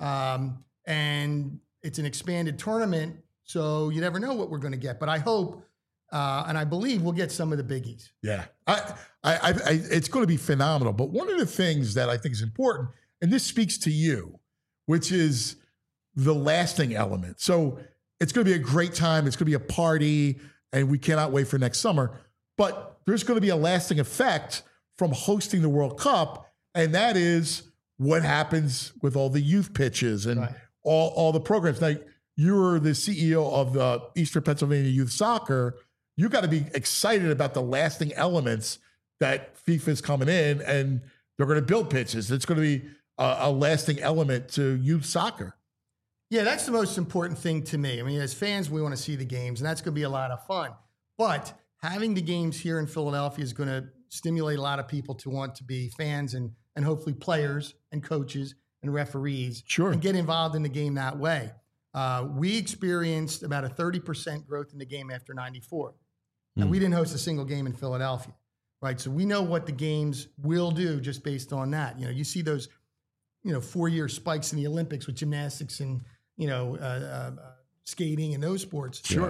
And it's an expanded tournament, so you never know what we're going to get. But I hope and I believe we'll get some of the biggies. Yeah, it's going to be phenomenal. But one of the things that I think is important, and this speaks to you, which is the lasting element. So it's going to be a great time. It's going to be a party, and we cannot wait for next summer. But there's going to be a lasting effect from hosting the World Cup, and that is what happens with all the youth pitches and all the programs. Now, you're the CEO of the Eastern Pennsylvania Youth Soccer. You got to be excited about the lasting elements that FIFA is coming in, and They're going to build pitches. It's going to be a lasting element to youth soccer. Yeah, that's the most important thing to me. I mean, as fans, we want to see the games, and that's going to be a lot of fun. But having the games here in Philadelphia is going to stimulate a lot of people to want to be fans and hopefully players and coaches and referees and get involved in the game that way. We experienced about a 30% growth in the game after 94. And we didn't host a single game in Philadelphia, right? So we know what the games will do just based on that. You see those, 4-year spikes in the Olympics with gymnastics and, skating and those sports. Sure.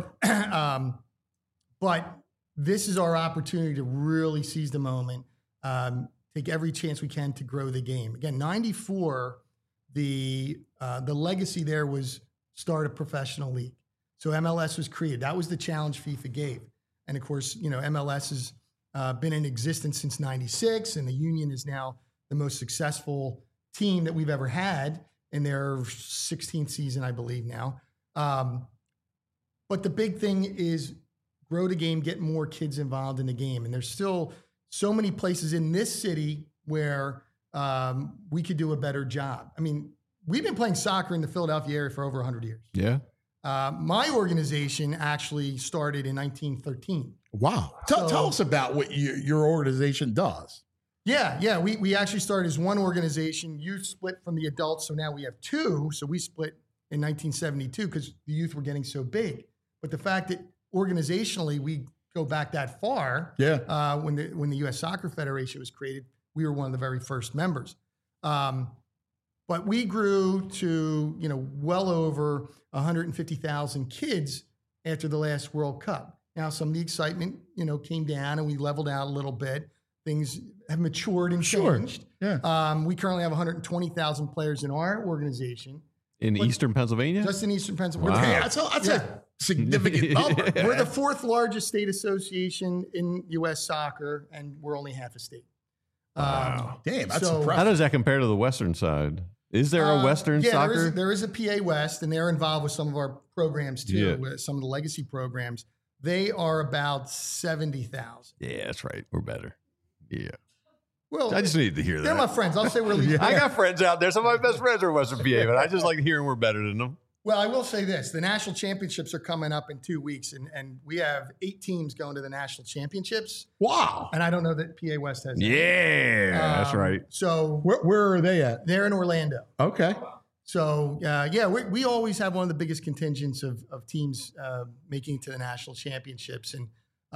But this is our opportunity to really seize the moment, take every chance we can to grow the game. Again, 94, the legacy there was start a professional league. So MLS was created. That was the challenge FIFA gave. And of course, MLS has been in existence since 96, and the Union is now the most successful team that we've ever had in their 16th season, I believe now. But the big thing is grow the game, get more kids involved in the game. And there's still so many places in this city where we could do a better job. I mean, we've been playing soccer in the Philadelphia area for over 100 years. Yeah. My organization actually started in 1913. Wow. Tell us about what your organization does. Yeah. We actually started as one organization. Youth split from the adults, so now we have two. So we split in 1972 because the youth were getting so big. But the fact that organizationally we go back that far, when the U.S. Soccer Federation was created, we were one of the very first members. But we grew to well over 150,000 kids after the last World Cup. Now some of the excitement came down and we leveled out a little bit. Things have matured and changed. Yeah. We currently have 120,000 players in our organization. In Eastern Pennsylvania? Just in Eastern Pennsylvania. Wow. That's a significant number. We're the fourth largest state association in U.S. soccer, and we're only half a state. Wow. Damn, that's How impressive. does that compare to the Western side? Is there a Western soccer? There is a PA West, and they're involved with some of our programs too, with some of the legacy programs. They are about 70,000. Yeah, that's right. We're better. Yeah. Well, I just needed to hear that. They're my friends. I'll say we're least. I got friends out there. Some of my best friends are Western PA, but I just like hearing we're better than them. Well, I will say this. The national championships are coming up in 2 weeks, and we have 8 teams going to the national championships. Wow. And I don't know that PA West has that. Yeah, that's right. So where are they at? They're in Orlando. Okay. So, we always have one of the biggest contingents of teams making it to the national championships. And,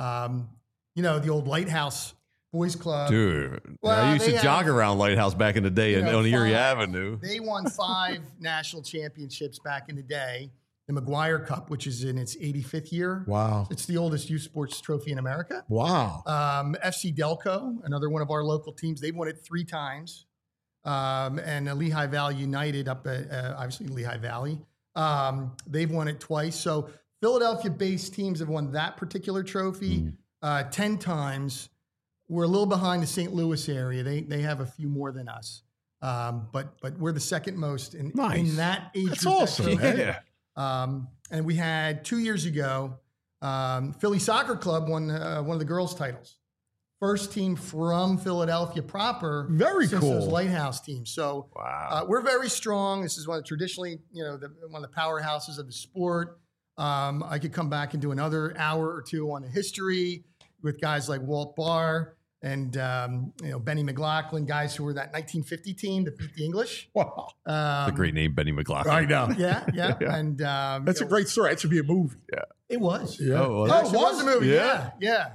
the old Lighthouse Boys Club. Dude, Well, I used to they jog have- around Lighthouse back in the day on Erie Avenue. They won 5 national championships back in the day. The McGuire Cup, which is in its 85th year. Wow. It's the oldest youth sports trophy in America. Wow. FC Delco, another one of our local teams, they've won it 3 times. And Lehigh Valley United up at, obviously, Lehigh Valley. They've won it twice. So Philadelphia-based teams have won that particular trophy 10 times. We're a little behind the St. Louis area. They have a few more than us. But we're the second most in that age That's group. awesome, man. And we had 2 years ago, Philly Soccer Club won one of the girls' titles. First team from Philadelphia proper. Very since cool. those Lighthouse teams. So Wow. we're very strong. This is one of traditionally, one of the powerhouses of the sport. I could come back and do another hour or two on the history with guys like Walt Barr and Benny McLaughlin, guys who were that 1950 team that beat the English. Wow. It's a great name, Benny McLaughlin. I know. Yeah. And That's a great story. That should be a movie. It was. Yeah. Oh, It actually was a movie. Yeah. Yeah.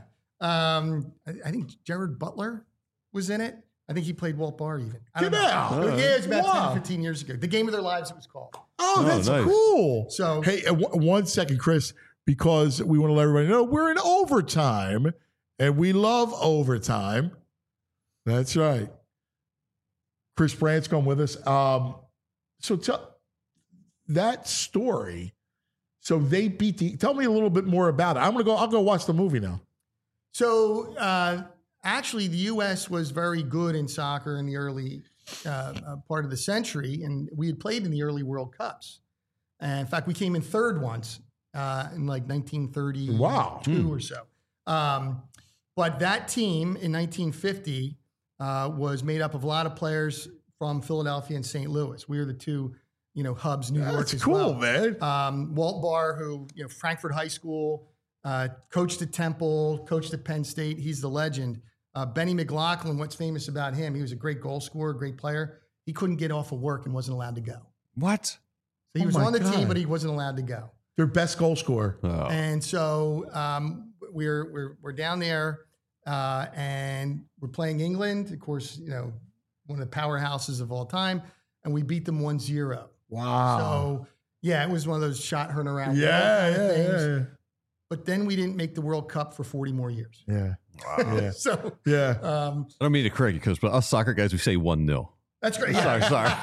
I think Jared Butler was in it. I think he played Walt Barr even. I don't Get know. out. Yeah, it was about Wow. 10, 15 years ago. The Game of Their Lives, it was called. Oh, that's nice. cool. So- hey, 1 second, Chris, because we want to let everybody know we're in overtime, and we love overtime. That's right. Chris Branscombe with us. So tell that story. So they beat tell me a little bit more about it. I'll go watch the movie now. So actually, the U.S. was very good in soccer in the early part of the century, and we had played in the early World Cups. And in fact, we came in third once in like 1932 or so. But that team in 1950 was made up of a lot of players from Philadelphia and St. Louis. We were the two, hubs, New York as well. That's cool, man. Walt Barr, who, Frankfurt High School, coached at Temple, coached at Penn State. He's the legend. Benny McLaughlin, what's famous about him? He was a great goal scorer, great player. He couldn't get off of work and wasn't allowed to go. What? So he was on the team, but he wasn't allowed to go. Their best goal scorer. Oh. And so we're down there and we're playing England, of course, one of the powerhouses of all time, and we beat them 1-0. Wow. So yeah, it was one of those shot heard around. Yeah. But then we didn't make the World Cup for 40 more years. Yeah. Wow. Yeah. So yeah. I don't mean to correct you, Coach, but us soccer guys, we say 1-0. That's great. Sorry.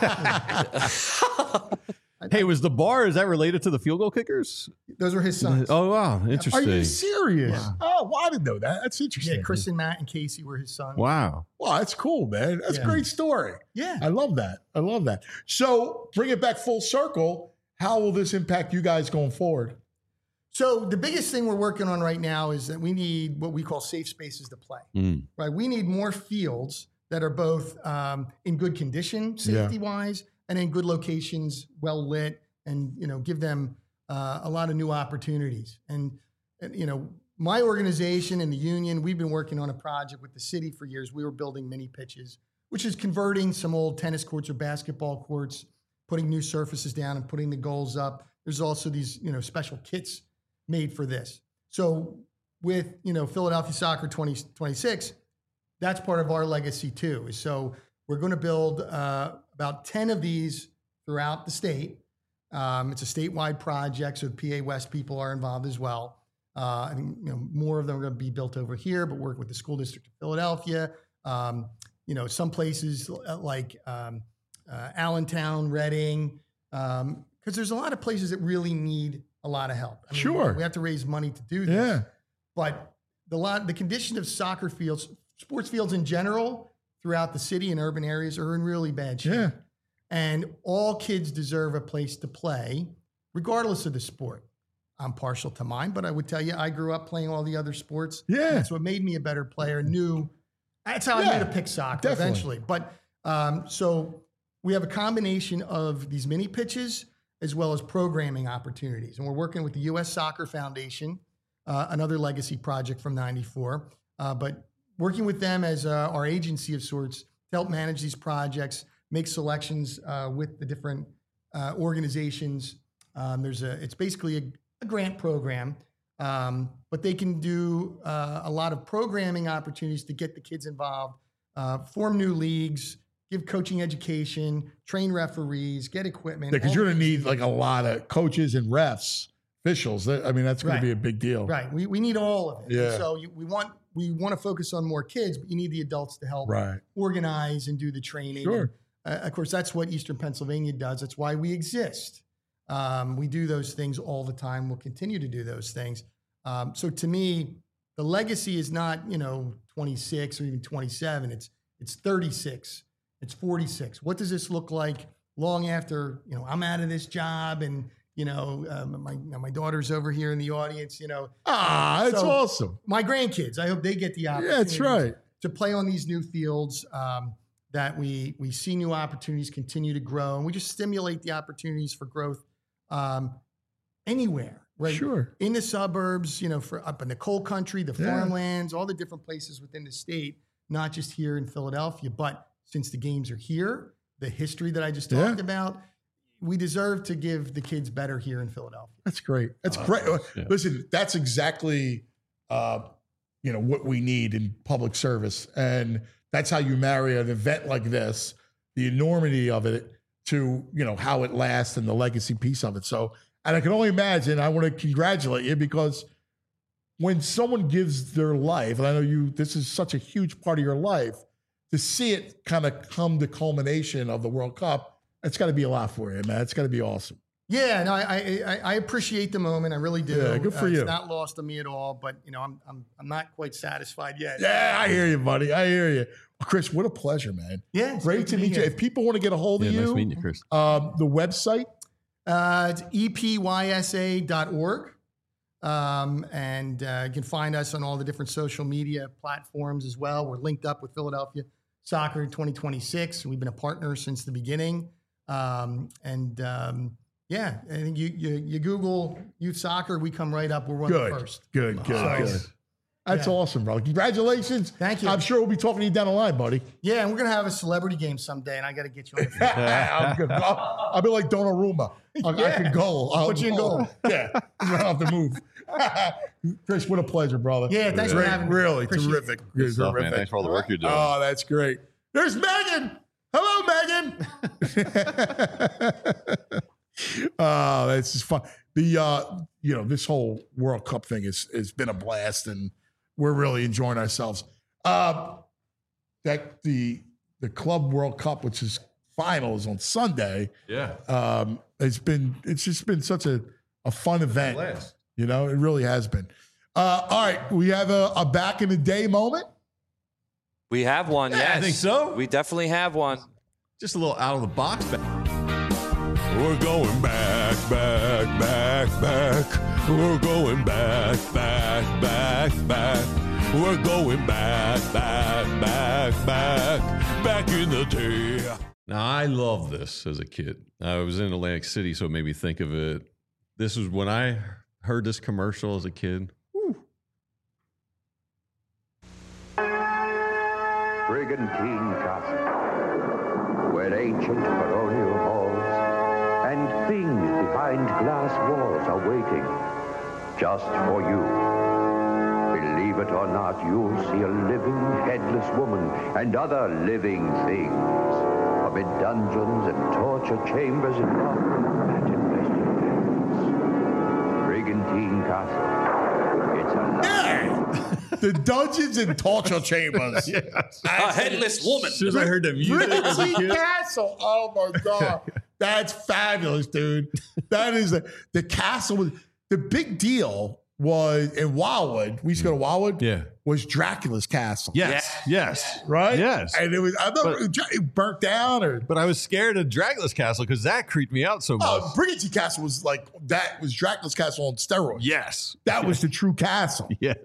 Hey, was the bar, is that related to the field goal kickers? Those were his sons. Oh, wow. Interesting. Are you serious? Yeah. Oh, well, I didn't know that. That's interesting. Yeah, Chris and Matt and Casey were his sons. Wow. Wow, that's cool, man. That's a great story. Yeah. I love that. So bring it back full circle. How will this impact you guys going forward? So the biggest thing we're working on right now is that we need what we call safe spaces to play. Right? We need more fields that are both in good condition, safety-wise, and in good locations, well lit, and give them a lot of new opportunities. And my organization and the union, we've been working on a project with the city for years. We were building mini pitches, which is converting some old tennis courts or basketball courts, putting new surfaces down and putting the goals up. There's also these special kits made for this. So with Philadelphia Soccer 2026, that's part of our legacy too. So we're going to build about 10 of these throughout the state. It's a statewide project, so the PA West people are involved as well. I think more of them are going to be built over here, but work with the school district of Philadelphia. Some places like Allentown, Reading, because there's a lot of places that really need a lot of help. I mean, sure. We have to raise money to do this. Yeah. But the condition of soccer fields, sports fields in general, throughout the city and urban areas are in really bad shape. Yeah. And all kids deserve a place to play, regardless of the sport. I'm partial to mine, but I would tell you, I grew up playing all the other sports. Yeah. That's what made me a better player. That's how I knew to pick soccer eventually. But so we have a combination of these mini pitches as well as programming opportunities. And we're working with the U.S. Soccer Foundation, another legacy project from '94. But working with them as our agency of sorts to help manage these projects, make selections with the different organizations. It's basically a grant program, but they can do a lot of programming opportunities to get the kids involved, form new leagues, give coaching education, train referees, get equipment. Yeah, because you're going to need like a lot of coaches and refs, officials. That's going to be a big deal. Right. We need all of it. Yeah. And so we want to focus on more kids, but you need the adults to help organize and do the training. Sure. And, of course, that's what Eastern Pennsylvania does. That's why we exist. We do those things all the time. We'll continue to do those things. So to me, the legacy is not 26 or even 27. It's 36. It's 46. What does this look like long after I'm out of this job and my daughter's over here in the audience? That's awesome. My grandkids, I hope they get the opportunity. Yeah, that's right. To play on these new fields. That we see new opportunities continue to grow, and we just stimulate the opportunities for growth anywhere, right? Sure. In the suburbs, for up in the coal country, the farmlands, all the different places within the state, not just here in Philadelphia. But since the games are here, the history that I just talked about, we deserve to give the kids better here in Philadelphia. That's great. That's great. Yeah. Listen, that's exactly what we need in public service, and that's how you marry an event like this, the enormity of it, to how it lasts and the legacy piece of it. So, and I can only imagine. I want to congratulate you, because when someone gives their life, and I know this is such a huge part of your life, to see it kind of come to culmination of the World Cup, it's got to be a lot for you, man. It's got to be awesome. Yeah, no, I appreciate the moment. I really do. Yeah, good for you. It's not lost on me at all, but I'm not quite satisfied yet. Yeah, I hear you, buddy. I hear you. Well, Chris, what a pleasure, man. Yeah, great to meet you. If people want to get a hold of you, nice meeting you, Chris. The website, it's epysa.org. And you can find us on all the different social media platforms as well. We're linked up with Philadelphia Soccer 2026. We've been a partner since the beginning. Yeah, I think you Google youth soccer, we come right up. We're one of the first. Good. That's awesome, bro. Congratulations. Thank you. I'm sure we'll be talking to you down the line, buddy. Yeah, and we're going to have a celebrity game someday, and I got to get you on the field. I'm good. I'll be like Donnarumma. I can go. I'll put you in goal. Yeah, I don't have to move. Chris, what a pleasure, brother. Yeah, thanks for having me. Really, Appreciate terrific. Good stuff, man. Thanks for all the work you're doing. Oh, that's great. There's Megan. Hello, Megan. Oh, that's just fun. This whole World Cup thing has been a blast, and we're really enjoying ourselves. The Club World Cup, which is finals on Sunday. Yeah. It's just been such a fun event. Blast. It really has been. All right, we have a back in the day moment. We have one. Yeah, yes, I think so. We definitely have one. Just a little out of the box. We're going back. We're going back. We're going back in the day. Now, I love this as a kid. I was in Atlantic City, so it made me think of it. This was when I heard this commercial as a kid. Brigantine Castle, where ancient baronial halls and things behind glass walls are waiting just for you. Believe it or not, you'll see a living, headless woman and other living things amid dungeons and torture chambers and investigation. Brigantine Castle. It's alive. Yeah. The dungeons and torture chambers. Yes. A headless woman. As soon as I heard the music as a kid. Castle. Oh my God. That's fabulous, dude. That is the castle. The big deal was in Wildwood. We used to go to Wildwood. Yeah. Was Dracula's castle. Yes. Right? Yes. And it was, I don't know, it burnt down But I was scared of Dracula's castle because that creeped me out so much. Oh, Brigantine Castle was that was Dracula's castle on steroids. Yes. That was the true castle. Yes.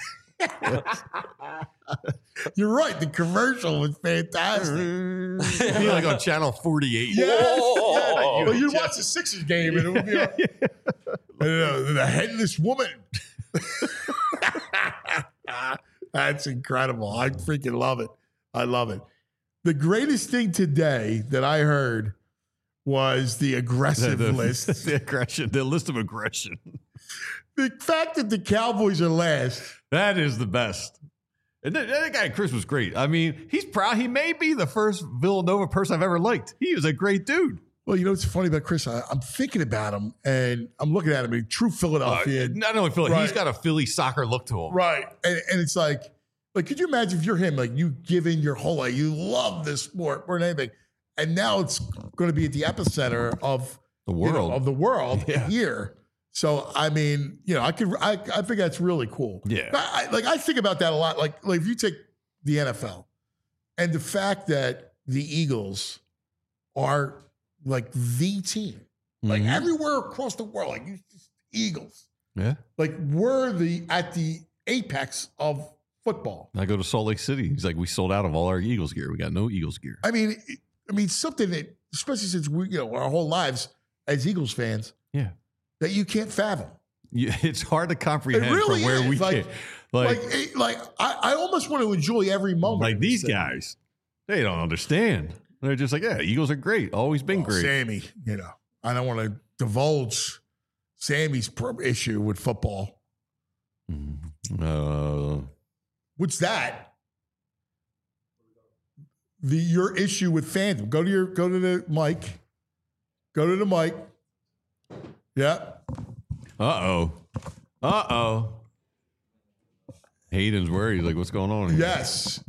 You're right. The commercial was fantastic. Be like on channel 48. Yes. Well, you'd watch the Sixers game and it would be the headless woman. That's incredible. I freaking love it. I love it. The greatest thing today that I heard was the aggressive list. The aggression. The list of aggression. The fact that the Cowboys are last. That is the best. And that guy, Chris, was great. I mean, he's proud. He may be the first Villanova person I've ever liked. He was a great dude. Well, you know what's funny about Chris? I'm thinking about him, and I'm looking at him in true Philadelphia. Not only Philly, he's got a Philly soccer look to him. Right. And it's like, could you imagine if you're him, you give in your whole life, you love this sport more than anything, and now it's going to be at the epicenter of the world, here. So, I mean, I think that's really cool. Yeah. I think about that a lot. Like if you take the NFL and the fact that the Eagles are the team, everywhere across the world, Eagles. Yeah. We're at the apex of football. I go to Salt Lake City. He's like, we sold out of all our Eagles gear. We got no Eagles gear. I mean, something that, especially since we, our whole lives as Eagles fans. Yeah. That you can't fathom. It's hard to comprehend really from where we came. I almost want to enjoy every moment. Like these guys, they don't understand. They're just like, yeah, Eagles are great. Always been great. Sammy, I don't want to divulge Sammy's issue with football. What's that? Your issue with fandom. Go to the mic. Go to the mic. Yeah. Uh-oh. Hayden's worried. He's like, what's going on here? Yes.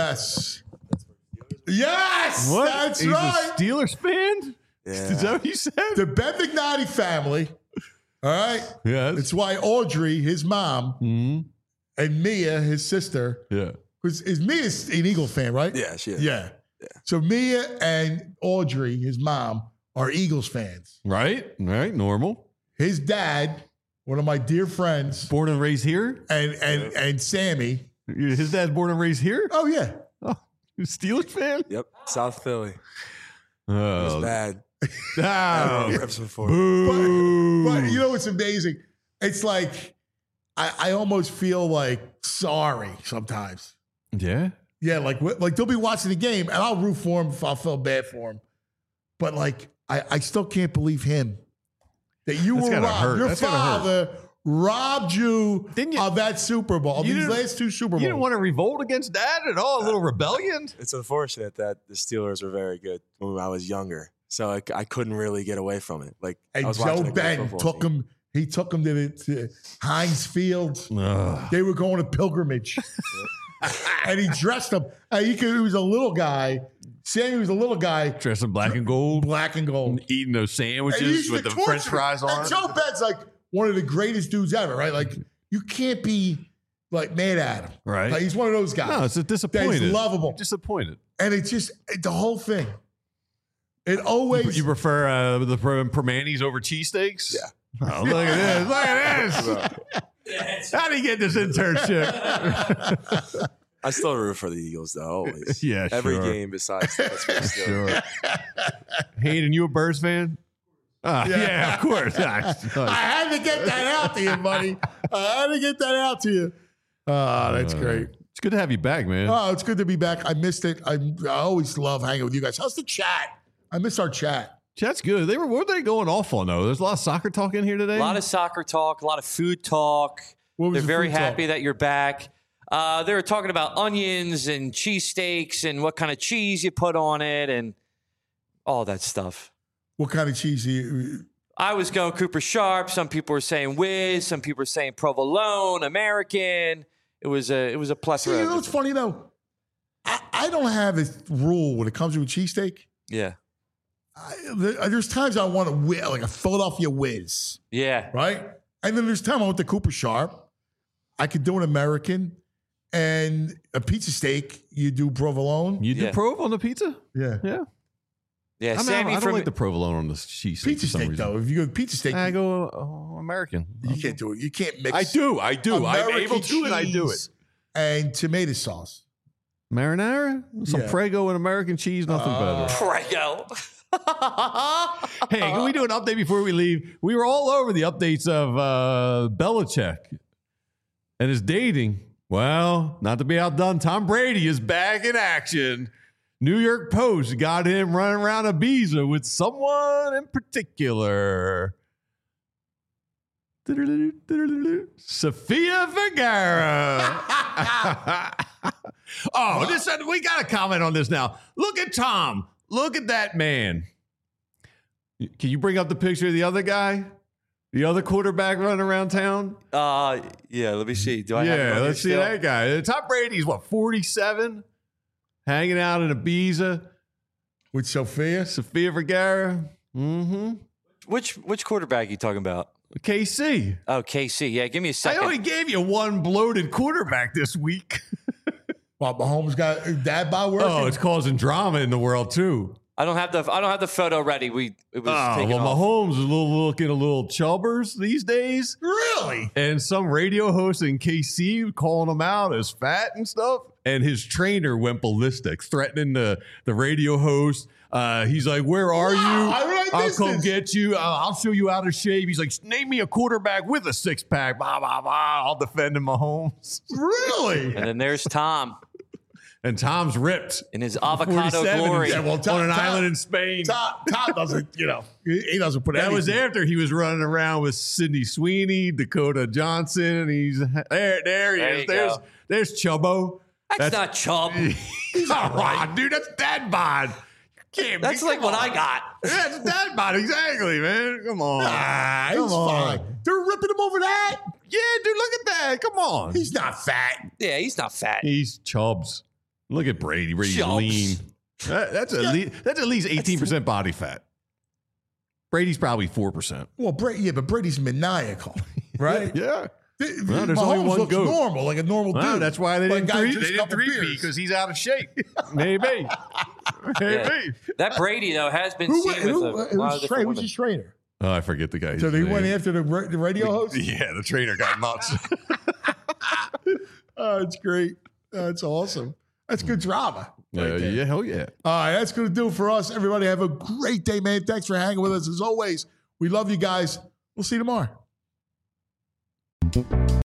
What? That's He's right. a Steelers fan? Yeah. Is that what you said? The Ben McNally family. All right. Yes. It's why Audrey, his mom, and Mia, his sister. Yeah. Because Mia's an Eagle fan, right? Yeah, she is. Yeah. So Mia and Audrey, his mom, are Eagles fans. Right. Normal. His dad, one of my dear friends. Born and raised here? And Sammy. His dad's born and raised here? Oh, yeah. Oh. Steelers fan? Yep, South Philly. It Oh, was bad. Oh, Reps before. But you know what's amazing? It's like I almost feel like sorry sometimes. yeah. Yeah, like they'll be watching the game, and I'll root for him if I feel bad for him. But like, I still can't believe him that you That's were gotta robbed. hurt. Your That's gotta hurt. father robbed you of that Super Bowl, of you these didn't- last 2 Super Bowls. You didn't want to revolt against Dad at all? A little rebellion? It's unfortunate that the Steelers were very good when I was younger, so I couldn't really get away from it. Like I And was watching Joe a great Ben football took team. him. He took him to Heinz Field. Ugh. They were going to pilgrimage, and he dressed him. He was a little guy. Sammy was a little guy, Dressed in black and gold. black and gold. Eating those And he sandwiches used with to the torture French me. fries on. And Joe Ben's like one of the greatest dudes ever, right? Like you can't be like mad at him, Right. Like, he's one of those guys. No, it's a disappointed. That's lovable, Disappointed. and it's just the whole thing. It always You prefer the Permanis over cheesesteaks? Yeah. Oh, look at this. Look at this. How do you get this internship? I still root for the Eagles though, always. Yeah, Every sure. game besides the Pittsburgh Steelers. Sure. Hayden, you a Birds fan? Yeah, of course. I had to get that out to you, buddy. I had to get that out to you. Oh, that's great. It's good to have you back, man. Oh, it's good to be back. I missed it. I always love hanging with you guys. How's the chat? I missed our chat. Chat's good. What were they going off on, though? There's a lot of soccer talk in here today. A lot of soccer talk, a lot of food talk. What was They're the very food talk? happy that you're back. They were talking about onions and cheesesteaks and what kind of cheese you put on it and all that stuff. What kind of cheese do you? I was going Cooper Sharp. Some people were saying Whiz. Some people were saying Provolone, American. It was a plethora. See, you of know what's different- funny though? I don't have a rule when it comes to a cheesesteak. Yeah. There's times I want like a Philadelphia Whiz, Yeah. right? And then there's time I want the Cooper Sharp. I could do an American, and a pizza steak. You do provolone. You do Yeah. Prov on the pizza? Yeah, Yeah. Yeah. I mean, Sammy I don't from like the provolone on the cheese steak pizza for some steak reason. though. If you go pizza steak, I go American. you can't do it. You can't mix. I do. I'm American able to, and I do it. cheese and tomato sauce. Marinara, some Yeah. Prego and American cheese, nothing better. Prego. Hey, can we do an update before we leave? We were all over the updates of Belichick and his dating. Well, not to be outdone, Tom Brady is back in action. New York Post got him running around Ibiza with someone in particular. Sofia Vergara. We got to comment on this now. Look at Tom. Look at that man. Can you bring up the picture of the other guy? The other quarterback running around town? Yeah, let me see. Do I have it on Yeah, here let's see still? that guy. Tom Brady's, 47? Hanging out in Ibiza. With Sofia Vergara. Mm-hmm. Which quarterback are you talking about? KC. Oh, KC. Yeah, give me a I second. only gave you one bloated quarterback this week. Well, Mahomes got dad by working. Oh, it's causing drama in the world, too. I don't have the photo ready. It was Oh, taken well, off. Mahomes is looking a little chubbers these days. Really? And some radio host in KC calling him out as fat and stuff. And his trainer went ballistic, threatening the radio host. He's like, "Where are you? I'll come get you. I'll show you out of shape." He's like, "Name me a quarterback with a six-pack. Blah, blah, blah. I'll defend him, Mahomes." Really? And then there's Tom And Tom's ripped in his avocado 47 glory. Yeah, well, on an island in Spain. Tom doesn't, he doesn't put That was anything. after he was running around with Sidney Sweeney, Dakota Johnson, and he's there he There is. you go. There's Chubbo. That's not Chubb. He's all right, dude. That's dad bod. That's like what I got. That's dad bod, exactly, man. Come on. He's Come on. fine. They're ripping him over that. Yeah, dude, look at that. Come on. He's not fat. Yeah, he's not fat. He's Chubbs. Look at Brady. Brady's Chubbs. lean. That's at least 18% body fat. Brady's probably 4%. Well, but Brady's maniacal, right? Yeah. Well, Mahomes there's only one looks goat. normal, like a normal Well, dude. that's why they Like didn't a guy three. just They a didn't couple three beers. because he's out of shape. Maybe. Maybe. That Brady though has been Who, seen with a lot of who's different his women. trainer? Oh, I forget the guy's So they name. went after the radio host? Yeah, the trainer got nuts. Oh, it's great. That's awesome. That's good drama. Yeah, hell yeah. All right, that's going to do it for us. Everybody have a great day, man. Thanks for hanging with us. As always, we love you guys. We'll see you tomorrow.